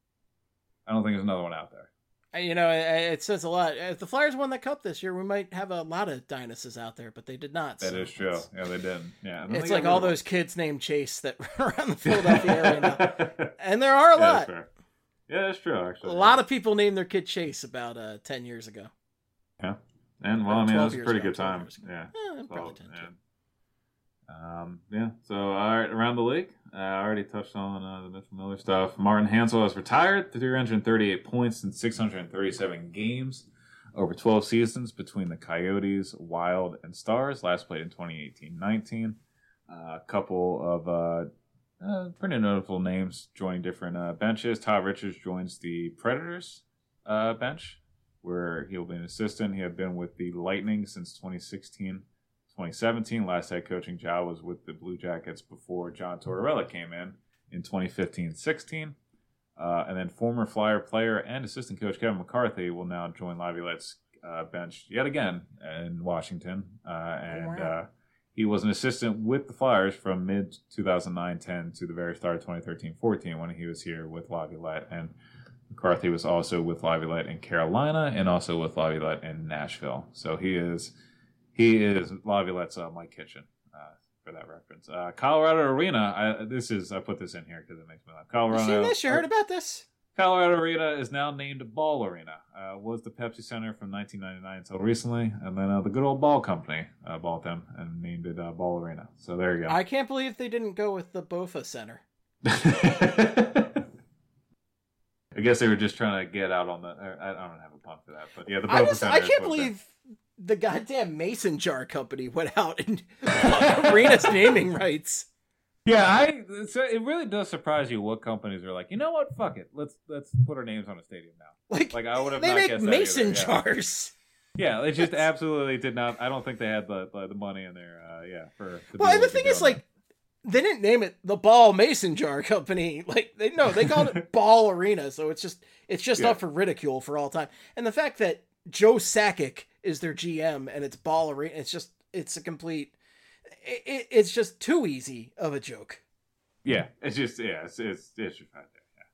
I don't think there's another one out there. You know, it, it says a lot. If the Flyers won the Cup this year, we might have a lot of Dinuses out there, but they did not. That so is true. Yeah, they didn't. Yeah, it's like all those kids named Chase that run around the Philadelphia area now. And there are a yeah, lot. That's fair. Yeah, that's true, actually. A yeah. lot of people named their kid Chase about uh, ten years ago. Yeah. And, well, I mean, that was a pretty ago, good time. Yeah, yeah. probably ten, Um, yeah, so all right, around the league, uh, I already touched on uh, the Mitchell Miller stuff. Martin Hansel has retired, three hundred thirty-eight points in six hundred thirty-seven games over twelve seasons between the Coyotes, Wild, and Stars. Last played in twenty eighteen nineteen. Uh, a couple of uh, uh, pretty notable names joining different uh, benches. Todd Richards joins the Predators uh, bench, where he'll be an assistant. He had been with the Lightning since twenty sixteen. twenty seventeen, last head coaching job was with the Blue Jackets before John Tortorella came in in twenty fifteen sixteen. Uh, and then former Flyer player and assistant coach Kevin McCarthy will now join Laviolette's uh, bench yet again in Washington. Uh, and wow. uh, he was an assistant with the Flyers from mid two thousand nine ten to the very start of twenty thirteen fourteen when he was here with Laviolette. And McCarthy was also with Laviolette in Carolina and also with Laviolette in Nashville. So he is... He is Laviolette's uh, Mike Kitchen, uh, for that reference. Uh, Colorado Arena, I, this is, I put this in here because it makes me laugh. Colorado, you seen this? You heard about this? Colorado Arena is now named Ball Arena. Uh, was the Pepsi Center from nineteen ninety-nine until recently. And then uh, the good old Ball Company uh, bought them and named it uh, Ball Arena. So there you go. I can't believe they didn't go with the Bofa Center. I guess they were just trying to get out on the, I, I don't have a pun for that. But yeah, the Bofa I, just, Center. I can't believe... the goddamn Mason Jar Company went out and bought Arena's naming rights. Yeah, I. So it really does surprise you what companies are like. You know what? Fuck it. Let's let's put our names on a stadium now. Like, like I would have. They not make guessed Mason that either. jars. Yeah, yeah, they just absolutely did not. I don't think they had the the, the money in there. Uh, yeah, for. Well, and the thing is, like, they didn't name it the Ball Mason Jar Company. Like, they no, they called it Ball Arena. So it's just it's just Yeah. up for ridicule for all time. And the fact that Joe Sakic is their G M and it's Ball Arena, it's just it's a complete it, it, it's just too easy of a joke. Yeah, it's just yeah, it's it's, it's just right there.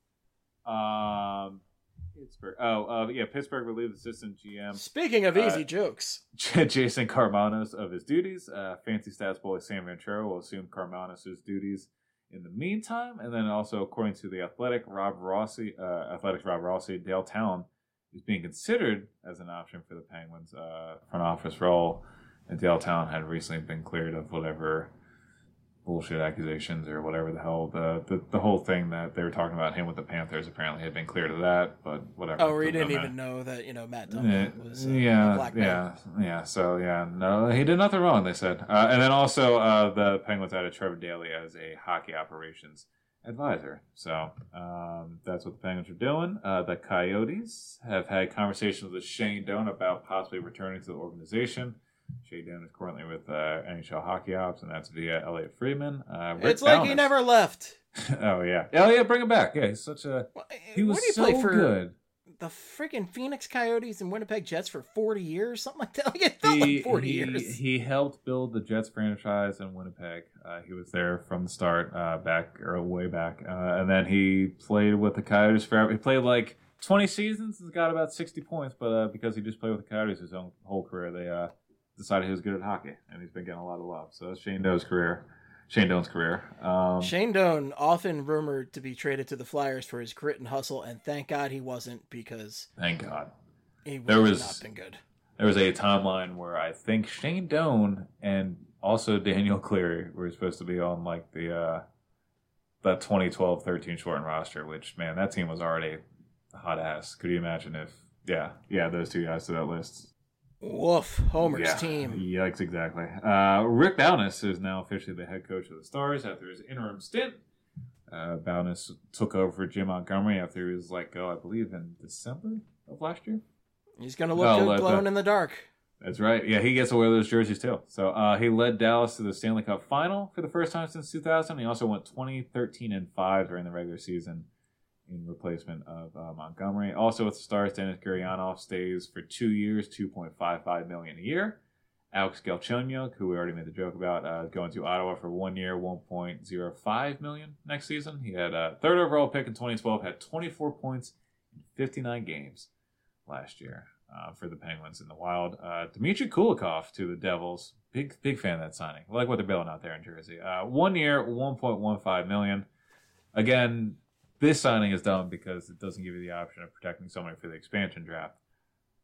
Yeah. Um, Pittsburgh. Oh, uh, yeah, Pittsburgh relieved assistant G M. Speaking of uh, easy jokes, Jason Carmanos of his duties. Uh, fancy stats boy Sam Ventura will assume Carmanos' duties in the meantime, and then also according to the Athletic, Rob Rossi, uh, Athletics Rob Rossi, Dale Talon is being considered as an option for the Penguins uh, front office role, and Dale Talon had recently been cleared of whatever bullshit accusations or whatever the hell the, the the whole thing that they were talking about him with the Panthers apparently had been cleared of that, but whatever. oh, we didn't no, even know that you know Matt Yeah, Duncan was uh, yeah, a black man. yeah, yeah. So yeah, no, he did nothing wrong. They said, uh, and then also uh, the Penguins added Trevor Daley as a hockey operations advisor. So um, that's what the Penguins are doing. Uh, the Coyotes have had conversations with Shane Doan about possibly returning to the organization. Shane Doan is currently with uh, N H L Hockey Ops, and that's via Elliot Friedman. Uh, Rick It's like Balnas. he never left. Oh yeah, oh yeah, bring him back. Yeah, he's such a he was What did he so play for? good. The freaking Phoenix Coyotes and Winnipeg Jets for forty years, something like that. Like it felt like forty he, years. He helped build the Jets franchise in Winnipeg. Uh, he was there from the start, uh, back or way back, uh, and then he played with the Coyotes forever. He played like twenty seasons and got about sixty points, but uh, because he just played with the Coyotes his own whole career, they uh, decided he was good at hockey, and he's been getting a lot of love. So that's Shane Doan's career. Shane Doan's career. Um, Shane Doan, often rumored to be traded to the Flyers for his grit and hustle, and thank God he wasn't, because thank God. he would There have was- not been good. There was a timeline where I think Shane Doan and also Daniel Cleary were supposed to be on like the uh, that twenty twelve thirteen shortened roster, which, man, that team was already hot ass. Could you imagine if, yeah, yeah, those two guys to that list. Woof, Homer's Yeah. team. Yikes, exactly. Uh, Rick Balnas is now officially the head coach of the Stars after his interim stint. Uh, Balnas took over for Jim Montgomery after he was let go, I believe, in December of last year. He's going to look Oh, good let glowing the- in the dark. That's right. Yeah, he gets to wear those jerseys too. So uh, he led Dallas to the Stanley Cup final for the first time since two thousand. He also went twenty, thirteen, and five during the regular season in replacement of uh, Montgomery. Also with the Stars, Dennis Gurianov stays for two years, two point five five million dollars a year. Alex Galchenyuk, who we already made the joke about, uh, going to Ottawa for one year, one point zero five million dollars next season. He had a third overall pick in twenty twelve, had twenty-four points in fifty-nine games last year uh, for the Penguins in the Wild. Uh, Dmitry Kulikov to the Devils. Big big fan of that signing. I like what they're building out there in Jersey. Uh, one year, one point one five million dollars. Again, this signing is dumb because it doesn't give you the option of protecting somebody for the expansion draft.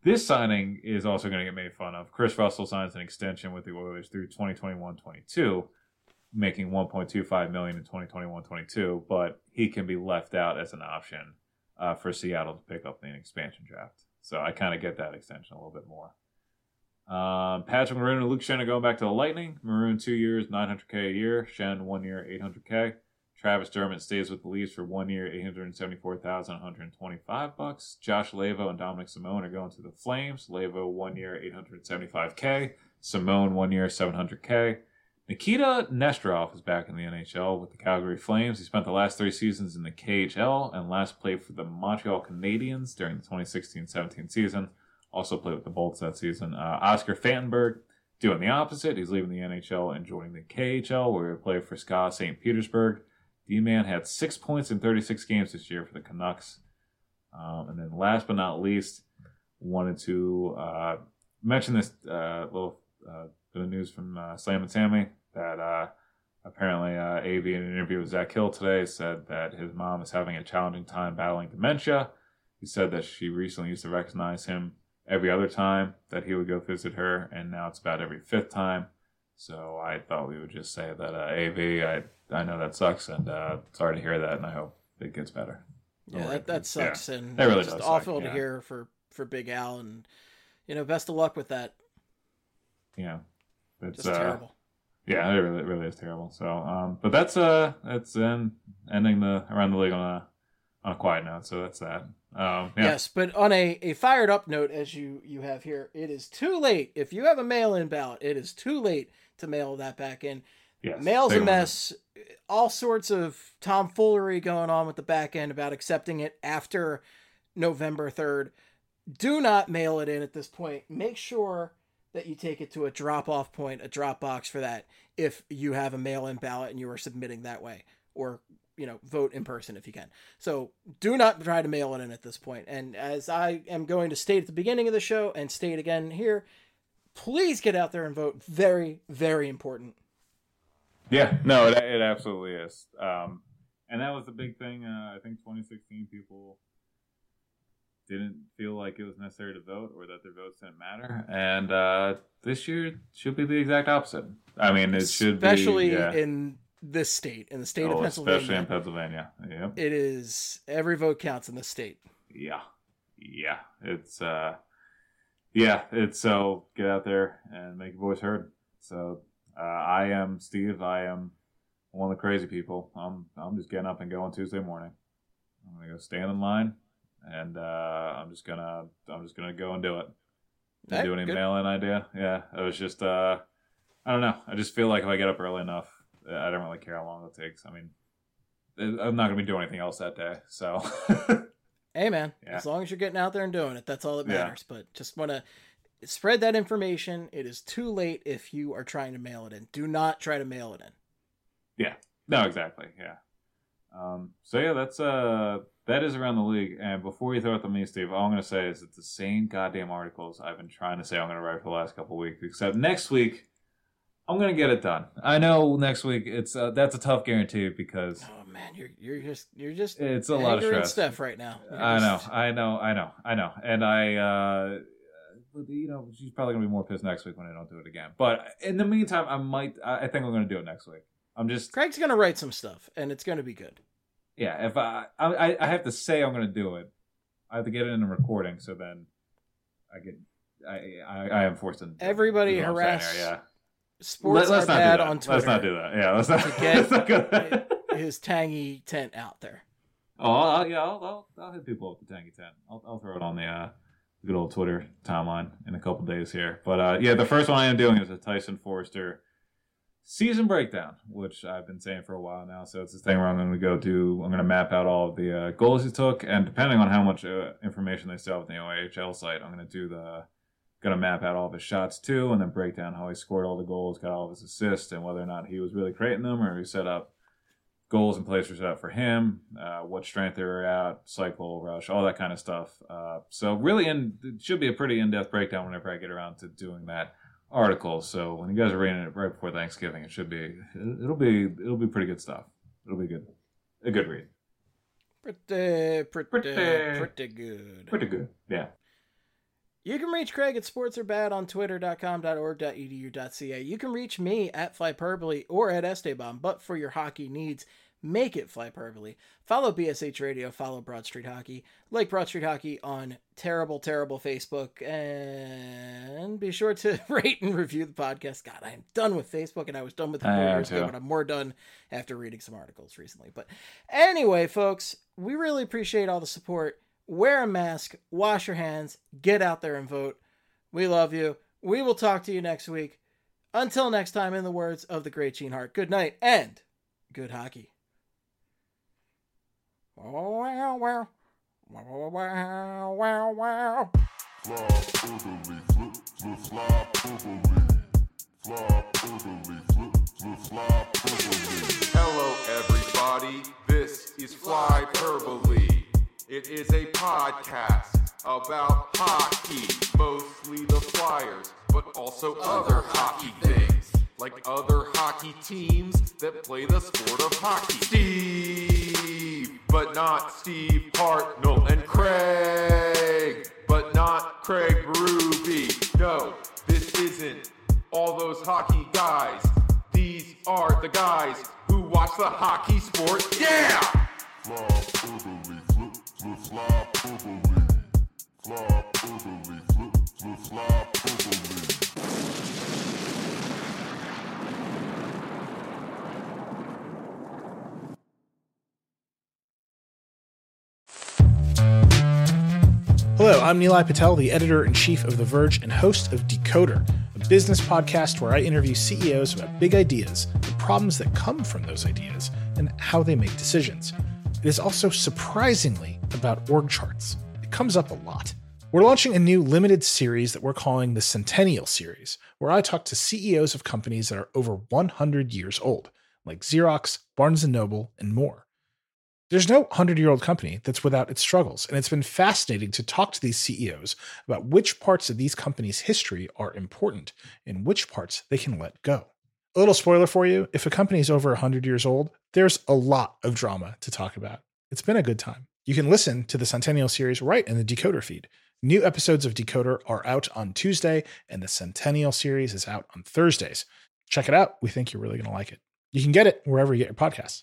This signing is also going to get made fun of. Chris Russell signs an extension with the Oilers through twenty twenty-one twenty-two, making one point two five million dollars in twenty twenty-one twenty-two, but he can be left out as an option uh, for Seattle to pick up in the expansion draft. So I kind of get that extension a little bit more. Um, Patrick Maroon and Luke Schenn are going back to the Lightning. Maroon two years, nine hundred K a year. Schenn one year, eight hundred K. Travis Dermott stays with the Leafs for one year, eight hundred seventy-four thousand one hundred twenty-five bucks. Josh Lavo and Dominic Simone are going to the Flames. Lavo one year, eight hundred seventy-five K. Simone one year, seven hundred K. Nikita Nesterov is back in the N H L with the Calgary Flames. He spent the last three seasons in the K H L and last played for the Montreal Canadiens during the twenty sixteen seventeen season. Also played with the Bolts that season. Uh, Oscar Fantenberg doing the opposite. He's leaving the N H L and joining the K H L, where he played for S K A Saint Petersburg. D-Man had six points in thirty-six games this year for the Canucks. Um, and then last but not least, wanted to uh, mention this uh, little uh, bit of news from uh, Slam and Sammy that uh, apparently uh, A V in an interview with Zach Hill today said that his mom is having a challenging time battling dementia. He said that she recently used to recognize him every other time that he would go visit her, and now it's about every fifth time. So I thought we would just say that uh, A V, I I know that sucks, and uh, sorry to hear that, and I hope it gets better. Yeah, that, that sucks, yeah, and that really just does awful suck, to yeah. hear for, for Big Al, and you know, best of luck with that. Yeah, it's Just uh, terrible. Yeah, it really, it really is terrible. So, um, but that's uh, that's then ending the around the league on a on a quiet note. So that's that. Um, yeah. Yes, but on a, a fired up note, as you, you have here, it is too late. If you have a mail-in ballot, it is too late to mail that back in. Yes, Mail's they a don't mess. All sorts of tomfoolery going on with the back end about accepting it after November third. Do not mail it in at this point. Make sure that you take it to a drop-off point, a drop box for that, if you have a mail-in ballot and you are submitting that way. Or, you know, vote in person if you can. So do not try to mail it in at this point. And as I am going to state at the beginning of the show and state again here, please get out there and vote. Very, very important. Yeah, no, it, it absolutely is. Um, and that was the big thing. Uh, I think twenty sixteen people didn't feel like it was necessary to vote or that their votes didn't matter. And uh, this year should be the exact opposite. I mean, it should be. Especially yeah. in this state, in the state oh, of Pennsylvania. Especially in Pennsylvania. Yep. It is, every vote counts in this state. Yeah. Yeah. It's, uh, yeah, it's so get out there and make your voice heard. So, uh, I am Steve. I am one of the crazy people. I'm, I'm just getting up and going Tuesday morning. I'm going to go stand in line and, uh, I'm just going to, I'm just going to go and do it. Hey, do any good. mail-in idea? Yeah. It was just, uh, I don't know. I just feel like if I get up early enough, I don't really care how long it takes. I mean, I'm not going to be doing anything else that day. So, hey, man, yeah. As long as you're getting out there and doing it, that's all that Yeah. matters. But just want to spread that information. It is too late if you are trying to mail it in. Do not try to mail it in. Yeah. No, exactly. Yeah. Um, so, yeah, that's uh, that is around the league. And before you throw it to me, Steve, all I'm going to say is it's the same goddamn articles I've been trying to say I'm going to write for the last couple of weeks, except next week, I'm gonna get it done. I know next week it's uh, that's a tough guarantee because oh man, you're you're just you're just it's a lot of angry and stress. stuff right now. You're I know, just- I know, I know, I know, and I, uh, you know, she's probably gonna be more pissed next week when I don't do it again. But in the meantime, I might. I think I'm gonna do it next week. I'm just Craig's gonna write some stuff, and it's gonna be good. yeah. If I I, I have to say I'm gonna do it, I have to get it in a recording. So then I get I I, I am forced to. Everybody is what I'm saying harass. here, Yeah. Sports Let, let's are not bad do that. on Twitter. Let's not do that. Yeah, let's not. To get let's not go there. his tangy tent out there. Oh, I'll, yeah, I'll, I'll, I'll hit people up the Tangy tent. I'll, I'll throw it on the uh, good old Twitter timeline in a couple days here. But uh, yeah, the first one I am doing is a Tyson Forrester season breakdown, which I've been saying for a while now. So it's this thing where I'm going to go do. I'm going to map out all of the uh, goals he took, and depending on how much uh, information they still have on the O H L site, I'm going to do the. Going to map out all of his shots too, and then break down how he scored all the goals, got all of his assists, and whether or not he was really creating them or he set up goals and plays were set up for him, uh, what strength they were at, cycle, rush, all that kind of stuff. Uh, so really, in, it should be a pretty in-depth breakdown whenever I get around to doing that article. So when you guys are reading it right before Thanksgiving, it should be it'll be it'll be pretty good stuff. It'll be good, a good read. Pretty, pretty, Pretty. pretty good. Pretty good, yeah. You can reach Craig at sportsarebad on twitter dot com dot org dot e d u dot c a. You can reach me at Flyperbole or at Esteban, but for your hockey needs, make it Flyperbole. Follow B S H Radio, follow Broad Street Hockey, like Broad Street Hockey on terrible, terrible Facebook, and be sure to rate and review the podcast. God, I am done with Facebook, and I was done with it four years ago, but I'm more done after reading some articles recently. But anyway, folks, we really appreciate all the support. Wear a mask, wash your hands, get out there and vote. We love you. We will talk to you next week. Until next time, in the words of the great Gene Hart, good night and good hockey. Oh, wow, wow. Wow, wow, wow, wow. Hello, everybody. This is Flyperbole. It is a podcast about hockey, mostly the Flyers, but also other hockey things, like other hockey teams that play the sport of hockey. Steve, but not Steve Hartnell, and Craig, but not Craig Berube. No, this isn't all those hockey guys. These are the guys who watch the hockey sport. Yeah! Flyperbole, flip, flip, Flyperbole. Flyperbole, flip, flip, Flyperbole. Hello, I'm Nilay Patel, the editor-in-chief of The Verge and host of Decoder, a business podcast where I interview C E Os about big ideas, the problems that come from those ideas, and how they make decisions. It is also surprisingly about org charts. It comes up a lot. We're launching a new limited series that we're calling the Centennial Series, where I talk to C E Os of companies that are over one hundred years old, like Xerox, Barnes and Noble, and more. There's no hundred-year-old company that's without its struggles, and it's been fascinating to talk to these C E Os about which parts of these companies' history are important and which parts they can let go. A little spoiler for you, if a company is over one hundred years old, there's a lot of drama to talk about. It's been a good time. You can listen to the Centennial Series right in the Decoder feed. New episodes of Decoder are out on Tuesday, and the Centennial Series is out on Thursdays. Check it out. We think you're really going to like it. You can get it wherever you get your podcasts.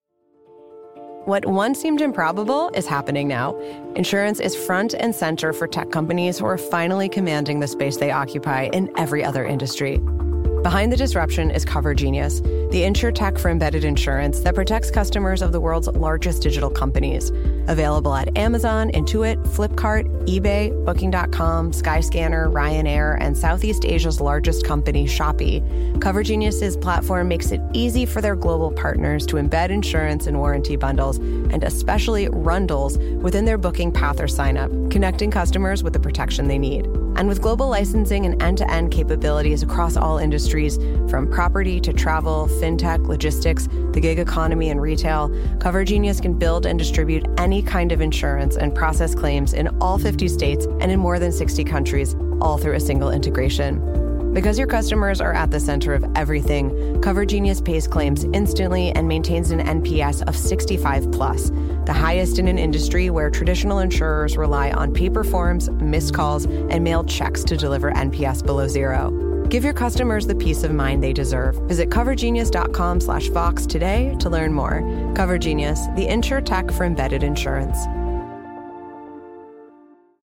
What once seemed improbable is happening now. Insurance is front and center for tech companies who are finally commanding the space they occupy in every other industry. Behind the disruption is CoverGenius, the insurtech for embedded insurance that protects customers of the world's largest digital companies. Available at Amazon, Intuit, Flipkart, eBay, Booking dot com, Skyscanner, Ryanair, and Southeast Asia's largest company, Shopee. CoverGenius's platform makes it easy for their global partners to embed insurance and warranty bundles, and especially rundles, within their booking path or sign-up, connecting customers with the protection they need. And with global licensing and end-to-end capabilities across all industries, from property to travel, fintech, logistics, the gig economy, and retail, CoverGenius can build and distribute any kind of insurance and process claims in all fifty states and in more than sixty countries, all through a single integration. Because your customers are at the center of everything, CoverGenius pays claims instantly and maintains an N P S of sixty-five plus, the highest in an industry where traditional insurers rely on paper forms, missed calls, and mailed checks to deliver N P S below zero. Give your customers the peace of mind they deserve. Visit covergenius.com slash Vox today to learn more. CoverGenius, the insurtech for embedded insurance.